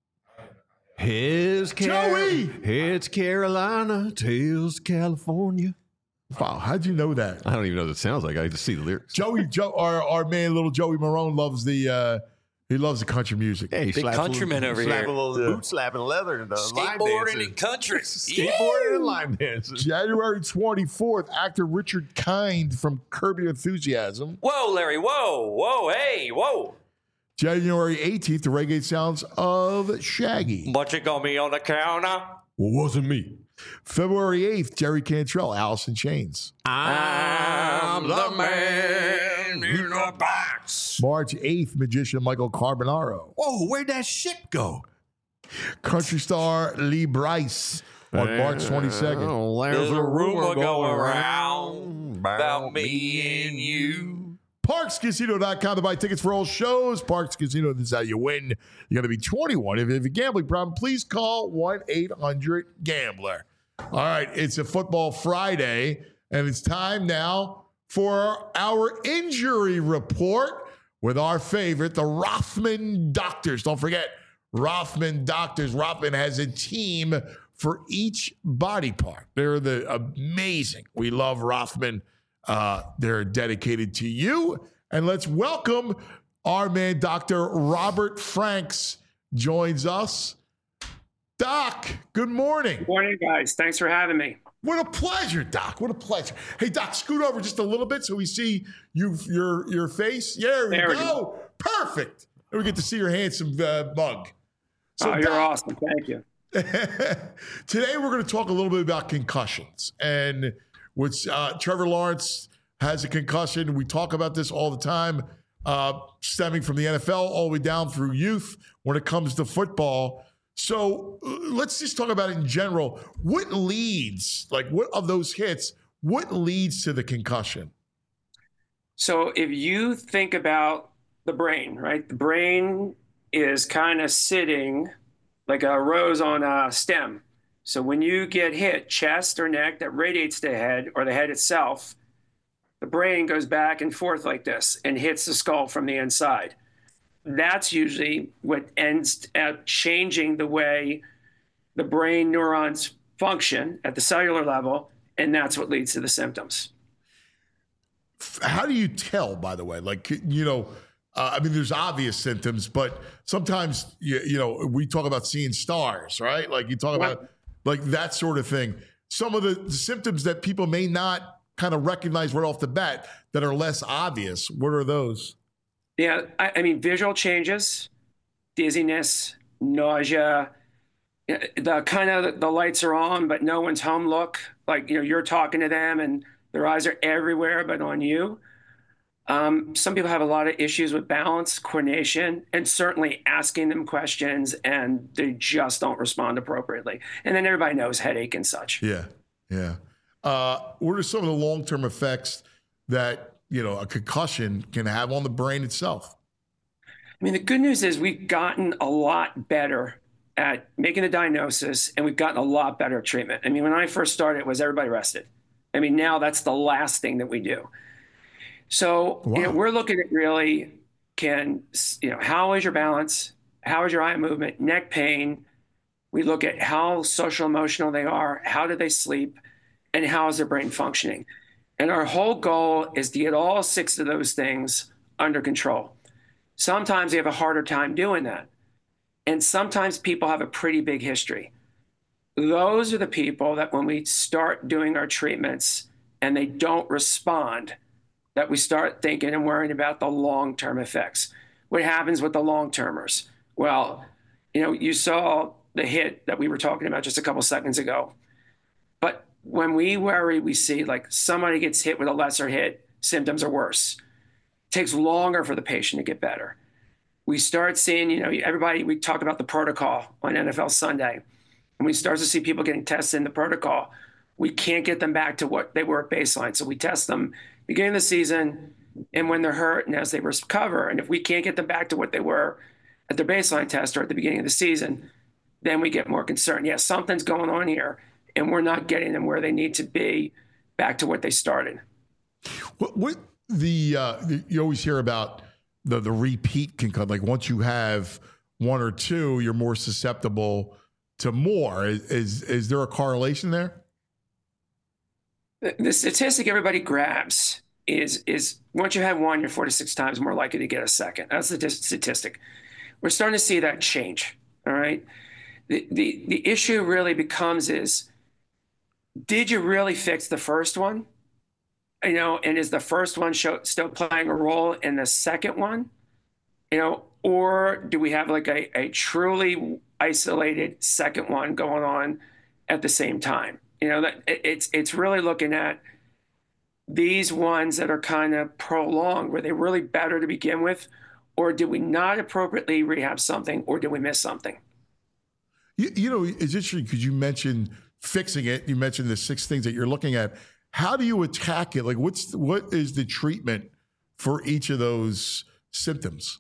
C: His Car-
B: Joey!
C: It's Carolina, Tales California.
B: Wow, how'd you know that?
C: I don't even know what it sounds like. I just see the lyrics.
B: Joey, Joe, our, our man, little Joey Marone, loves the uh, he loves the country music.
C: Hey,
D: Big countryman over
C: slap
D: here.
C: A little
B: Yeah.
C: boot slapping leather and uh, line
D: Skateboarding
C: dancing.
D: and country.
C: Skateboarding and line dancing.
B: January twenty-fourth, actor Richard Kind from Curb Your Enthusiasm.
D: Whoa, Larry. Whoa. Whoa. Hey. Whoa.
B: January eighteenth, the reggae sounds of Shaggy.
D: What you got me on the counter?
B: Well, wasn't me. February eighth, Jerry Cantrell, Alice in Chains.
D: I'm the man in the box.
B: March eighth, magician Michael Carbonaro.
C: Whoa, where'd that ship go?
B: Country star Lee Bryce on March twenty-second.
C: Oh,
D: There's a rumor going around about me and you.
B: Parks Casino dot com to buy tickets for all shows. Parks Casino, this is how you win. You got to be twenty-one. If you have a gambling problem, please call one eight hundred gambler. All right, it's a football Friday, and it's time now for our injury report with our favorite, the Rothman Doctors. Don't forget, Rothman Doctors. Rothman has a team for each body part. They're the amazing. We love Rothman. Uh, they're dedicated to you. And let's welcome our man, Doctor Robert Franks, joins us. Doc, good morning.
K: Good morning, guys. Thanks for having me.
B: What a pleasure, Doc. What a pleasure. Hey, Doc, scoot over just a little bit so we see you, your your face. There we
K: There we
B: go.
K: go.
B: Perfect. And we get to see your handsome uh, mug.
K: So, oh, you're
B: Doc,
K: awesome. Thank you.
B: Today, we're going to talk a little bit about concussions. And which uh, Trevor Lawrence has a concussion. We talk about this all the time. uh, stemming from the N F L all the way down through youth when it comes to football. So uh, let's just talk about it in general. What leads, like what of those hits, what leads to the concussion?
K: So if you think about the brain, right? The brain is kind of sitting like a rose on a stem. So when you get hit, chest or neck, that radiates the head or the head itself, the brain goes back and forth like this and hits the skull from the inside. That's usually what ends up changing the way the brain neurons function at the cellular level, and that's what leads to the symptoms.
B: How do you tell, by the way? Like, you know, uh, I mean, there's obvious symptoms, but sometimes, you, you know, we talk about seeing stars, right? Like you talk about like that sort of thing. Some of the, the symptoms that people may not kind of recognize right off the bat that are less obvious. What are those?
K: Yeah, I, I mean, visual changes, dizziness, nausea, the kind of the lights are on, but no one's home look. Like, you know, you're talking to them and their eyes are everywhere but on you. Um, some people have a lot of issues with balance, coordination, and certainly asking them questions, and they just don't respond appropriately. And then everybody knows headache and such.
B: Yeah, yeah. Uh, what are some of the long-term effects that, you know, a concussion can have on the brain itself?
K: I mean, the good news is we've gotten a lot better at making a diagnosis, and we've gotten a lot better at treatment. I mean, when I first started, it was everybody rested. I mean, now that's the last thing that we do. So wow. you know, we're looking at really can, you know, how is your balance? How is your eye movement, neck pain? We look at how social emotional they are, how do they sleep, and how is their brain functioning? And our whole goal is to get all six of those things under control. Sometimes they have a harder time doing that. And sometimes people have a pretty big history. Those are the people that when we start doing our treatments and they don't respond, that we start thinking and worrying about the long-term effects. What happens with the long-termers? Well, you know, you saw the hit that we were talking about just a couple seconds ago. But when we worry, we see like somebody gets hit with a lesser hit, symptoms are worse. It takes longer for the patient to get better. We start seeing, you know, everybody, we talk about the protocol on N F L Sunday, and we start to see people getting tested in the protocol. We can't get them back to what they were at baseline. So we test them beginning of the season and when they're hurt and as they recover. And if we can't get them back to what they were at their baseline test or at the beginning of the season, then we get more concerned. Yeah, something's going on here, and we're not getting them where they need to be back to what they started.
B: What, what the, uh, the you always hear about the the repeat concussion. Like once you have one or two, you're more susceptible to more. Is is, is there a correlation there?
K: The, the statistic everybody grabs is is once you have one, you're four to six times more likely to get a second. That's the statistic. We're starting to see that change. All right. The the the issue really becomes is, did you really fix the first one? You know, and is the first one show, still playing a role in the second one? You know, or do we have like a, a truly isolated second one going on at the same time? You know, that it's it's really looking at these ones that are kind of prolonged. Were they really better to begin with, or did we not appropriately rehab something, or did we miss something?
B: You, you know, it's interesting because you mentioned fixing it. You mentioned the six things that you're looking at. How do you attack it? Like, what's what is the treatment for each of those symptoms?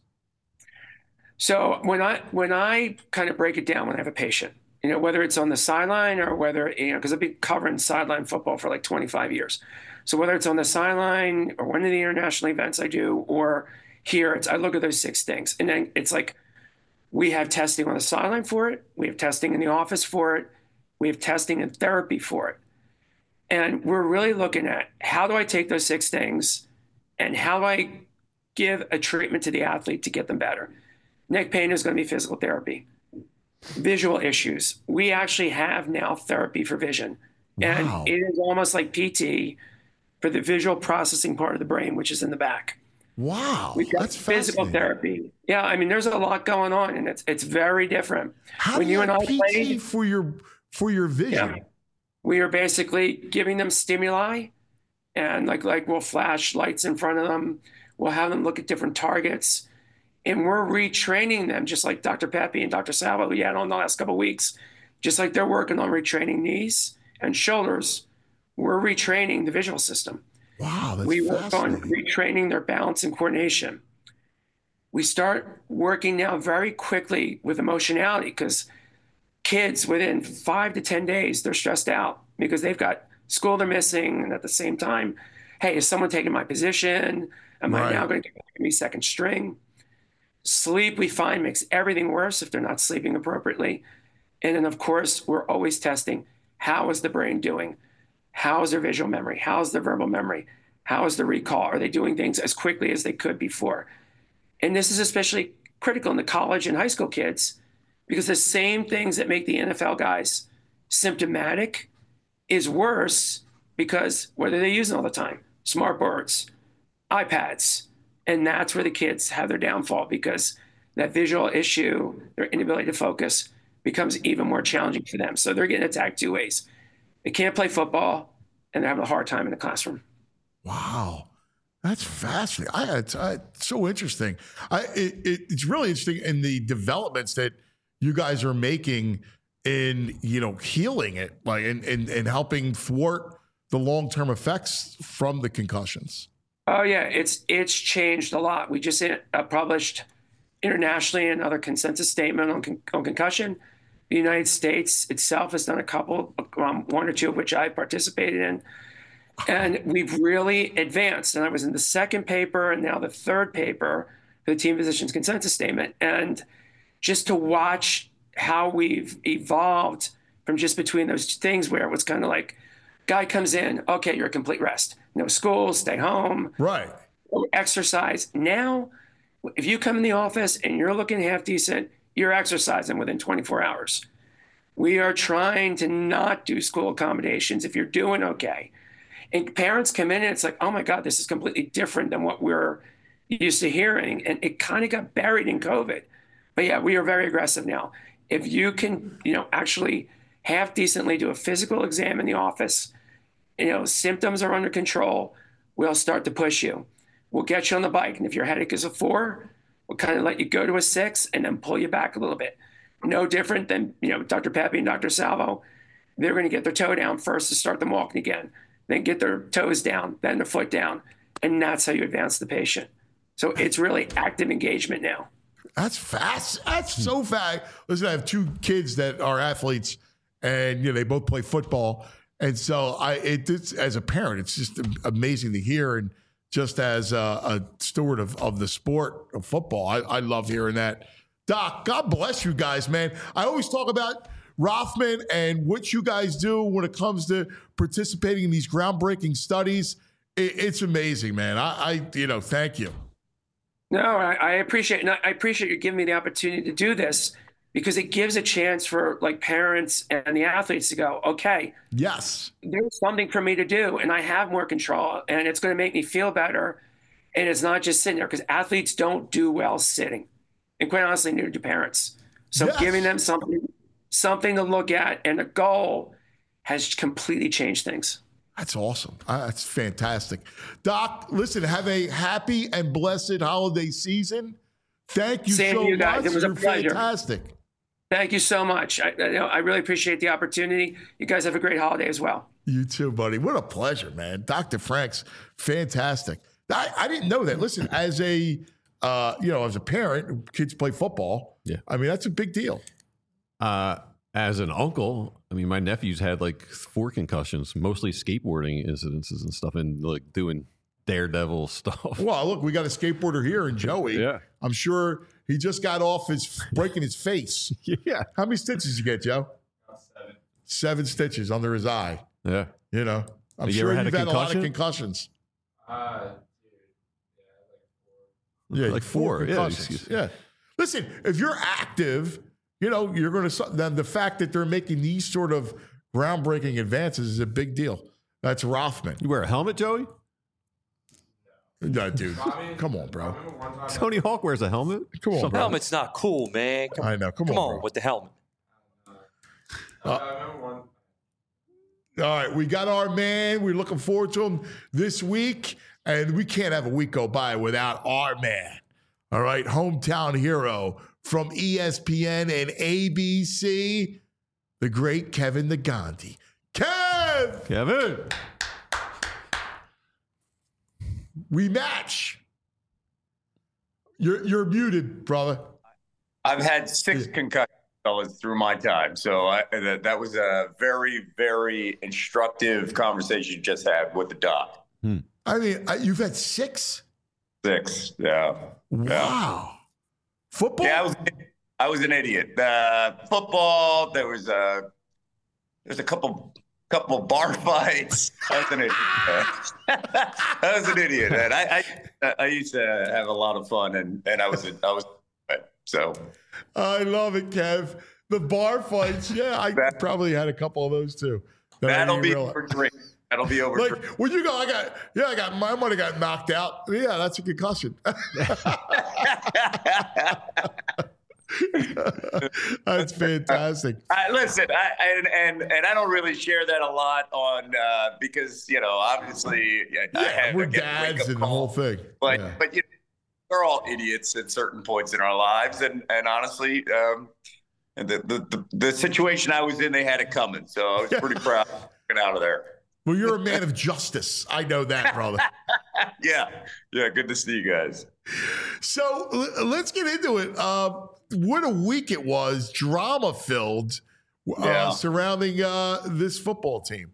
K: So when I when I kind of break it down when I have a patient, you know, whether it's on the sideline or whether, you know, because I've been covering sideline football for like twenty-five years. So whether it's on the sideline or one of the international events I do, or here, it's I look at those six things, and then it's like we have testing on the sideline for it, we have testing in the office for it, we have testing and therapy for it. And we're really looking at how do I take those six things and how do I give a treatment to the athlete to get them better? Neck pain is going to be physical therapy. Visual issues. We actually have now therapy for vision.
B: Wow.
K: And it is almost like P T for the visual processing part of the brain, which is in the back.
B: Wow.
K: We've got
B: That's
K: physical therapy. Yeah, I mean, there's a lot going on, and it's it's very different.
B: How
K: when
B: do you,
K: you
B: have
K: and I
B: P T
K: played,
B: for your for your vision?
K: Yeah. We are basically giving them stimuli, and like like we'll flash lights in front of them. We'll have them look at different targets. And we're retraining them, just like Doctor Pepe and Doctor Salvo, we had on the last couple of weeks. Just like they're working on retraining knees and shoulders, we're retraining the visual system.
B: Wow, that's
K: we work on retraining their balance and coordination. We start working now very quickly with emotionality, because kids within five to ten days, they're stressed out because they've got school they're missing. And at the same time, hey, is someone taking my position? Am right. I now going to be second string? Sleep, we find, makes everything worse if they're not sleeping appropriately. And then, of course, we're always testing, how is the brain doing? How is their visual memory? How is their verbal memory? How is the recall? Are they doing things as quickly as they could before? And this is especially critical in the college and high school kids, because the same things that make the N F L guys symptomatic is worse because what are they using all the time? Smart boards, iPads. And that's where the kids have their downfall, because that visual issue, their inability to focus, becomes even more challenging for them. So they're getting attacked two ways. They can't play football, and they're having a hard time in the classroom.
B: Wow. That's fascinating. I, it's, I, it's so interesting. I, it, it, it's really interesting in the developments that you guys are making in, you know, healing it, like, and, and, and helping thwart the long-term effects from the concussions.
K: Oh, yeah. It's, it's changed a lot. We just uh, published internationally another consensus statement on, con- on concussion. The United States itself has done a couple, um, one or two of which I participated in. And we've really advanced. And I was in the second paper and now the third paper for the team physicians consensus statement. And just to watch how we've evolved from just between those things where it was kind of like, guy comes in, okay, you're a complete rest. No school, stay home.
B: Right.
K: Exercise. Now, if you come in the office and you're looking half decent, you're exercising within twenty-four hours. We are trying to not do school accommodations if you're doing okay. And parents come in and it's like, oh my God, this is completely different than what we're used to hearing. And it kind of got buried in COVID. But yeah, we are very aggressive now. If you can, you know, actually half decently do a physical exam in the office, you know, symptoms are under control, we'll start to push you. We'll get you on the bike. And if your headache is a four, we'll kind of let you go to a six and then pull you back a little bit. No different than, you know, Doctor Pepe and Doctor Salvo. They're going to get their toe down first to start them walking again, then get their toes down, then their foot down. And that's how you advance the patient. So it's really active engagement now.
B: That's fast. That's so fast. Listen, I have two kids that are athletes and, you know, they both play football. And so I, it, it's, as a parent, it's just amazing to hear. And just as a, a steward of, of the sport of football, I, I love hearing that. Doc, God bless you guys, man. I always talk about Rothman and what you guys do when it comes to participating in these groundbreaking studies. It, it's amazing, man. I, I, you know, thank you.
K: No, I, I appreciate it. I appreciate you giving me the opportunity to do this, because it gives a chance for like parents and the athletes to go, okay,
B: yes,
K: there's something for me to do and I have more control and it's going to make me feel better. And it's not just sitting there, because athletes don't do well sitting, and quite honestly, neither do parents. So yes. giving them something, something to look at and a goal has completely changed things.
B: That's awesome. Uh, that's fantastic. Doc, listen, have a happy and blessed holiday season. Thank you
K: Same
B: so
K: to you guys.
B: much.
K: It was
B: You're
K: a pleasure.
B: Fantastic.
K: Thank you so much. I, you know, I really appreciate the opportunity. You guys have a great holiday as well.
B: You too, buddy. What a pleasure, man. Doctor Franks, fantastic. I, I didn't know that. Listen, as a uh, you know, as a parent, kids play football.
C: Yeah,
B: I mean that's a big deal.
C: Uh, as an uncle, I mean, my nephews had like four concussions, mostly skateboarding incidences and stuff, and like doing daredevil stuff.
B: Well, look, we got a skateboarder here in Joey.
C: Yeah,
B: I'm sure he just got off his breaking his face.
C: Yeah.
B: How many stitches did you get, Joe?
L: Seven.
B: Seven stitches under his eye.
C: Yeah.
B: You know, I'm
C: you
B: sure
C: ever
B: you've
C: had
B: had
C: a,
B: a lot of concussions.
L: Uh, dude,
B: yeah,
C: like four.
B: four concussions. Yeah, yeah. Listen, if you're active, you know, you're going to, then the fact that they're making these sort of groundbreaking advances is a big deal. That's Rothman.
C: You wear a helmet, Joey?
B: No, dude. Come on, bro.
C: Tony Hawk wears a helmet.
B: Come on, bro.
D: Helmet's not cool, man. Come,
B: I know. Come,
D: come
B: on,
D: on
B: bro.
D: with the helmet.
B: Uh, all right, we got our man. We're looking forward to him this week. And we can't have a week go by without our man, all right, hometown hero from E S P N and A B C, the great Kevin the Gandhi. Kev!
C: Kevin!
B: We match. You're you're muted, brother.
L: I've had six concussions, fellas, through my time. So I, that, that was a very, very instructive conversation you just had with the doc.
B: Hmm. I mean, I, you've had six?
L: Six, yeah.
B: Wow.
L: Yeah.
B: Football?
L: Yeah, I was I was an idiot. Uh, football, there was a there's a couple couple bar fights. I was an idiot. I was an idiot, and I, I I used to have a lot of fun, and and I was a, I was so.
B: I love it, Kev. The bar fights, yeah, I that, probably had a couple of those too. That
L: that'll be over drink. That'll be over.
B: Like when you go, I got yeah, I got my money got knocked out. Yeah, that's a concussion. That's fantastic.
L: I, listen, I, and, and and I don't really share that a lot on uh, because you know obviously
B: yeah,
L: I have,
B: we're
L: I get
B: dads and the whole thing.
L: But
B: yeah.
L: but you know, we're all idiots at certain points in our lives, and and honestly, um, and the, the the the situation I was in, they had it coming, so I was pretty proud of getting out of there.
B: Well, you're a man of justice. I know that, brother.
L: yeah, yeah. Good to see you guys.
B: So l- let's get into it. Uh, what a week it was, drama filled, uh,
L: yeah.
B: surrounding uh, this football team.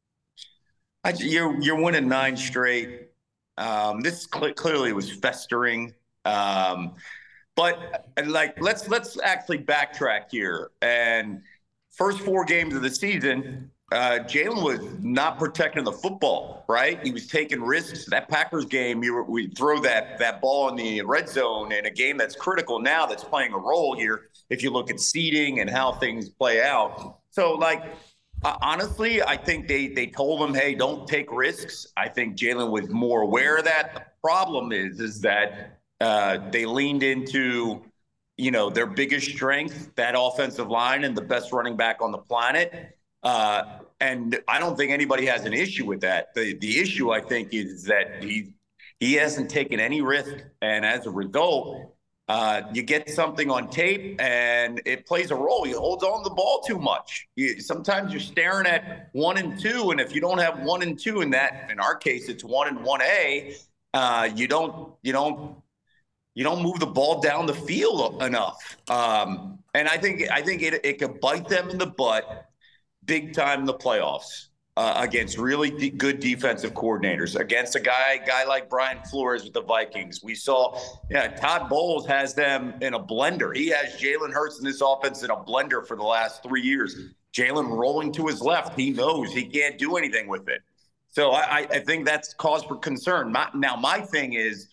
L: I, you're you're winning nine straight. Um, this cl- clearly was festering, um, but like let's let's actually backtrack here. And first four games of the season, uh, Jalen was not protecting the football, right? He was taking risks. That Packers game, you were, we throw that that ball in the red zone in a game that's critical now, that's playing a role here. If you look at seeding and how things play out, so like. Uh, honestly, I think they they told him, hey, don't take risks. I think Jalen was more aware of that. The problem is, is that uh, they leaned into, you know, their biggest strength, that offensive line and the best running back on the planet. Uh, and I don't think anybody has an issue with that. The the issue, I think, is that he he hasn't taken any risk. And as a result, Uh, you get something on tape and it plays a role. He holds on to the ball too much. You, sometimes you're staring at one and two, and if you don't have one and two in that, in our case, it's one and one A. Uh, you don't, you don't, you don't move the ball down the field enough. Um, and I think, I think it it could bite them in the butt, big time in the playoffs. Uh, against really de- good defensive coordinators, against a guy guy like Brian Flores with the Vikings. We saw, yeah, Todd Bowles has them in a blender. He has Jalen Hurts in this offense in a blender for the last three years. Jalen rolling to his left. He knows he can't do anything with it. So I, I think that's cause for concern. My, now, my thing is,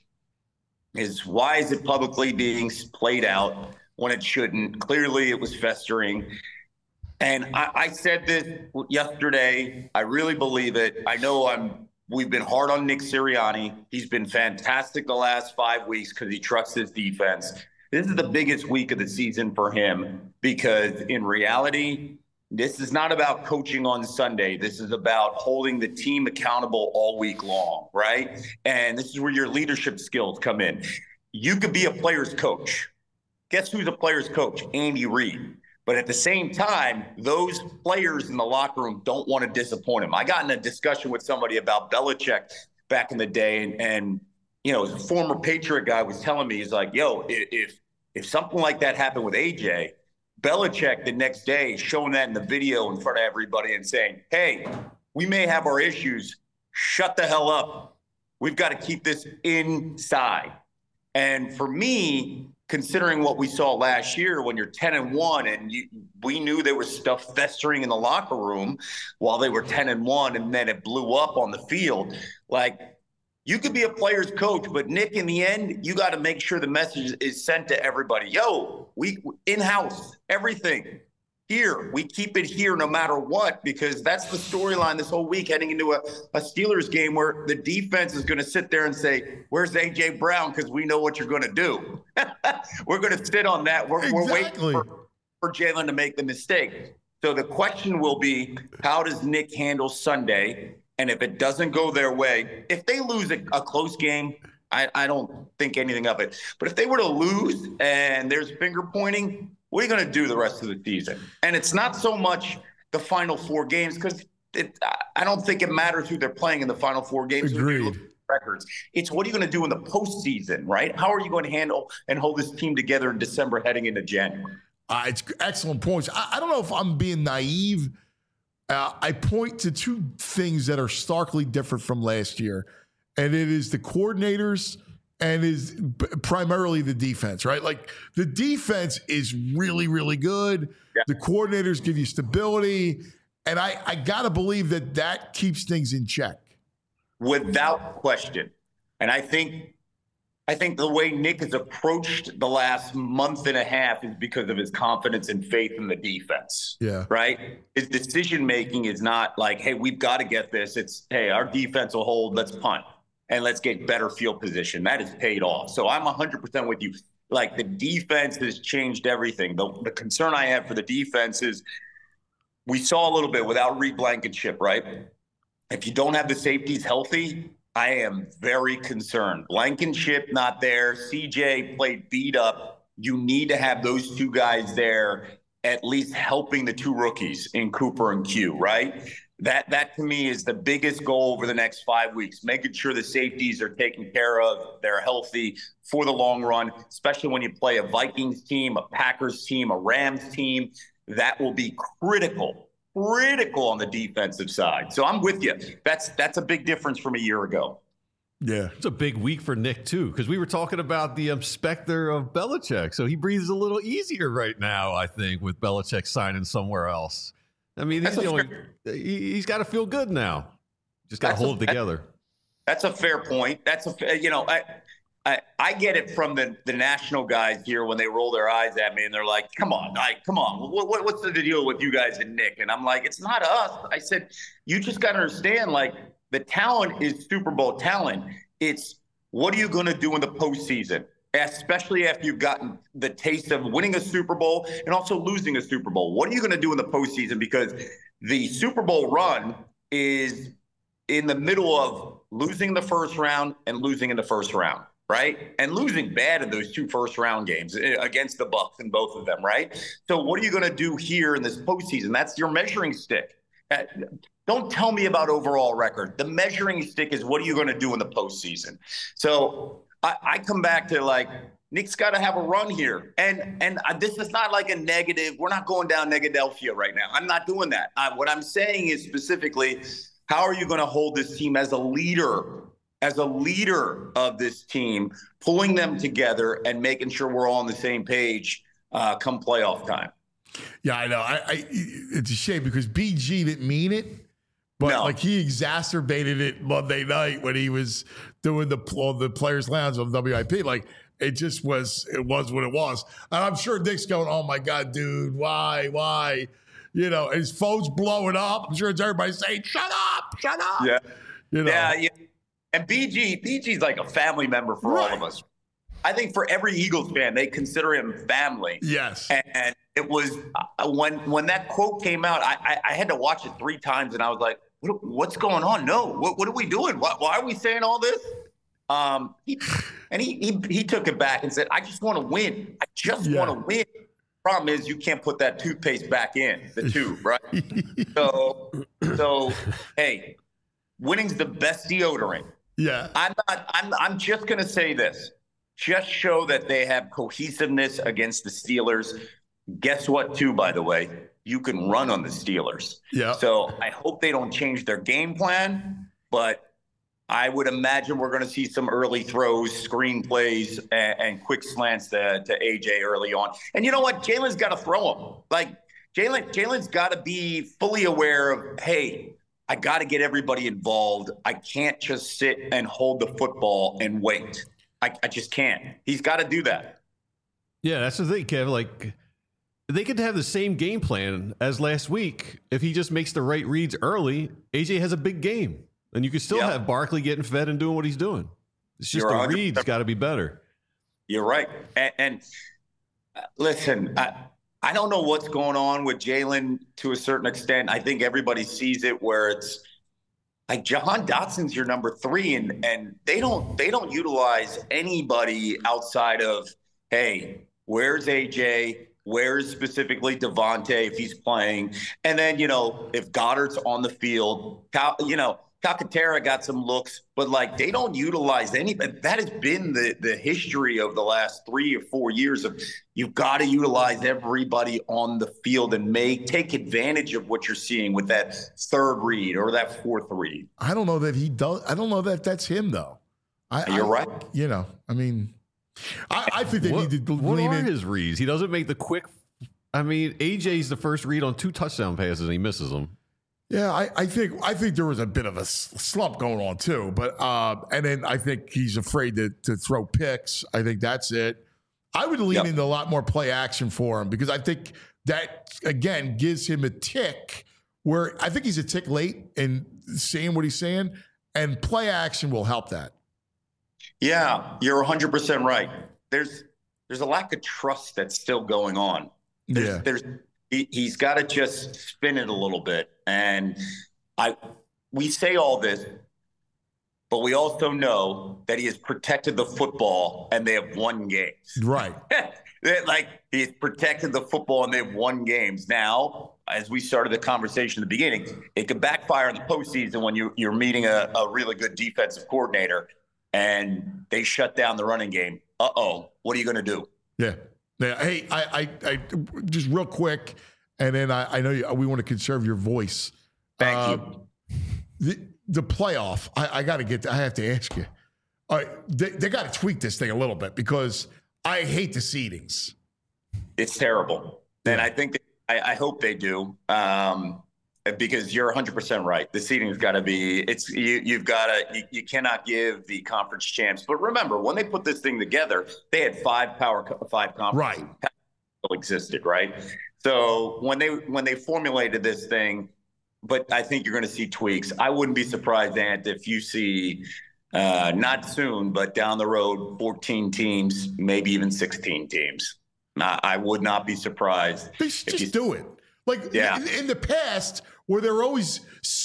L: is why is it publicly being played out when it shouldn't? Clearly, it was festering. And I, I said this yesterday. I really believe it. I know I'm. We've been hard on Nick Sirianni. He's been fantastic the last five weeks because he trusts his defense. This is the biggest week of the season for him because in reality, this is not about coaching on Sunday. This is about holding the team accountable all week long, right? And this is where your leadership skills come in. You could be a player's coach. Guess who's a player's coach? Andy Reid. But at the same time, those players in the locker room don't want to disappoint him. I got in a discussion with somebody about Belichick back in the day, and, and you know, a former Patriot guy was telling me, he's like, yo, if if something like that happened with A J, Belichick the next day showing that in the video in front of everybody and saying, hey, we may have our issues. Shut the hell up. We've got to keep this inside. And for me, considering what we saw last year when you're ten and one and you, we knew there was stuff festering in the locker room while they were ten and one and then it blew up on the field. Like, you could be a player's coach, but Nick, in the end, you got to make sure the message is sent to everybody. Yo, we in-house, everything. Here, we keep it here no matter what, because that's the storyline this whole week heading into a, a Steelers game where the defense is going to sit there and say, where's A J Brown? Because we know what you're going to do. We're going to sit on that. We're,
B: exactly.
L: we're waiting for, for Jalen to make the mistake. So the question will be, how does Nick handle Sunday? And if it doesn't go their way, if they lose a, a close game, I, I don't think anything of it. But if they were to lose and there's finger pointing, what are you going to do the rest of the season? And it's not so much the final four games, because I don't think it matters who they're playing in the final four games.
B: Agreed.
L: Records. It's what are you going to do in the postseason, right? How are you going to handle and hold this team together in December heading into January?
B: Uh, it's excellent points. I, I don't know if I'm being naive. Uh, I point to two things that are starkly different from last year, and it is the coordinators and is b- primarily the defense, right? Like the defense is really, really good. Yeah. The coordinators give you stability, and I, I got to believe that that keeps things in check.
L: Without question. And I think I think the way Nick has approached the last month and a half is because of his confidence and faith in the defense.
B: Yeah.
L: Right? His decision making is not like, hey, we've got to get this. It's, hey, our defense will hold, let's punt and let's get better field position. That has paid off. So I'm one hundred percent with you. Like the defense has changed everything. The, the concern I have for the defense is we saw a little bit without Reed Blankenship, right? If you don't have the safeties healthy, I am very concerned. Blankenship not there. C J played beat up. You need to have those two guys there, at least helping the two rookies in Cooper and Q, right? That, that to me is the biggest goal over the next five weeks, making sure the safeties are taken care of, they're healthy for the long run, especially when you play a Vikings team, a Packers team, a Rams team. That will be critical. Critical on the defensive side. So I'm with you. That's that's a big difference from a year ago.
B: Yeah.
C: It's a big week for Nick, too, because we were talking about the um, specter of Belichick. So he breathes a little easier right now, I think, with Belichick signing somewhere else. I mean, he's, only, he, he's got to feel good now. Just got to hold
L: a,
C: it together.
L: That's a fair point. That's a, you know, I, I, I get it from the, the national guys here when they roll their eyes at me and they're like, come on, like, come on. What, what, what's the deal with you guys and Nick? And I'm like, it's not us. I said, you just got to understand, like, the talent is Super Bowl talent. It's what are you going to do in the postseason, especially after you've gotten the taste of winning a Super Bowl and also losing a Super Bowl. What are you going to do in the postseason? Because the Super Bowl run is in the middle of losing the first round and losing in the first round. Right. And losing bad in those two first round games against the Bucs in both of them. Right. So what are you going to do here in this postseason? That's your measuring stick. Don't tell me about overall record. The measuring stick is what are you going to do in the postseason? So I, I come back to like Nick's got to have a run here. And and this is not like a negative. We're not going down Negadelphia right now. I'm not doing that. I, what I'm saying is specifically, how are you going to hold this team as a leader? As a leader of this team, pulling them together and making sure we're all on the same page uh, come playoff time.
B: Yeah, I know. I, I it's a shame because B G didn't mean it, but no. like he exacerbated it Monday night when he was doing the the players' lounge on W I P. Like it just was. It was what it was. And I'm sure Nick's going, "Oh my God, dude, why, why?" You know, his phone's blowing up. I'm sure it's everybody saying, "Shut up, shut up."
L: Yeah,
B: you know.
L: Yeah, yeah. And B G, B G's like a family member for right. all of us. I think for every Eagles fan, they consider him family.
B: Yes.
L: And, and it was uh, when when that quote came out, I, I, I had to watch it three times, and I was like, what, "What's going on? No, what what are we doing? Why, why are we saying all this?" Um, he, and he, he he took it back and said, "I just want to win. I just yeah. want to win." Problem is, you can't put that toothpaste back in the tube, right? so so hey, winning's the best deodorant.
B: Yeah.
L: I'm not I'm I'm just gonna say this. Just show that they have cohesiveness against the Steelers. Guess what, too, by the way? You can run on the Steelers.
B: Yeah.
L: So I hope they don't change their game plan, but I would imagine we're going to see some early throws, screen plays, and, and quick slants to, to A J early on. And you know what? Jalen's got to throw them. Like, Jalen, Jalen's got to be fully aware of, hey, I got to get everybody involved. I can't just sit and hold the football and wait. I, I just can't. He's got to do that.
C: Yeah, that's the thing, Kev. Like, they could have the same game plan as last week. If he just makes the right reads early, A J has a big game. And you can still yep. have Barkley getting fed and doing what he's doing. It's just You're the reads got to be better.
L: You're right. And, and uh, listen, I, I don't know what's going on with Jalen to a certain extent. I think everybody sees it where it's like Jahan Dotson's your number three, and and they don't they don't utilize anybody outside of, hey, where's A J? Where's specifically Devontae if he's playing? And then, you know, if Goddard's on the field, Cal, you know, Calcaterra got some looks, but like they don't utilize any. That has been the the history of the last three or four years of you've got to utilize everybody on the field and make take advantage of what you're seeing with that third read or that fourth read.
B: I don't know that he does. I don't know that that's him though. I,
L: You're
B: I,
L: right.
B: You know, I mean, I, I think they
C: what,
B: need to
C: what
B: lean
C: are
B: in.
C: his reads? He doesn't make the quick. I mean, A J's the first read on two touchdown passes, and he misses them.
B: Yeah, I, I think I think there was a bit of a slump going on too, but uh, and then I think he's afraid to to throw picks. I think that's it. I would lean
L: Yep.
B: into a lot more play action for him because I think that again gives him a tick where I think he's a tick late in saying what he's saying, and play action will help that.
L: Yeah, you're one hundred percent right. There's there's a lack of trust that's still going on. There's,
B: Yeah.
L: there's he, he's got to just spin it a little bit. And I we say all this, but we also know that he has protected the football and they have won games.
B: Right.
L: Like he's protected the football and they've won games. Now, as we started the conversation at the beginning, it could backfire in the postseason when you, you're meeting a, a really good defensive coordinator and they shut down the running game. Uh-oh, what are you going to do?
B: Yeah. Yeah. Hey, I, I, I just real quick, and then I, I know you, we want to conserve your voice.
L: Thank
B: uh,
L: you.
B: The, the playoff, I, I got to get, I have to ask you. All right, they, they got to tweak this thing a little bit because I hate the seedings.
L: It's terrible. And I think, that, I, I hope they do. Um, because you're one hundred percent right. The seeding's got to be, it's, you, you've got to, you, you cannot give the conference champs. But remember, when they put this thing together, they had five power, five conferences
B: right.
L: existed, right? So when they, when they formulated this thing, but I think you're going to see tweaks. I wouldn't be surprised, Ant, if you see, uh, not soon, but down the road, fourteen teams, maybe even sixteen teams. I, I would not be surprised.
B: They should
L: if
B: just
L: you,
B: do it. Like
L: yeah.
B: in, in the past, where they're always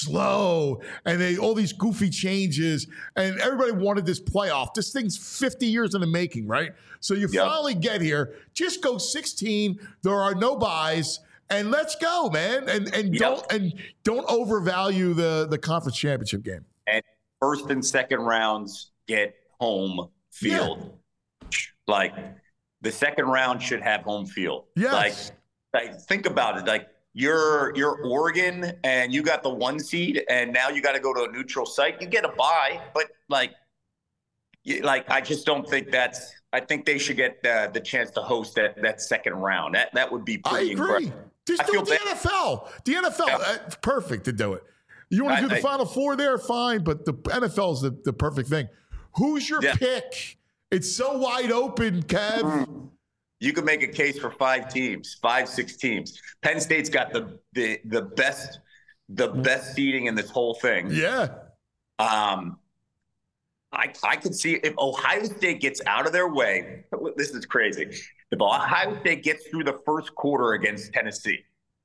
B: slow and they all these goofy changes, and everybody wanted this playoff. This thing's fifty years in the making, right? So you
L: Yep.
B: finally get here. Just go sixteen. There are no buys, and let's go, man. And and
L: Yep.
B: don't and don't overvalue the the conference championship game.
L: And first and second rounds get home field. Like the second round should have home field.
B: Yes.
L: Like, like think about it. Like you're you're Oregon and you got the one seed, and now you got to go to a neutral site. You get a bye, but like, you, like I just don't think that's. I think they should get uh, the chance to host that that second round. That that would be
B: I
L: pretty
B: agree.
L: incredible.
B: Just
L: I
B: do
L: feel
B: it the
L: bad.
B: N F L. The N F L,
L: Yeah.
B: uh, perfect to do it. You want to do the
L: I- I-
B: Final Four there, fine, but the N F L is the, the perfect thing. Who's your
L: Yeah.
B: pick? It's so wide open, Kev.
L: You could make a case for five teams, five, six teams. Penn State's got the the the best the best seeding in this whole thing.
B: Yeah.
L: Um, I I could see if Ohio State gets out of their way. This is crazy. If Ohio State gets through the first quarter against Tennessee,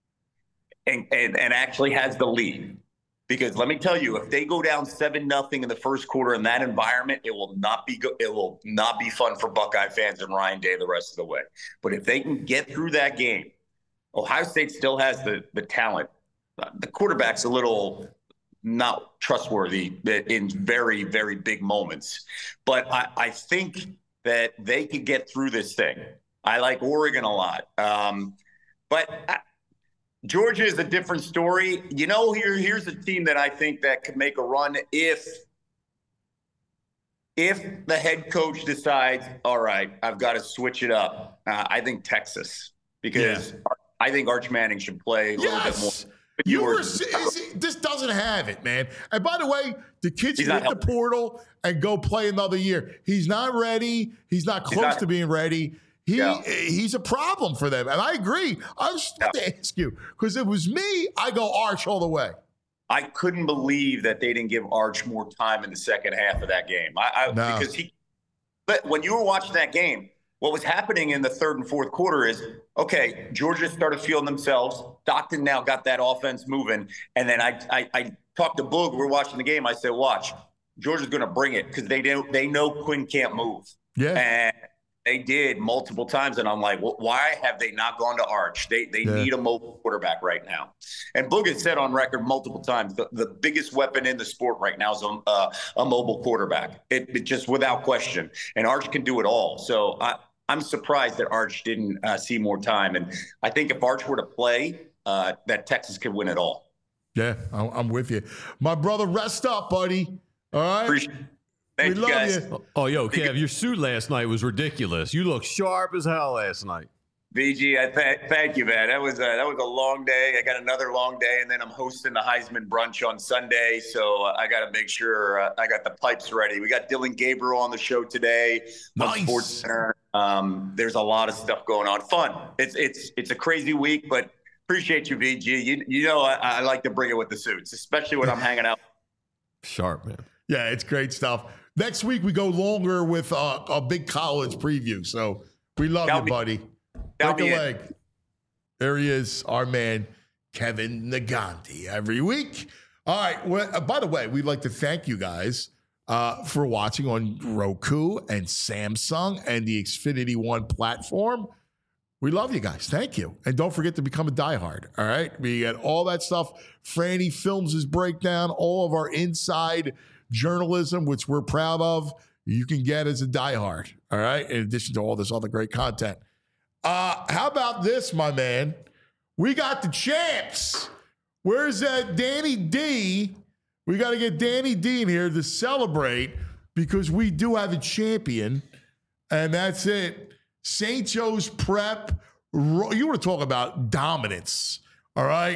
L: and and, and actually has the lead. Because let me tell you, if they go down seven nothing in the first quarter in that environment, it will not be go- it will not be fun for Buckeye fans and Ryan Day the rest of the way. But if they can get through that game, Ohio State still has the the talent. Uh, the quarterback's a little not trustworthy in very very big moments, but I, I think that they could get through this thing. I like Oregon a lot, um, but. I, Georgia is a different story. You know, here here's a team that I think that could make a run if if the head coach decides, all right, I've got to switch it up. Uh, I think Texas, because
B: Yeah.
L: I think Arch Manning should play a little bit more.
B: Yes. You were, is, this doesn't have it, man. And by the way, the kids
L: He's
B: hit
L: not
B: the
L: helping.
B: portal and go play another year. He's not ready. He's not
L: He's
B: close
L: not-
B: to being ready. He
L: Yeah.
B: he's a problem for them, and I agree. I was just about to ask you because it was me. I go Arch all the way.
L: I couldn't believe that they didn't give Arch more time in the second half of that game. I, I
B: No.
L: because he, but when you were watching that game, what was happening in the third and fourth quarter is, okay, Georgia started feeling themselves. Stockton now got that offense moving, and then I, I, I talked to Boog. We're watching the game. I said, watch, Georgia's going to bring it because they know, they know Quinn can't move.
B: Yeah.
L: And they did multiple times. And I'm like, well, why have they not gone to Arch? They they
B: Yeah.
L: need a mobile quarterback right now. And Boog has said on record multiple times, the, the biggest weapon in the sport right now is a, uh, a mobile quarterback. It, it just without question. And Arch can do it all. So I, I'm surprised that Arch didn't uh, see more time. And I think if Arch were to play, uh, that Texas could win it all.
B: Yeah, I'm, I'm with you. My brother, rest up, buddy. All right?
L: Appreciate Thank
B: we
L: you,
B: love
L: guys.
B: you.
C: Oh, yo, Kev, your suit last night was ridiculous. You look sharp as hell last night.
L: V G, I th- thank you, man. That was a, that was a long day. I got another long day, and then I'm hosting the Heisman brunch on Sunday, so uh, I got to make sure uh, I got the pipes ready. We got Dylan Gabriel on the show today on
B: Nice.
L: Sports Center. Um, there's a lot of stuff going on. Fun. It's it's it's a crazy week, but appreciate you, V G. You you know I, I like to bring it with the suits, especially when I'm hanging out.
C: Sharp, man.
B: Yeah, it's great stuff. Next week, we go longer with uh, a big college preview. So we love
L: That'll
B: you,
L: be-
B: buddy.
L: that'll
B: Break
L: be
B: a
L: it.
B: leg. There he is, our man, Kevin Nagandi, every week. All right. Well, uh, by the way, we'd like to thank you guys uh, for watching on Roku and Samsung and the Xfinity One platform. We love you guys. Thank you. And don't forget to become a diehard. All right. We got all that stuff. Franny films his breakdown, all of our inside journalism, which we're proud of, you can get as a diehard. All right. In addition to all this other great content. Uh, how about this, my man? We got the champs. Where's that Danny D? We got to get Danny D in here to celebrate because we do have a champion. And that's it. Saint Joe's Prep. Ro- you want to talk about dominance. All right.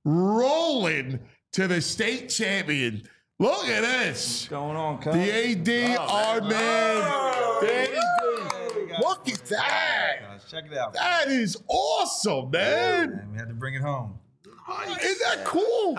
B: Rolling to the state champion. Look at this.
M: What's going on, cuz?
B: The A D,
M: Oh,
B: our
M: man.
B: man.
M: Oh,
B: Danny
M: yeah.
B: D. Look at that.
M: Guys, check it out.
B: That is awesome,
M: Yeah,
B: man.
M: man. We had to bring it home.
B: Isn't that cool?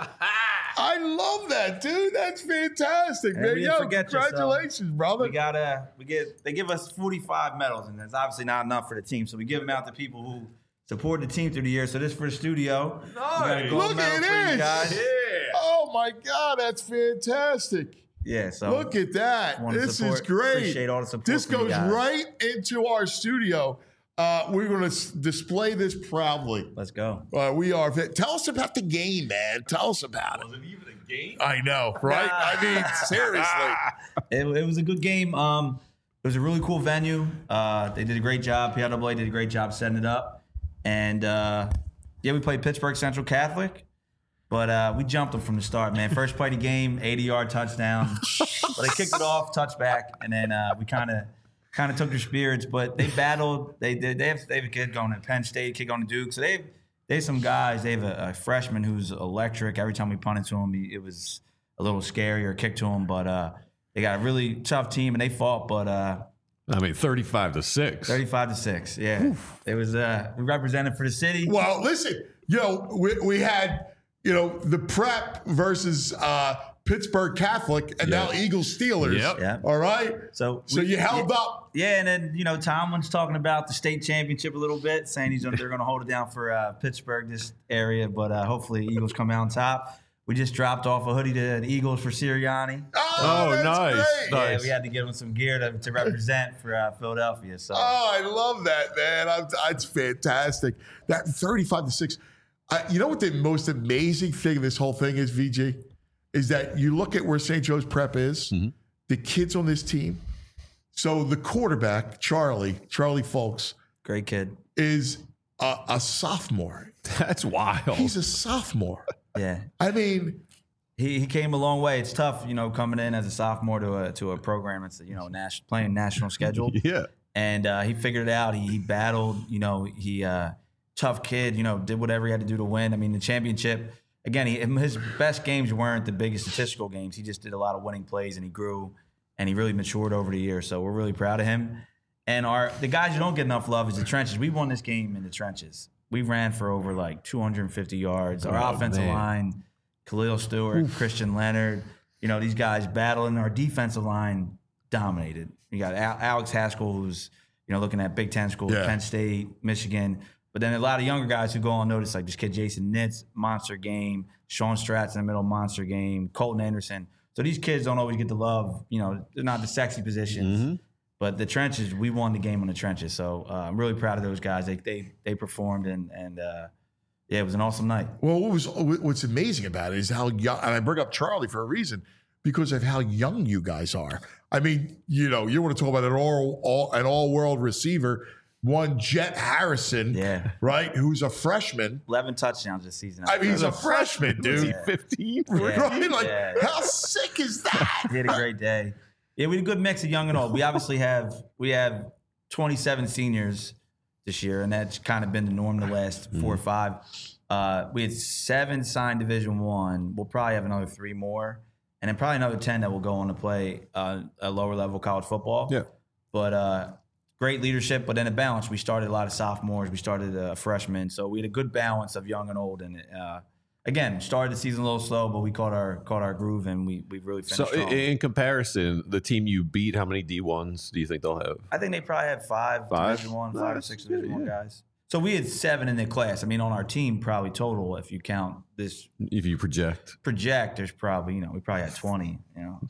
B: I love that, dude. That's fantastic,
M: And
B: man.
M: we didn't
B: Yo,
M: forget you, so
B: congratulations, brother.
M: We gotta, we get. They give us forty-five medals, and that's obviously not enough for the team. So we give them out to people who support the team through the year. So this is for the studio. We got a gold
B: Look
M: medal
B: at
M: for you
B: this.
M: guys.
B: Oh my God, that's fantastic.
M: Yeah. So
B: Look at that.
M: wanna
B: This
M: support-
B: is great.
M: Appreciate all the support.
B: This
M: from you
B: goes
M: guys.
B: right into our studio. Uh, we're going to s- display this proudly.
M: Let's go.
B: Uh, we are. Tell us about the game, man. Tell us about it.
C: Was it even a game?
B: I know, right? I mean, seriously.
M: It, it was a good game. Um, it was a really cool venue. Uh, they did a great job. P I A A did a great job setting it up. And uh, yeah, we played Pittsburgh Central Catholic, but uh, we jumped them from the start, man. First play of the game, eighty-yard touchdown. But they kicked it off, touchback, and then uh, we kind of kind of took their spirits. But they battled. They they, they, have, they have a kid going to Penn State, a kid going to Duke. So they have, they have some guys. They have a, a freshman who's electric. Every time we punted to him, he, it was a little scary or kicked to him. But uh, they got a really tough team, and they fought. But uh,
C: I mean, thirty-five to six.
M: thirty-five to six. Yeah, Oof. It was. Uh, we represented for the city.
B: Well, listen, you know, we, we had, you know, the Prep versus uh, Pittsburgh Catholic, and
C: Yeah.
B: now Eagles Steelers.
C: Yep.
M: Yeah.
B: All right.
M: So,
B: So
M: we-
B: you held
M: yeah,
B: up.
M: Yeah, and then you know Tomlin's talking about the state championship a little bit, saying he's they're going to hold it down for uh, Pittsburgh, this area, but uh, hopefully Eagles come out on top. We just dropped off a hoodie to the Eagles for Sirianni.
B: Oh,
C: Oh,
B: that's
C: nice.
B: great.
C: Nice.
M: Yeah, we had to give him some gear to, to represent for uh, Philadelphia. So
B: Oh, I love that, man. I'm, it's fantastic. That thirty-five to six. Uh, you know what the most amazing thing of this whole thing is, V G? Is that you look at where Saint Joe's Prep is,
C: Mm-hmm.
B: the kids on this team. So the quarterback, Charlie, Charlie Folks,
M: great kid.
B: is a, a sophomore.
C: That's wild.
B: He's a sophomore.
M: Yeah,
B: I mean,
M: he he came a long way. It's tough, you know, coming in as a sophomore to a to a program that's you know national playing national schedule.
C: Yeah.
M: And uh, he figured it out. He, he battled, you know, he uh, tough kid, you know, did whatever he had to do to win. I mean, the championship, again, he, his best games weren't the biggest statistical games. He just did a lot of winning plays, and he grew, and he really matured over the years. So we're really proud of him. And our the guys who don't get enough love is the trenches. We won this game in the trenches. We ran for over like two hundred fifty yards. Our
C: Oh,
M: offensive
C: man.
M: line, Khalil Stewart, Oof. Christian Leonard, you know, these guys battling. Our defensive line dominated. You got Al- Alex Haskell, who's, you know, looking at Big Ten schools,
B: Yeah.
M: Penn State, Michigan. But then a lot of younger guys who go unnoticed, like this kid Jason Nitz, monster game. Sean Stratz in the middle, monster game. Colton Anderson. So these kids don't always get the love. You know, they're not the sexy positions.
C: Mm-hmm.
M: But the trenches, we won the game on the trenches. So uh, I'm really proud of those guys. They they they performed, and and uh, yeah, it was an awesome night.
B: Well, what was what's amazing about it is how young, and I bring up Charlie for a reason, because of how young you guys are. I mean, you know, you want to talk about an all, all an all world receiver. One Jet Harrison,
M: yeah,
B: right, who's a freshman.
M: eleven touchdowns this season.
B: I mean, he's a freshman, dude.
M: Yeah.
C: fifteen,
M: Yeah.
B: right? Like,
M: Yeah.
B: how sick is that?
M: He had a great day. Yeah, we had a good mix of young and old. We obviously have we have twenty-seven seniors this year, and that's kind of been the norm the last four or five. Uh, we had seven signed Division One. We'll probably have another three more, and then probably another ten that will go on to play uh, a lower level college football.
C: Yeah,
M: but uh, great leadership. But then a balance. We started a lot of sophomores. We started a freshman, so we had a good balance of young and old. And uh, again, started the season a little slow, but we caught our caught our groove, and we we really finished
C: so
M: strong.
C: in, in comparison, the team you beat, how many D ones do you think they'll have?
M: I think they probably have five,
C: Five?
M: Division One, five or
C: Nice.
M: six Division One
C: Yeah.
M: guys. So we had seven in the class. I mean, on our team, probably total, if you count this
C: If you project.
M: project, there's probably, you know, we probably had twenty. You know,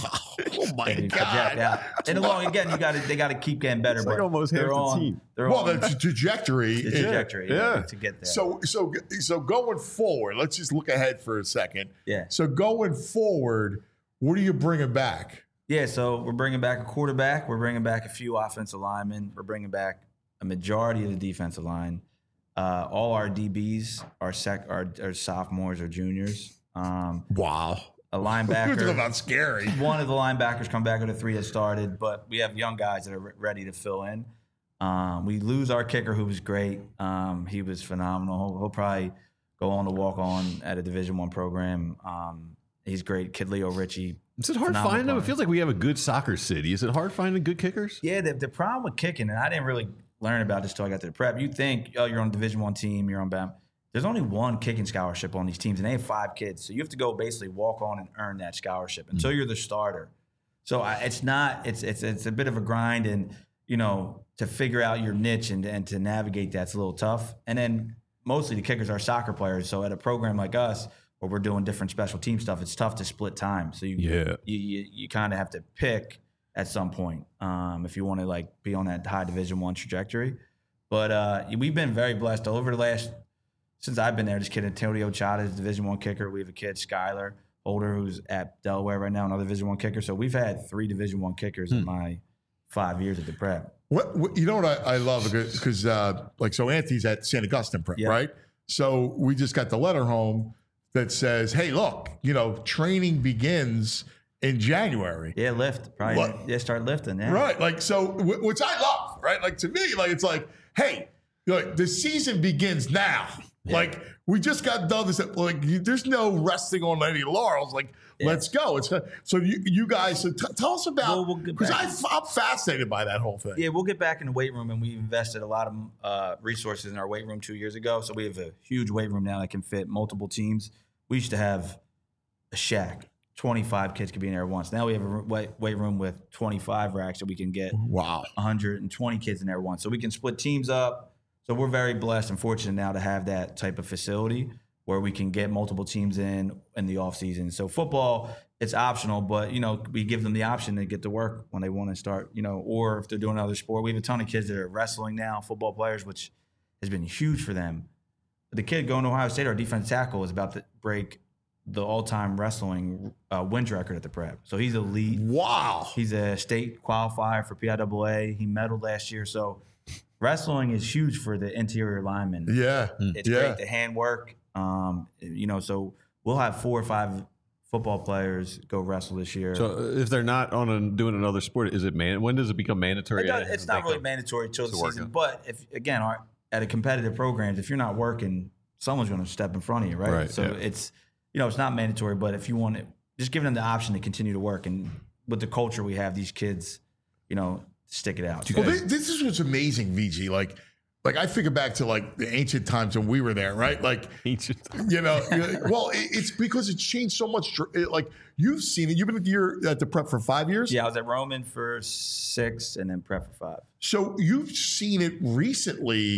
B: Oh my
M: and you
B: God.
M: project out. And along again, you got to they got to keep getting better.
C: It's
M: but
C: like almost half
M: they're
C: the
M: on,
C: team.
M: They're
B: Well,
M: on
B: the t- trajectory,
M: the trajectory
C: yeah.
M: yeah, to get there.
B: So, so, so going forward, let's just look ahead for a second.
M: Yeah.
B: So going forward, what are you bringing back?
M: Yeah, so we're bringing back a quarterback. We're bringing back a few offensive linemen. We're bringing back a majority of the defensive line. Uh, all our D Bs are sec are, are sophomores or juniors. Um,
B: Wow.
M: a
B: Talk
M: linebacker.
B: about scary.
M: One of the linebackers come back with the three that started, but we have young guys that are re- ready to fill in. Um, we lose our kicker, who was great. Um, he was phenomenal. He'll, he'll probably go on to walk on at a Division One program. Um, he's great. Kid Leo Ritchie.
C: Is it hard
M: phenomenal
C: finding them? It
M: player.
C: feels like we have a good soccer city. Is it hard finding good kickers?
M: Yeah, the, the problem with kicking, and I didn't really learn about this till I got to the prep. You think, oh, you're on a Division One team, you're on B A M. There's only one kicking scholarship on these teams, and they have five kids. So you have to go basically walk on and earn that scholarship until
C: Mm-hmm.
M: you're the starter. So I, it's not. It's it's it's a bit of a grind, and you know, to figure out your niche and and to navigate that's a little tough. And then mostly the kickers are soccer players. So at a program like us, where we're doing different special team stuff, it's tough to split time. So you
C: Yeah.
M: you you, you kind of have to pick at some point um, if you want to like be on that high Division One trajectory. But uh, we've been very blessed over the last since I've been there. This kid Antonio Chada is Division One kicker. We have a kid Skylar Holder who's at Delaware right now, another Division One kicker. So we've had three Division One kickers
C: Hmm.
M: in my five years at the prep.
B: What, what you know what I, I love because uh, like so Anthony's at Saint Augustine Prep,
M: Yeah.
B: right? So we just got the letter home that says, "Hey, look, you know, training begins in January."
M: Yeah, lift probably.
B: What?
M: Yeah, start lifting. Yeah.
B: Right. Like, so, wh- which I love, right? Like, to me, like, it's like, hey, like, the season begins now. Like, we just got done this, like, you, there's no resting on any laurels. Like,
M: Yeah.
B: let's go. It's so you, you guys, so t- tell us about,
M: Well, we'll get
B: because
M: back.
B: I'm fascinated by that whole thing.
M: Yeah, we'll get back in the weight room, and we invested a lot of uh, resources in our weight room two years ago. So we have a huge weight room now that can fit multiple teams. We used to have a shack. twenty-five kids could be in there at once. Now we have a ro- weight weight room with twenty-five racks that we can get
B: Wow.
M: one hundred twenty kids in there at once. So we can split teams up. So we're very blessed and fortunate now to have that type of facility where we can get multiple teams in in the off season. So football, it's optional, but you know, we give them the option to get to work when they want to start, you know, or if they're doing another sport. We have a ton of kids that are wrestling now, football players, which has been huge for them. The kid going to Ohio State, our defensive tackle, is about to break the all-time wrestling uh, wins record at the prep. So he's elite.
B: Wow.
M: He's a state qualifier for P I A A. He medaled last year. So wrestling is huge for the interior linemen.
B: Yeah.
M: It's
B: yeah.
M: great, the handwork. Um, you know, so we'll have four or five football players go wrestle this year.
C: So uh, if they're not on a, doing another sport, is it man? When does it become mandatory?
M: It does- it's not really mandatory till the
C: to work
M: season.
C: out.
M: But if again, our, at a competitive programs, if you're not working, someone's going to step in front of you, right?
C: Right,
M: So
C: yeah.
M: it's you know it's not mandatory, but if you want it, just giving them the option to continue to work, and with the culture we have, these kids, you know, stick it out.
B: Well, this, this is what's amazing, V G. Like, like I figure back to like the ancient times when we were there, right? Like,
C: ancient.
B: You know, well, it, it's because it's changed so much. It, like you've seen it. You've been at the, year, at the prep for five years.
M: Yeah, I was at Roman for six, and then prep for five.
B: So you've seen it recently.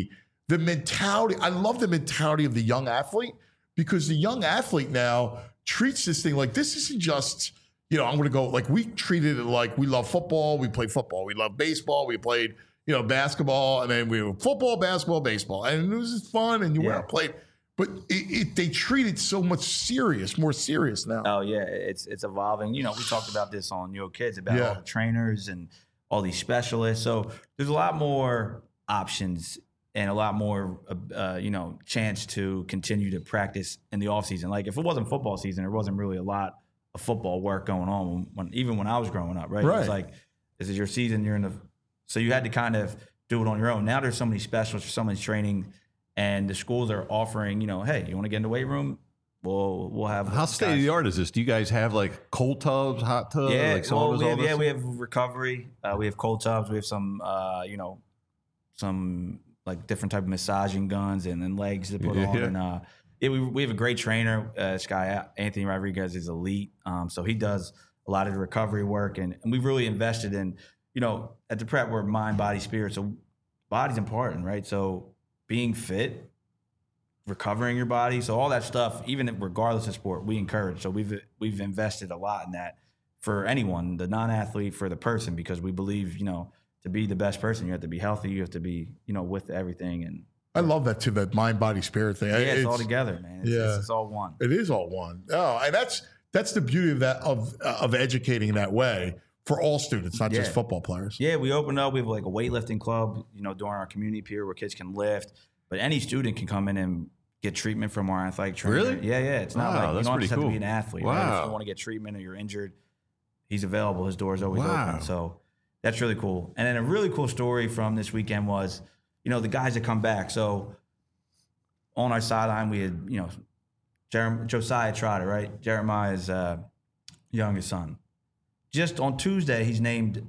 B: the mentality, I love the mentality of the young athlete, because the young athlete now treats this thing like this isn't just, you know, I'm going to go, like we treated it like we love football, we played football, we love baseball, we played, you know, basketball, and then we were football, basketball, baseball. And it was just fun, and you
M: Yeah.
B: went out and played. But it, it, they treat it so much serious, more serious now.
M: Oh yeah, it's it's evolving. You know, we talked about this on Your Kids about
B: Yeah.
M: all the trainers and all these specialists. So there's a lot more options and a lot more, uh, you know, chance to continue to practice in the off season. Like if it wasn't football season, there wasn't really a lot of football work going on when, even when I was growing up. Right? It
B: Right.
M: was like, this is your season. You're in the, so you had to kind of do it on your own. Now there's so many specialists, so much training. And the schools are offering, you know, hey, you want to get in the weight room? We'll we'll have.
C: How state of the art is this? Do you guys have like cold tubs, hot tubs,
M: Yeah,
C: like
M: well,
C: saunas,
M: we
C: all
M: have,
C: this?
M: yeah, we have recovery. Uh, we have cold tubs. We have some, uh, you know, some like different type of massaging guns and then legs to put
C: Yeah.
M: on. And uh, yeah, we we have a great trainer. Uh, this guy Anthony Rodriguez is elite. Um, so he does a lot of the recovery work, and, and we've really invested in, you know, at the prep we're mind, body, spirit. So body's important, right? So being fit, recovering your body, so all that stuff, even if, regardless of sport, we encourage. So we've we've invested a lot in that for anyone, the non-athlete, for the person, because we believe, you know, to be the best person, you have to be healthy, you have to be, you know, with everything. And
B: I love that too, that mind, body, spirit thing.
M: yeah, it's, all together, man. It's,
B: yeah.
M: it's, it's all one.
B: It is all one. Oh, and that's that's the beauty of that of of educating that way for all students, not just
M: Yeah.
B: football players.
M: Yeah, we opened up. We have like a weightlifting club, you know, during our community period where kids can lift. But any student can come in and get treatment from our athletic trainer.
C: Really?
M: Yeah, yeah. It's not
C: Wow,
M: like you
C: that's
M: don't
C: pretty
M: just have
C: cool.
M: to be an athlete. Right? If
C: Wow.
M: you want to get treatment or you're injured, he's available. His door is always
C: Wow.
M: open. So that's really cool. And then a really cool story from this weekend was, you know, the guys that come back. So on our sideline, we had, you know, Jerem- Josiah Trotter, right? Jeremiah's uh, youngest son. Just on Tuesday, he's named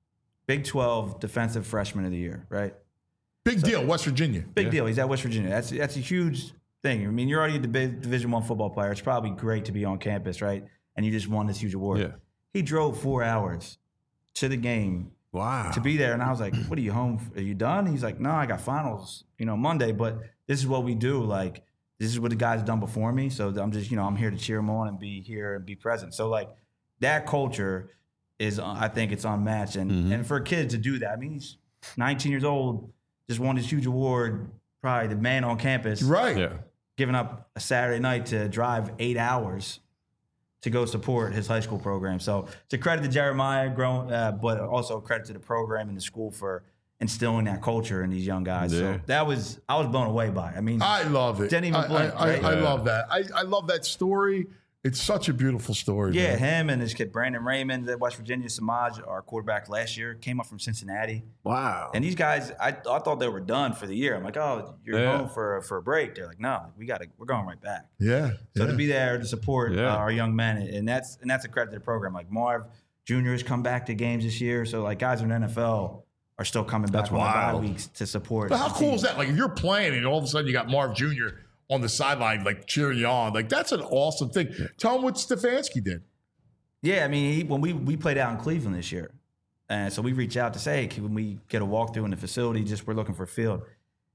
M: Big twelve Defensive Freshman of the Year, right?
B: Big so, deal, West Virginia.
M: Big yeah. deal. He's at West Virginia. That's that's a huge thing. I mean, you're already a Division One football player. It's probably great to be on campus, right? And you just won this huge award.
C: Yeah.
M: He drove four hours to the game.
C: Wow.
M: To be there, and I was like, "What are you home? For? Are you done?" He's like, "No, I got finals, you know, Monday. But this is what we do. Like, this is what the guys done before me. So I'm just, you know, I'm here to cheer them on and be here and be present. So like, that culture is, I think, it's unmatched. And
C: mm-hmm.
M: and for a kid to do that, I mean, he's nineteen years old, just won this huge award, probably the man on campus,
B: right?
C: Yeah,
M: giving up a Saturday night to drive eight hours to go support his high school program. So it's a credit to Jeremiah, growing, uh, but also a credit to the program and the school for instilling that culture in these young guys.
C: Yeah.
M: So that was, I was blown away by it. I mean,
B: I love it.
M: Didn't even
B: I,
M: blink.
B: I,
M: right?
B: I, I love that. I, I love that story. It's such a beautiful story.
M: Yeah,
B: man.
M: him and his kid Brandon Raymond at West Virginia. Samaj, our quarterback last year, came up from Cincinnati.
C: Wow.
M: And these guys, I, I thought they were done for the year. I'm like, oh, you're
C: yeah.
M: home for for a break. They're like, no, we got to, we're going right back.
B: Yeah.
M: So
B: yeah.
M: to be there to support
C: Yeah.
M: uh, our young men, and that's and that's a credit to the program. Like Marv Junior has come back to games this year. So like guys in the N F L are still coming back
C: That's
M: on the bye
C: wild.
M: weeks to support.
B: But how
M: the
B: cool
M: team.
B: is that? Like if you're playing and all of a sudden you got Marv Junior on the sideline, like cheering you on, like that's an awesome thing. Tell him what Stefanski did.
M: Yeah, I mean, he, when we we played out in Cleveland this year, and so we reached out to say, hey, can we get a walkthrough in the facility? Just we're looking for a field.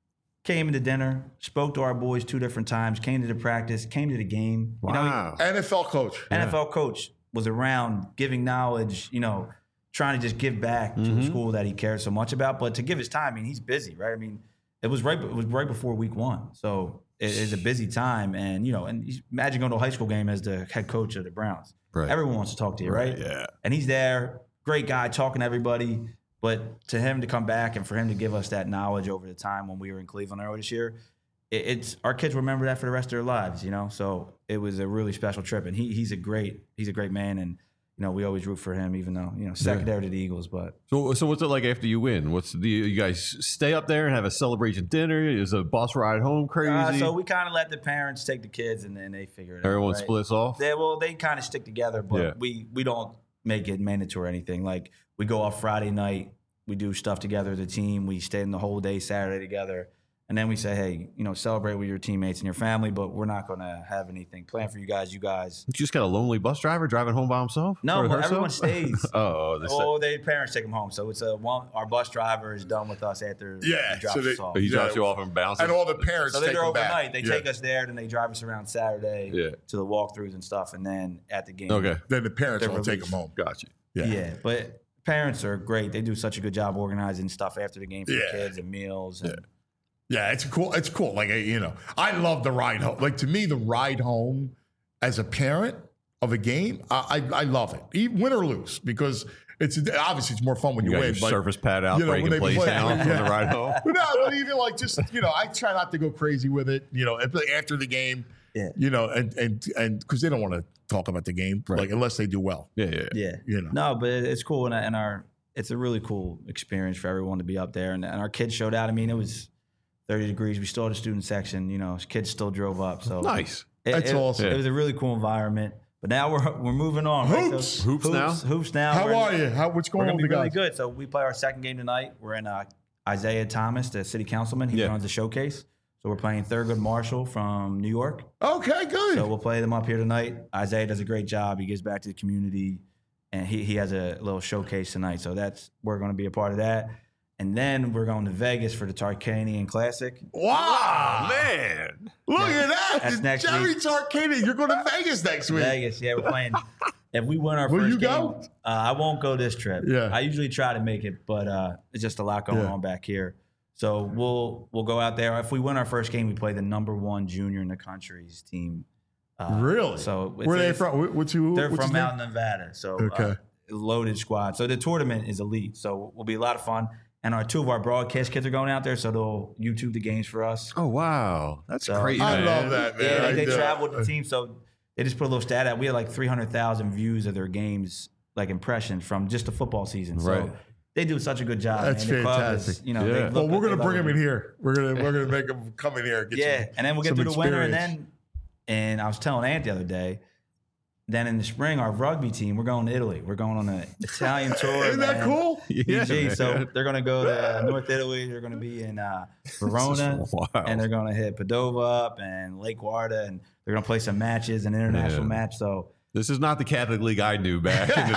M: Came into dinner, spoke to our boys two different times, came to the practice, came to the game.
C: Wow.
M: You know, he,
B: N F L coach.
M: N F L coach was around giving knowledge, you know, trying to just give back to
C: Mm-hmm.
M: a school that he cares so much about. But to give his time, I mean, he's busy, right? I mean, it was right it was right before week one. So it is a busy time. And, you know, and he's, imagine going to a high school game as the head coach of the Browns.
C: Right.
M: Everyone wants to talk to you, right?
C: Right, yeah.
M: And he's there, great guy, talking to everybody. But to him to come back and for him to give us that knowledge over the time when we were in Cleveland earlier this year, it, it's our kids remember that for the rest of their lives, you know. So it was a really special trip, and he he's a great he's a great man, and you know we always root for him, even though you know secondary to the Eagles. But
C: So, so what's it like after you win? What's the you guys stay up there and have a celebration dinner? Is a bus ride home crazy?
M: uh, so we kind of let the parents take the kids, and then they figure it
C: Everyone
M: out. Right?
C: splits off.
M: They, well, they kind of stick together, but
C: Yeah.
M: we we don't make it mandatory or anything. Like we go off Friday night, we do stuff together as a team. We stay in the whole day Saturday together, And then we say, hey, you know, celebrate with your teammates and your family, but we're not going to have anything planned for you guys. You guys.
C: You just got a lonely bus driver driving home by himself?
M: No,
C: Or
M: well,
C: herself?
M: everyone stays.
C: oh, this
M: Oh, their parents take them home. So it's a one. Our bus driver is done with us after
B: Yeah,
M: he drops
B: so they-
M: us off.
C: he drops
B: Yeah.
C: you off and bounces.
B: And all the parents
M: So they're
B: take
M: there
B: them back.
M: overnight. They
B: Yeah.
M: take us there, then they drive us around Saturday
C: Yeah.
M: to the walkthroughs and stuff, and then at the game.
C: Okay.
B: Then the parents
M: They're
B: will take
M: released.
B: them home.
C: Gotcha.
B: Yeah.
M: Yeah. but parents are great. They do such a good job organizing stuff after the game for
B: Yeah.
M: the kids and meals. And
B: Yeah, it's cool. It's cool. Like, you know, I love the ride home. Like, to me, the ride home as a parent of a game, I I, I love it, even win or lose, because it's obviously it's more fun when
C: You
B: you,
C: got
B: win.
C: your
B: but,
C: surface pad out,
B: you know, when
C: breaking
B: they
C: plays
B: play-
C: down on the ride home.
B: But no, but even like just you know, I try not to go crazy with it. You know, after the game,
M: Yeah.
B: you know, and and and because they don't want to talk about the game,
C: Right.
B: like unless they do well.
C: Yeah, yeah.
M: yeah.
B: You know.
M: No, but it's cool. And, and our it's a really cool experience for everyone to be up there. And, and our kids showed out. I mean, it was thirty degrees. We still had a student section. You know, kids still drove up. So
C: Nice.
M: It,
B: That's
M: it-
B: awesome.
M: It was a really cool environment. But now we're we're moving on. right?
B: Hoops.
M: So,
C: Hoops now?
M: Hoops now.
B: How
M: We're in-
B: are you? How what's
M: We're
B: going on
M: gonna
B: with
M: be
B: the
M: really
B: guys?
M: good. So we play our second game tonight. We're in uh, Isaiah Thomas, the city councilman. He
C: Yeah.
M: runs the showcase. So we're playing Thurgood Marshall from New York.
B: Okay, good.
M: So we'll play them up here tonight. Isaiah does a great job. He gives back to the community, and he he has a little showcase tonight. So that's we're going to be a part of that. And then we're going to Vegas for the Tarkanian Classic.
B: Wow,
C: Man.
B: Look at that.
M: That's next
B: Jerry
M: week.
B: Tarkanian. You're going to Vegas next week.
M: Vegas, yeah, we're playing. If we win our
B: Will
M: first
B: you
M: game,
B: go?
M: Uh, I won't go this trip.
B: Yeah.
M: I usually try to make it, but uh, it's just a lot going
B: Yeah.
M: on back here. So we'll we'll go out there. If we win our first game, we play the number one junior in the country's team. Uh,
B: Really?
M: So it's-
B: Where are they
M: it's-
B: from? Wh- What's who?
M: They're
B: what's
M: from
B: his name?
M: out in Nevada. So
B: Okay.
M: uh, loaded squad. So the tournament is elite. So will be a lot of fun. And our two of our broadcast kids are going out there, so they'll YouTube the games for us.
C: Oh, wow. That's
M: So-
C: great,
B: I
C: man.
B: love that, man.
M: Yeah,
B: I
M: they, they
B: do.
M: travel with the team, so they just put a little stat out. We had like three hundred thousand views of their games, like impressions from just the football season. So
C: Right.
M: they do such a good job.
B: That's
M: man. The club is,
B: fantastic.
M: you know,
C: Yeah.
M: they
C: Well,
B: Well,
M: look-
B: we're gonna
M: they
B: bring
M: love
B: him in
M: it.
B: here. We're gonna we're gonna make him come in here. And get
M: Yeah,
B: some,
M: and then we'll get
B: some
M: through the winter, and
B: experience.
M: then, and I was telling Ant the other day. Then in the spring, our rugby team, we're going to Italy. We're going on an Italian tour.
B: Isn't that
M: man.
B: cool?
C: Yeah,
M: E G. So
C: man.
M: they're going to go to North Italy. They're going to be in uh, Verona,
C: Wow.
M: and they're going to hit Padova up and Lake Garda, and they're going to play some matches, an international
C: Yeah.
M: match. So
C: This is not the Catholic League I knew back in the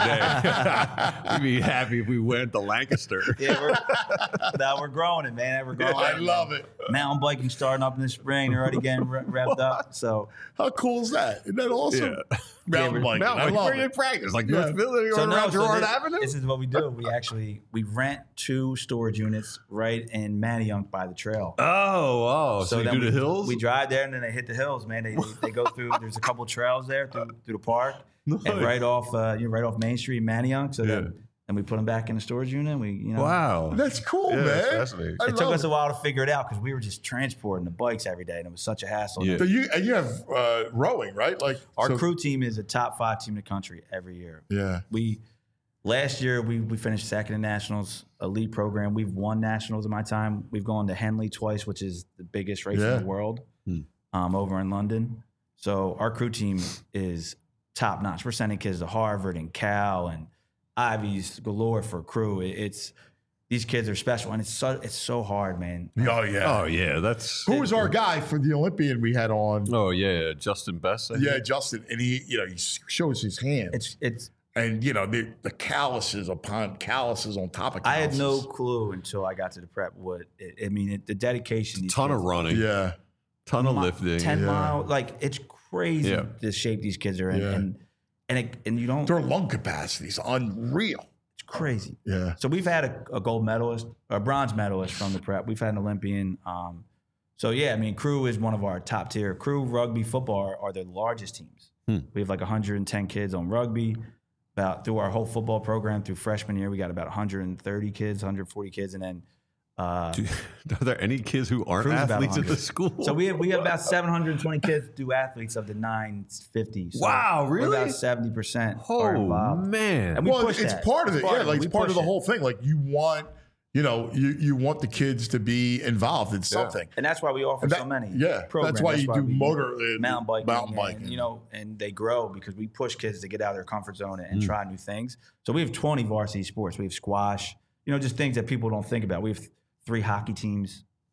C: day. We'd be happy if we went to Lancaster.
M: yeah, we're, now we're growing it, man. We're growing.
B: I love it.
M: Mountain biking starting up in the spring. They're already getting re- revved up. So
B: How cool is that? Isn't that awesome?
C: Yeah.
B: Mountain biking.
C: Mountain
B: I
C: bike,
B: love
C: where you
B: it.
C: practice? Like
B: Yeah.
C: North Philly or
M: So
C: around
M: no, so
C: Girard
M: this,
C: Avenue?
M: this is what we do. We actually we rent two storage units right in Manayunk by the trail.
C: Oh, oh. So, you
M: then
C: do
M: we,
C: the hills?
M: We drive there and then they hit the hills, man. They they, they go through. There's a couple trails there through through the park,
C: Nice.
M: and right off uh, you know, right off Main Street, Manayunk. So
C: Yeah.
M: then and we put them back in the storage unit. And we you know
C: Wow.
B: That's cool,
C: Yeah,
B: man.
C: that's fascinating.
B: I
M: It took
B: love
M: us a while to figure it out because we were just transporting the bikes every day, and it was such a hassle.
C: Yeah.
B: So you and you have uh, rowing, right? Like
M: Our
B: so-
M: crew team is a top five team in the country every year.
B: Yeah.
M: We last year we we finished second in nationals, elite program. We've won nationals in my time. We've gone to Henley twice, which is the biggest race
B: Yeah.
M: in the world,
C: Hmm.
M: um, over in London. So our crew team is top notch. We're sending kids to Harvard and Cal and Ivy's galore for crew. It- It's these kids are special, and it's so it's so hard, man.
B: Oh yeah.
C: Oh, yeah. That's.
B: Who was our guy for the Olympian we had on?
C: Oh, yeah. Justin Best. I
B: Yeah,
C: think.
B: Justin, and he, you know, he shows his hand,
M: It's it's.
B: and you know, the, the calluses upon calluses on top of
M: I
B: calluses.
M: had no clue until I got to the prep what it, I mean. It, the dedication. these
C: Ton of
M: kids-
C: running.
B: Yeah.
C: Ton of
M: mi-
C: lifting.
M: ten
B: Yeah.
M: mile, like it's crazy
C: Yeah.
M: the shape these kids are in,
B: Yeah.
M: and and it, and you don't.
B: Their lung capacity is unreal.
M: It's crazy.
B: Yeah.
M: So we've had a, a gold medalist, a bronze medalist from the prep. We've had an Olympian. Um, so yeah, I mean, crew is one of our top tier. Crew rugby football are, are the largest teams.
C: Hmm.
M: We have like one hundred ten kids on rugby. About through our whole football program through freshman year, we got about one hundred thirty kids, one hundred forty kids, and then. Uh,
C: Do- Are there any kids who aren't
M: Crew's about
C: athletes at the
M: one hundred.
C: school?
M: So we have we have about seven hundred twenty kids do athletes of the nine fifty. So
C: Wow,
M: we're
C: really?
M: About seventy percent are
C: Oh,
M: involved.
C: man.
M: And we
B: well,
M: push
B: it's
M: that.
B: part of
M: It's
B: it. Yeah, like
M: We
B: it's part
M: push
B: of the
M: it.
B: whole thing. Like you want, you know, you you want the kids to be involved in something.
M: And that's why we offer
B: And that-
M: so many.
B: yeah,
M: programs.
B: that's why you do
M: we
B: motor- uh,
M: mountain biking,
B: mountain
M: and,
B: biking.
M: you know, and they grow because we push kids to get out of their comfort zone and
C: Mm.
M: try new things. So we have twenty varsity sports. We have squash, you know, just things that people don't think about. We have three hockey teams,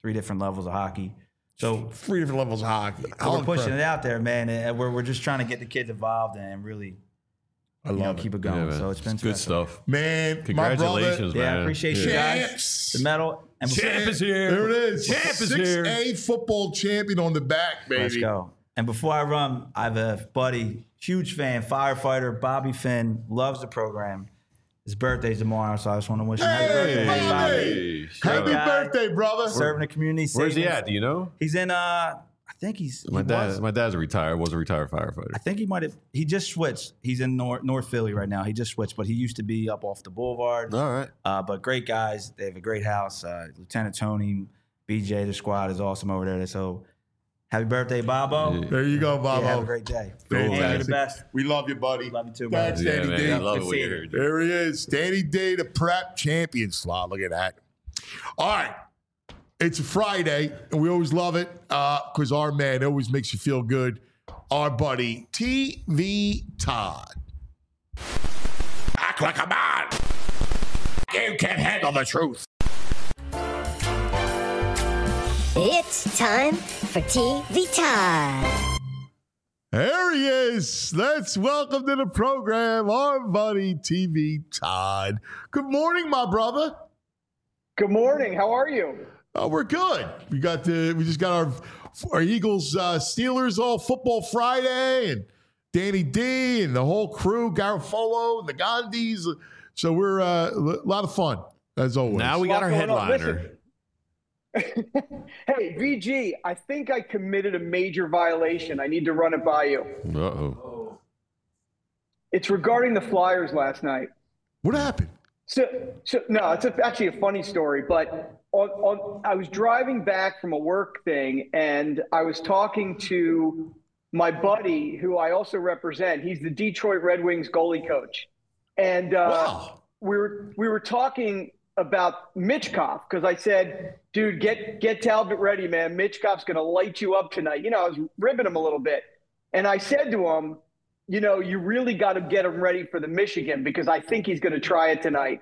M: three different levels of hockey. So
B: three different levels of hockey.
M: So we're pushing it out there, man. And we're we're just trying to get the kids involved and really,
B: I love
M: you know,
B: it.
M: keep it going.
C: Yeah,
M: so it's been
C: it's good
M: special.
C: stuff,
B: man.
C: Congratulations,
B: my
C: man.
M: Yeah, I appreciate you guys. The medal. And
C: Champ is here.
B: There it is.
C: Champ is
B: six
C: here.
B: A football champion on the back, baby.
M: Let's go. And before I run, I have a buddy, huge fan, firefighter, Bobby Finn, loves the program. His birthday's tomorrow, so I just want to wish him happy birthday,
B: Hey,
M: Bobby.
B: happy
M: guy.
B: birthday, brother.
M: Serving the community.
C: Where's he
M: saving-
C: at? Do you know?
M: He's in, uh, I think he's,
C: My
M: he
C: dad.
M: was-
C: My dad's a retired. Was a retired firefighter.
M: I think he might have, he just switched. He's in North, North Philly right now. He just switched, but he used to be up off the boulevard.
C: All right.
M: Uh, but great guys. They have a great house. Uh, Lieutenant Tony, B J, the squad is awesome over there. So happy birthday, Bobo.
B: There you go, Bobo.
M: Yeah, have a great day.
B: Fantastic.
M: And you're the best.
B: We love you, buddy.
M: Love you too,
B: Thanks,
M: buddy.
C: Yeah,
B: Danny
C: man.
B: D.
C: I love
M: Good
C: it when
M: seeing
C: you
M: you.
C: heard.
B: There he is. Danny D, the prep champion slot. Look at that. All right. It's a Friday, and we always love it because our man always makes you feel good. Our buddy, T V Todd. Act like a man. You can't handle the truth.
N: It's time for T V Todd.
B: There he is. Let's welcome to the program our buddy T V Todd. Good morning, my brother.
O: Good morning. How are you?
B: Oh, we're good. We got the we just got our our Eagles uh, Steelers all football Friday and Danny D and the whole crew, Garofalo and the Gandhis. So we're uh, a lot of fun as always.
C: Now we got our
O: What's going on?
C: headliner.
O: Hey, V G, I think I committed a major violation. I need to run it by you.
C: Uh oh.
O: It's regarding the Flyers last night.
B: What happened?
O: So, so no, it's a, actually a funny story, but on, on, I was driving back from a work thing and I was talking to my buddy who I also represent. He's the Detroit Red Wings goalie coach. And uh,
B: Wow.
O: we were we were talking about Mitchkov because I said, dude, get get Talbot ready, man. Mitchkov's going to light you up tonight. You know, I was ribbing him a little bit. And I said to him, you know, you really got to get him ready for the Michigan because I think he's going to try it tonight.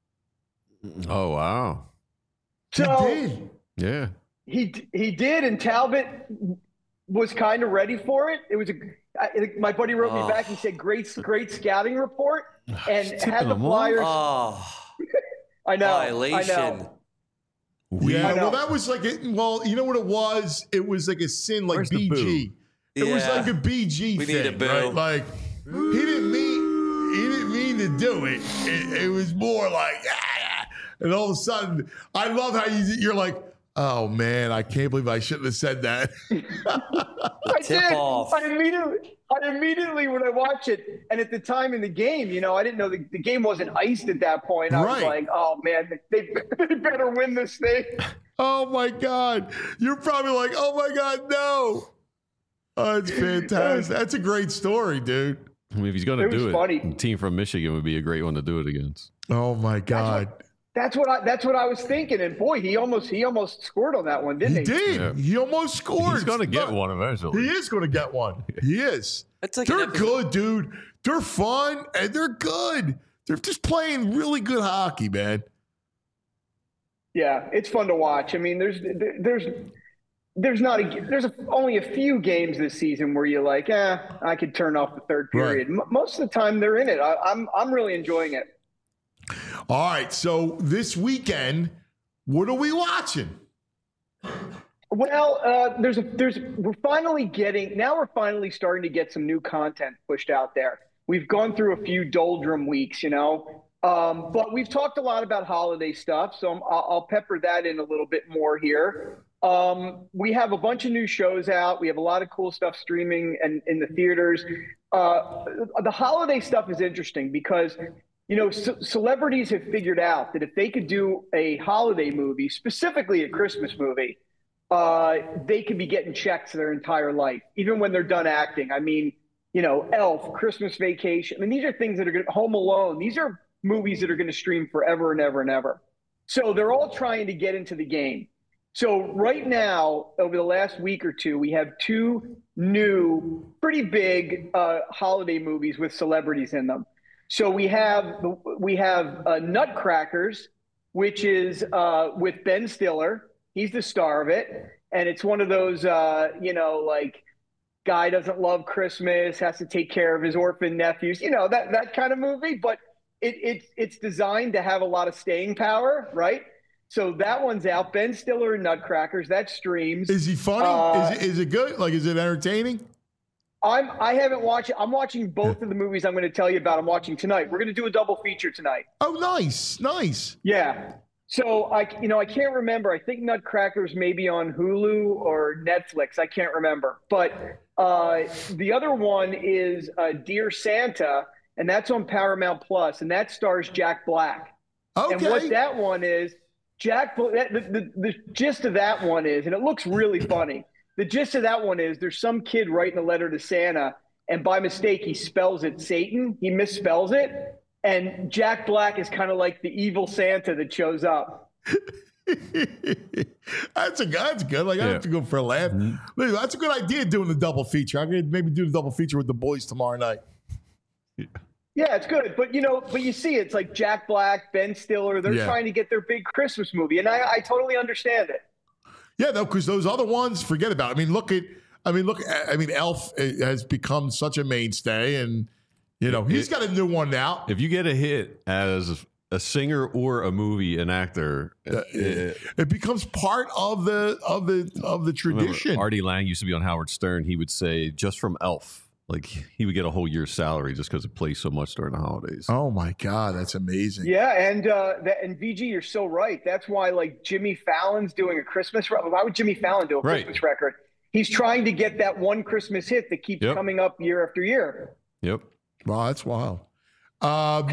C: Oh wow.
O: So
B: He did.
C: Yeah.
O: he he did, and Talbot was kind of ready for it. It was a I, my buddy wrote
D: Oh.
O: me back. He said, "Great, great scouting report," and
C: Tipping
O: had the
C: them off.
O: Flyers.
D: Oh,
O: I know, I
D: violation.
O: know.
B: Yeah,
O: I know.
B: well, that was like a, well, you know what it was? It was like a sin, like
C: Where's the
B: B G. It was
D: Yeah.
B: like a B G
D: We
B: thing,
D: need a boo.
B: right? Like he didn't mean he didn't mean to do it. It, it was more like, ah, and all of a sudden, I love how you, you're like, oh man, I can't believe I shouldn't have said that.
O: I
D: Tip
O: did.
D: off.
O: I immediately, I immediately when I watch it, and at the time in the game, you know, I didn't know the, the game wasn't iced at that point. I was
B: Right.
O: like, oh man, they, they better win this thing.
B: Oh my God. You're probably like, oh my God, no. Oh, it's fantastic. That's a great story, dude.
C: I mean, if he's going to
O: It was
C: do it,
O: funny.
C: a team from Michigan would be a great one to do it against.
B: Oh my God.
O: That's what I. That's what I was thinking. And boy, he almost he almost scored on that one, didn't
B: He
O: he?
B: did.
C: Yeah.
B: He almost scored.
C: He's going to get
B: Look,
C: one eventually.
B: He is going to get one. He is.
D: That's like
B: They're
D: an episode-
B: good, dude. They're fun and they're good. They're just playing really good hockey, man.
O: Yeah, it's fun to watch. I mean, there's there's there's not a there's a, only a few games this season where you're like, eh, I could turn off the third period. M- most of the time, they're in it. I, I'm I'm really enjoying it.
B: All right. So this weekend, what are we watching?
O: Well, uh, there's a there's we're finally getting now we're finally starting to get some new content pushed out there. We've gone through a few doldrum weeks, you know, um, but we've talked a lot about holiday stuff, so I'm, I'll, I'll pepper that in a little bit more here. Um, we have a bunch of new shows out. We have a lot of cool stuff streaming and in the theaters. Uh, the holiday stuff is interesting because, you know, c- celebrities have figured out that if they could do a holiday movie, specifically a Christmas movie, uh, they could be getting checks their entire life, even when they're done acting. I mean, you know, Elf, Christmas Vacation. I mean, these are things that are going to, Home Alone. These are movies that are going to stream forever and ever and ever. So they're all trying to get into the game. So right now, over the last week or two, we have two new, pretty big uh, holiday movies with celebrities in them. So we have we have uh, Nutcrackers, which is uh, with Ben Stiller, He's the star of it, and it's one of those, uh, you know, like guy doesn't love Christmas, has to take care of his orphan nephews, you know, that that kind of movie. But it, it's it's designed to have a lot of staying power, right? So that one's out. Ben Stiller and Nutcrackers, that streams.
B: Is he funny?
O: Uh,
B: is, it, is it good? Like, is it entertaining?
O: I'm I haven't watched. I'm watching both of the movies I'm going to tell you about. I'm watching tonight. We're going to do a double feature tonight.
B: Oh, nice, nice.
O: Yeah. So I, you know, I can't remember. I think Nutcrackers may be on Hulu or Netflix. I can't remember. But uh, the other one is uh, Dear Santa, and that's on Paramount Plus, and that stars Jack Black.
B: Okay.
O: And what that one is, Jack. The, the, the gist of that one is, and it looks really funny. The gist of that one is there's some kid writing a letter to Santa, and by mistake, he spells it Satan. He misspells it. And Jack Black is kind of like the evil Santa that shows up.
B: That's a that's good. Like, I
C: Yeah.
B: have to go for a laugh. Listen, that's a good idea doing the double feature. I'm going to maybe do the double feature with the boys tomorrow night.
O: Yeah, it's good. But, you know, but you see, it's like Jack Black, Ben Stiller, they're
B: Yeah.
O: trying to get their big Christmas movie. And I, I totally understand it.
B: Yeah, no, because those other ones, forget about it. I mean, look at, I mean, look, I mean, Elf has become such a mainstay, and, you know, he's got a new one now.
C: If you get a hit as a singer or a movie, an actor,
B: Uh, it, it becomes part of the of the of the tradition.
C: Remember, Artie Lang used to be on Howard Stern. He would say, just from Elf, like he would get a whole year's salary just because it plays so much during the holidays.
B: Oh my God, that's amazing.
O: Yeah, and uh, that, and V G, you're so right. That's why, like, Jimmy Fallon's doing a Christmas record. Why would Jimmy Fallon do a
C: Right.
O: Christmas record? He's trying to get that one Christmas hit that keeps
C: Yep.
O: coming up year after year.
C: Yep.
B: Wow, that's wild. Um,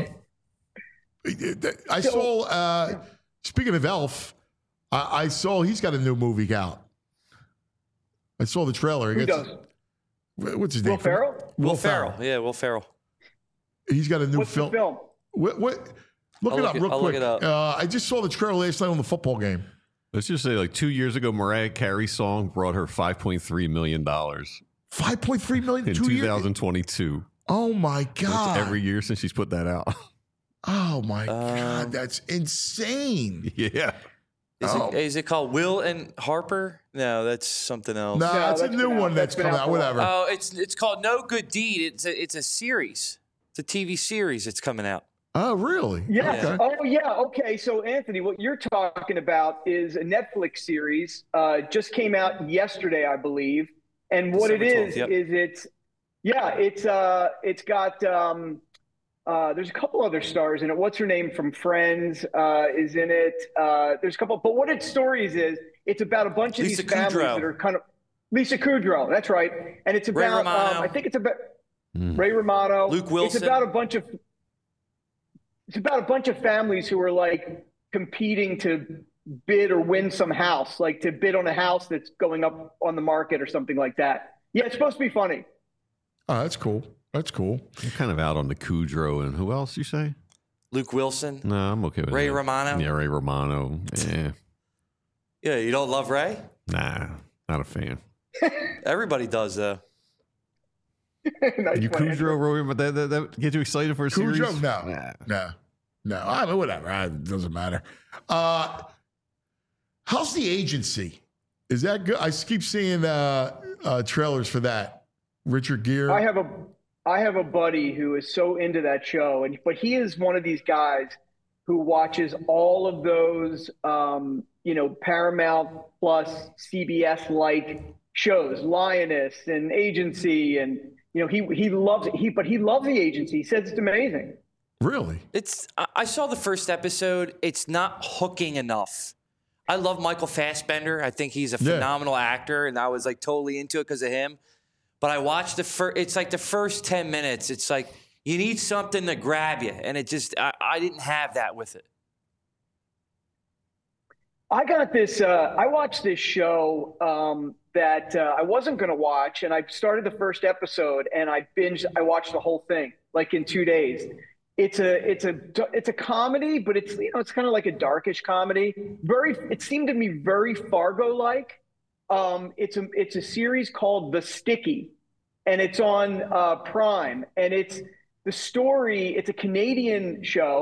B: I saw. Uh, speaking of Elf, I, I saw he's got a new movie out. I saw the trailer.
O: Who
B: It's-
O: does?
B: What's his
O: Will
B: name?
O: Ferrell?
D: Will Ferrell. Yeah, Will Ferrell.
B: He's got a new
O: What's
B: film.
O: the film?
B: What? what look
D: I'll
B: it
D: look
B: up
D: it-
B: real
D: I'll look
B: quick.
D: it up.
B: Uh, I just saw the trailer last night on the football game.
C: Let's just say, like two years ago, Mariah Carey's song brought her five point three million dollars
B: Five point three million
C: in
B: two years.
C: two thousand twenty-two.
B: Oh my God!
C: Every year since she's put that out.
B: Oh my
D: Um,
B: God, that's insane.
C: Yeah.
D: Is,
B: Oh.
D: it, is it called Will and Harper? No, that's something else.
B: No,
O: No,
B: it's a
O: that's
B: new
O: been out-
B: one that's
O: that's been
B: come
O: out
B: out.
O: for a while.
B: Whatever.
D: Oh, it's it's called No Good Deed. It's a it's a series. It's a T V series. It's coming out.
B: Oh, really?
O: Yeah.
B: Okay.
O: Oh, yeah. Okay. So, Anthony, what you're talking about is a Netflix series. Uh, just came out yesterday, I believe. And what it
D: December
O: is
D: twelfth, yep.
O: is it's yeah, it's uh, it's got um, uh, there's a couple other stars in it. What's her name from Friends uh, is in it. Uh, there's a couple, but what its stories is, it's about a bunch of
D: Lisa
O: these families
D: Kudrow.
O: that are kind of Lisa Kudrow. That's right. And it's
D: Ray
O: about um,
D: Romano.
O: I think it's about Ray Romano,
D: Luke Wilson.
O: It's about a bunch of it's about a bunch of families who are like competing to bid or win some house, like to bid on a house that's going up on the market or something like that. Yeah, it's supposed to be funny.
B: Oh, that's cool. That's cool.
C: I'm kind of out on the Kudrow and who else you say?
D: Luke Wilson.
C: No, I'm okay with
D: Ray
C: that.
D: Romano?
C: Yeah, Ray Romano. Yeah.
D: Yeah, you don't love Ray?
C: Nah, not a fan.
D: Everybody does though.
O: Nice
C: You
O: one, Andrew.
C: Kudrow, Roy, but that, that, that get you excited for a series?
B: Cujo? No.
C: Nah.
B: No. No. I mean, whatever. I- It doesn't matter. Uh, how's the agency? Is that good? I keep seeing uh, uh, trailers for that. Richard Gere.
O: I have a I have a buddy who is so into that show, and but he is one of these guys who watches all of those, um, you know, Paramount Plus, C B S like shows, Lioness and Agency, and you know, he he loves it. He but he loves the Agency. He says it's amazing.
B: Really?
D: It's I I saw the first episode. It's not hooking enough. I love Michael Fassbender. I think he's a
B: Yeah.
D: phenomenal actor, and I was like totally into it because of him. But I watched the first. It's like the first ten minutes. It's like you need something to grab you, and it just I, I didn't have that with it.
O: I got this. Uh, I watched this show um, that uh, I wasn't going to watch, and I started the first episode, and I binged. I watched the whole thing like in two days. It's a it's a it's a comedy, but it's you know it's kind of like a darkish comedy. Very. It seemed to me very Fargo like. Um, it's a it's a series called The Sticky, and it's on uh, Prime, and it's the story. It's a Canadian show,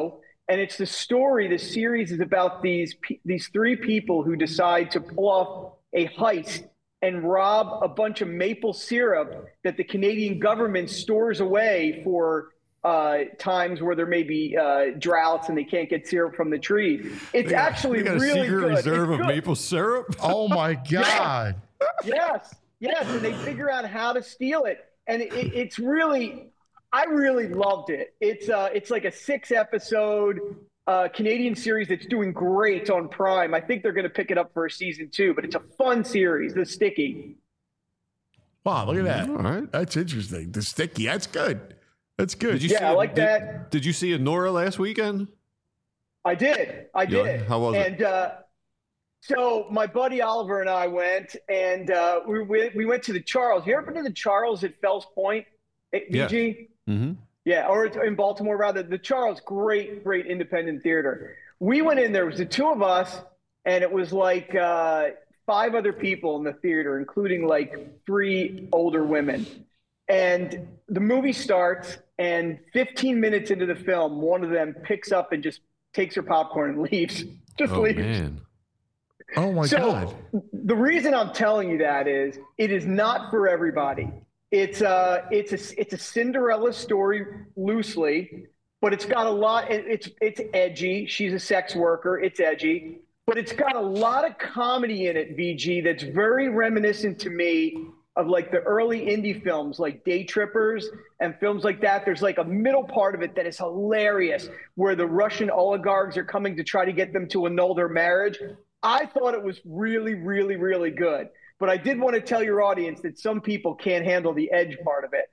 O: And it's the story, the series is about these these three people who decide to pull off a heist and rob a bunch of maple syrup that the Canadian government stores away for uh, times where there may be uh, droughts and they can't get syrup from the tree. It's
C: They got-
O: actually
C: they got a
O: really
C: secret
O: good.
C: reserve
O: It's
C: of
O: good.
C: maple syrup.
B: Oh my God.
O: Yes, yes, and they figure out how to steal it, and it, it's really, I really loved it. It's uh, it's like a six episode uh, Canadian series that's doing great on Prime. I think they're going to pick it up for a season two, but it's a fun series. The Sticky.
B: Wow, look at that.
C: All right.
B: That's interesting. The Sticky. That's good. That's good.
C: Did you
O: Yeah,
C: see
O: I
C: it-
O: like
C: did,
O: that.
C: Did you see Nora last weekend?
O: I did. I
C: Yeah,
O: did.
C: how was it?
O: and, uh, so my buddy Oliver and I went, and uh, we went, we went to the Charles. You ever been to the Charles at Fells Point, at V G?
C: Yeah. Mm-hmm.
O: Yeah, or it's in Baltimore rather. The Charles, great, great independent theater. We went in there. It was the two of us, and it was like uh, five other people in the theater, including like three older women. And the movie starts, and fifteen minutes into the film, one of them picks up and just takes her popcorn and leaves. Just
C: Oh
O: leaves.
C: man.
B: Oh my
O: so,
B: God.
O: The reason I'm telling you that is it is not for everybody. It's a it's a it's a Cinderella story loosely, but it's got a lot. It, it's it's edgy. She's a sex worker. It's edgy, but it's got a lot of comedy in it. V G that's very reminiscent to me of like the early indie films, like Day Trippers and films like that. There's like a middle part of it that is hilarious, where the Russian oligarchs are coming to try to get them to annul their marriage. I thought it was really, really, really good. But I did want to tell your audience that some people can't handle the edge part of it.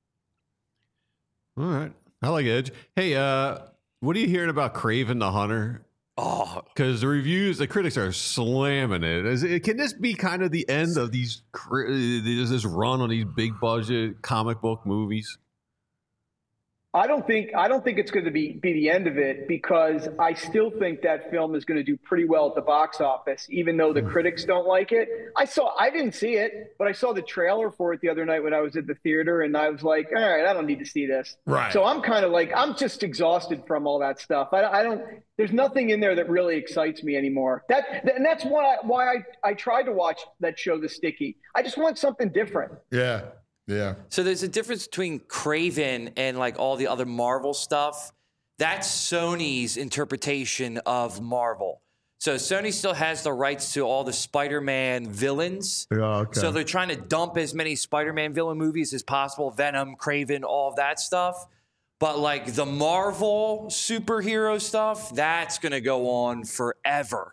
C: All right. I like Edge. Hey, uh, what are you hearing about Craven the Hunter?
D: Oh,
C: because the reviews, the critics are slamming it. Is it. Can this be kind of the end of these? Is this run on these big budget comic book movies?
O: I don't think I don't think it's going to be be the end of it, because I still think that film is going to do pretty well at the box office, even though the critics don't like it. I saw I didn't see it, but I saw the trailer for it the other night when I was at the theater, and I was like, all right, I don't need to see this.
B: Right.
O: So I'm kind of like I'm just exhausted from all that stuff. I, I don't. There's nothing in there that really excites me anymore. That and that's why I, why I I tried to watch that show, The Sticky. I just want something different.
B: Yeah. Yeah.
D: So there's a difference between Craven and like all the other Marvel stuff. That's Sony's interpretation of Marvel. So Sony still has the rights to all the Spider-Man villains.
B: Yeah, okay.
D: So they're trying to dump as many Spider-Man villain movies as possible, Venom, Craven, all of that stuff. But like the Marvel superhero stuff, that's going to go on forever.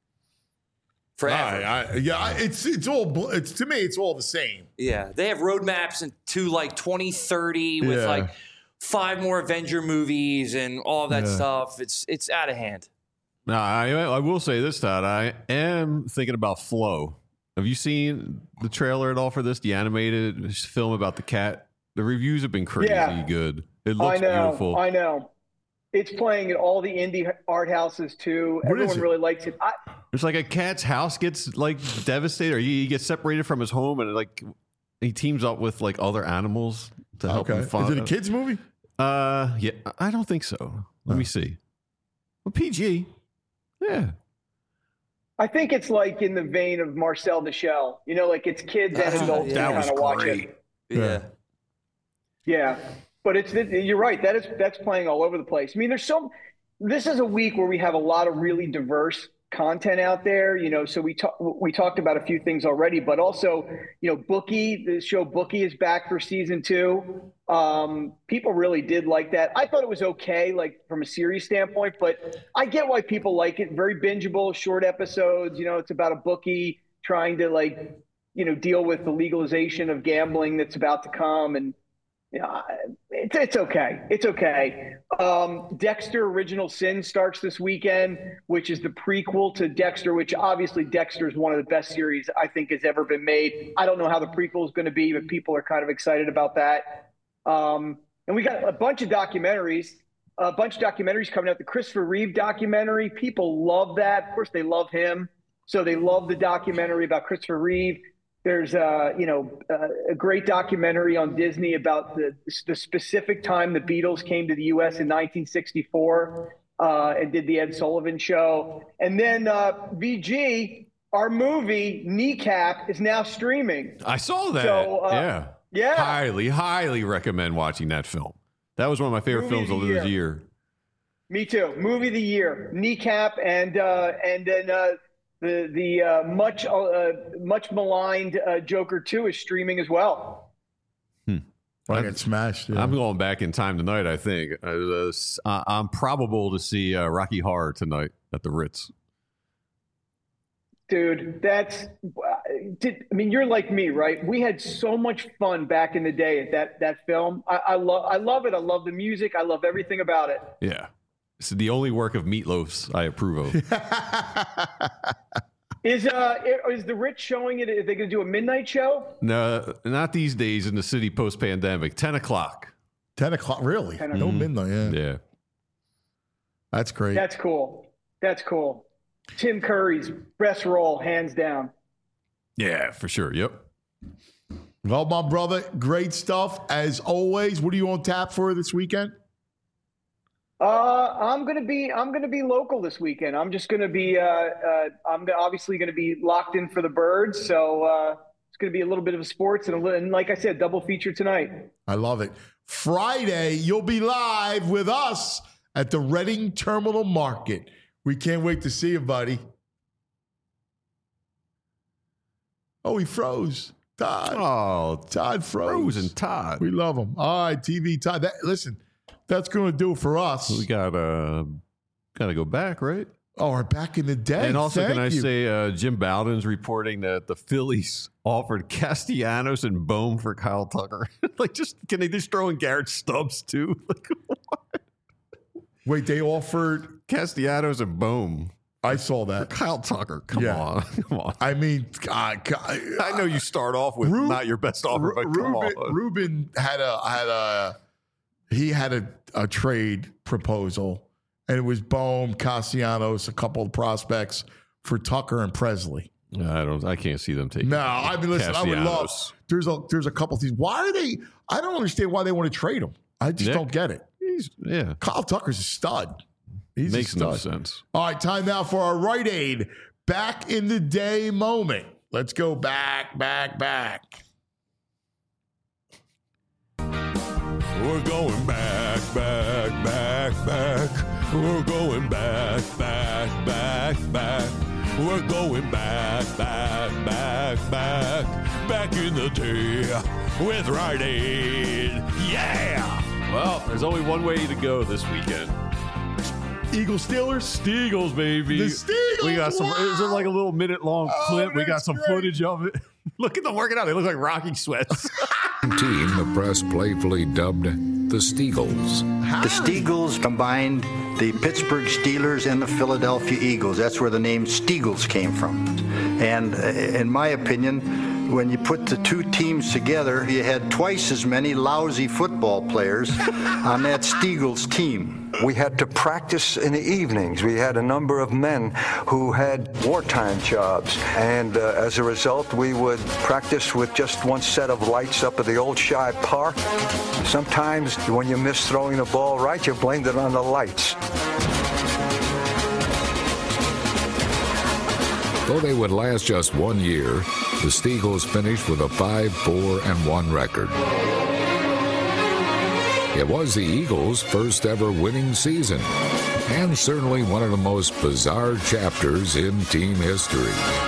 D: Forever.
B: I, I, yeah, I- it's it's all bl- it's to me it's all the same.
D: Yeah, they have roadmaps into like twenty thirty with
B: Yeah.
D: like five more Avenger movies and all that
C: Yeah.
D: stuff. It's it's out of hand.
C: Now, I I will say this, Todd. I am thinking about Flow. Have you seen the trailer at all for this? The animated film about the cat. The reviews have been crazy
O: Yeah.
C: good. It
O: I
C: looks
O: know,
C: beautiful.
O: I know. It's playing at all the indie art houses too.
C: What is
O: Everyone
C: it?
O: really likes it. I,
C: It's like a cat's house gets like devastated, or he, he gets separated from his home, and like he teams up with like other animals to help
B: Okay.
C: him find.
B: Is it a kids movie?
C: Uh, yeah, I don't think so. Let me see. Well, P G. Yeah.
O: I think it's like in the vein of Marcel the Shell. You know, like it's kids and adults
C: that
O: who
C: was
O: kind of watch
C: great.
O: it.
D: Yeah.
O: Yeah, but it's you're right. That is that's playing all over the place. I mean, there's so. This is a week where we have a lot of really diverse content out there. You know, so we talk, we talked about a few things already, but also, you know, Bookie, the show Bookie is back for season two. Um, people really did like that. I thought it was okay, like from a series standpoint, but I get why people like it. Very bingeable, short episodes. You know, it's about a bookie trying to like, you know, deal with the legalization of gambling that's about to come, and you know, it's, it's okay. It's okay. Um, Dexter Original Sin starts this weekend, which is the prequel to Dexter, which obviously Dexter is one of the best series I think has ever been made. I don't know how the prequel is going to be, but people are kind of excited about that. Um, and we got a bunch of documentaries, a bunch of documentaries coming out. The Christopher Reeve documentary, people love that. Of course, they love him. So they love the documentary about Christopher Reeve. There's uh, you know, uh, a great documentary on Disney about the the specific time the Beatles came to the U S in nineteen sixty-four. uh, and did the Ed Sullivan Show. And then uh, V G, our movie Kneecap, is now streaming.
C: I saw that.
O: So, uh,
C: yeah.
O: Yeah.
C: Highly, highly recommend watching that film. That was one of my favorite
O: Movie
C: films
O: of
C: of
O: the
C: this
O: year.
C: year.
O: Me too. Movie of the year, Kneecap, and uh, and then uh, the the uh, much uh, much maligned uh, Joker two is streaming as well.
B: I get smashed. Yeah.
C: I'm going back in time tonight, I think. Uh, uh, I'm probable to see uh, Rocky Horror tonight at the Ritz.
O: Dude, that's. Did, I mean, you're like me, right? We had so much fun back in the day at that that film. I, I love I love it. I love the music. I love everything about it.
C: Yeah. It's the only work of Meatloaf's I approve of.
O: Is uh is the Ritz showing it? Are they going to do a midnight show?
C: No, not these days in the city post-pandemic. ten o'clock.
B: ten o'clock, really?
O: ten
B: No
O: o'clock.
B: midnight, yeah.
C: Yeah.
B: That's great.
O: That's cool. That's cool. Tim Curry's best role, hands down.
C: Yeah, for sure. Yep.
B: Well, my brother, great stuff. As always, what are you on tap for this weekend?
O: Uh, I'm gonna be I'm gonna be local this weekend. I'm just gonna be uh, uh I'm obviously gonna be locked in for the Birds, so uh, it's gonna be a little bit of a sports and, a little, and like I said, double feature tonight.
B: I love it. Friday, you'll be live with us at the Reading Terminal Market. We can't wait to see you, buddy. Oh, he froze. Todd.
C: Oh,
B: Todd froze.
C: Frozen Todd.
B: We love him. All right, T V Todd. That, listen, that's going to do it for us.
C: We got uh, got to go back, right?
B: Oh, we're back in the day.
C: And also,
B: Thank
C: can I
B: you.
C: say, uh, Jim Bowden's reporting that the Phillies offered Castellanos and Bohm for Kyle Tucker. Like, just can they just throw in Garrett Stubbs too? Like, what?
B: Wait, they offered
C: Castellanos and Bohm.
B: I saw that.
C: Kyle Tucker. Come
B: Yeah.
C: on. Come on.
B: I mean, God, God,
C: I know you start off with
B: Ru-
C: not your best offer, but come
B: Ruben,
C: on.
B: Ruben had a had a he had a, a trade proposal, and it was Bohm, Castellanos, a couple of prospects for Tucker and Presley.
C: I don't. I can't see them taking.
B: No, I mean, listen, I would love.
C: Castellanos.
B: There's a there's a couple of things. Why are they? I don't understand why they want to trade him. I just
C: Nick?
B: don't get it.
C: He's, yeah,
B: Kyle Tucker's a stud. He's
C: makes
B: a
C: no
B: stud.
C: sense.
B: All right, time now for our Rite Aid back in the day moment. Let's go back, back, back.
C: We're going back, back, back, back. We're going back, back, back, back. We're going back, back, back, back. Back in the day with Rite Aid. Yeah! Well, there's only one way to go this weekend.
B: Eagles Steelers?
C: Steagles, baby.
B: The Steagles,
C: We got some,
B: wow.
C: is it like a little minute long
B: Oh,
C: clip? We got
B: that's
C: some
B: great.
C: footage of it. Look at them working out. They look like Rocky sweats.
P: Team the press playfully dubbed the Steagles.
Q: The Steagles combined the Pittsburgh Steelers and the Philadelphia Eagles. That's where the name Steagles came from. And uh, in my opinion, when you put the two teams together, you had twice as many lousy football players on that Steagles team.
R: We had to practice in the evenings. We had a number of men who had wartime jobs. And uh, as a result, we would practice with just one set of lights up at the old Shibe Park. Sometimes when you miss throwing the ball right, you blamed it on the lights.
P: Though they would last just one year, the Steagles finished with a five four and one record. It was the Eagles' first ever winning season, and certainly one of the most bizarre chapters in team history.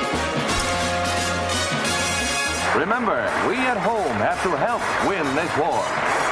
S: Remember, we at home have to help win this war.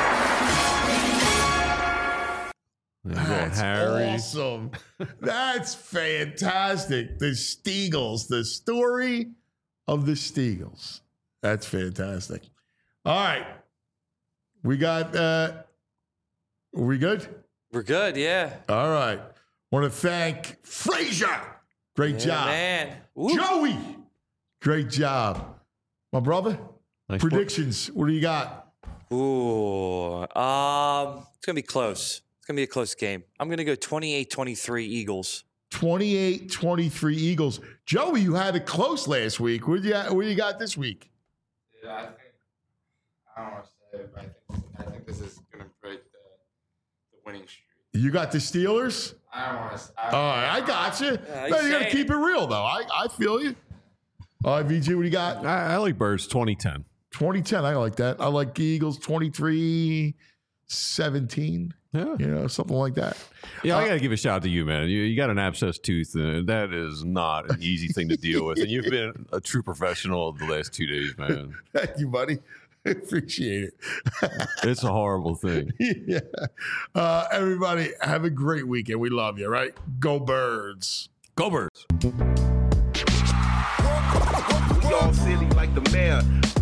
B: That's
C: Harry.
B: awesome. That's fantastic. The Steagles, the story of the Steagles. That's fantastic. All right. We got, uh, are we good?
D: We're good, yeah.
B: All right. Want to thank Frazier. Great
D: Yeah,
B: job.
D: man. Woo.
B: Joey. Great job. My brother,
C: Nice
B: predictions. What do you got?
D: Ooh. Um, it's going to be close. It's going to be a close game. I'm going to go twenty-eight twenty-three Eagles.
B: twenty-eight twenty-three Eagles. Joey, you had it close last week. What do you, what do you got this week?
T: Yeah, I think I don't want to say it, but I think I think this is going to break the, the winning streak.
B: You got the Steelers?
T: I don't want to.
B: All right, I got you.
G: Yeah,
B: no, you got to
G: say
B: keep it real, though. I, I feel you. All right, V G, what do you got?
C: I, I like Birds twenty ten.
B: twenty ten, I like that. I like the Eagles twenty-three seventeen.
C: Yeah.
B: You know, something like that.
C: Yeah,
B: Uh,
C: I got to give a shout out to you, man. You, you got an abscessed tooth, and that is not an easy thing to deal with. And you've been a true professional the last two days, man.
B: Thank you, buddy. I appreciate it.
C: It's a horrible thing.
B: Yeah. Uh, everybody, have a great weekend. We love you, right? Go Birds.
C: Go Birds.
U: We all silly like the mayor.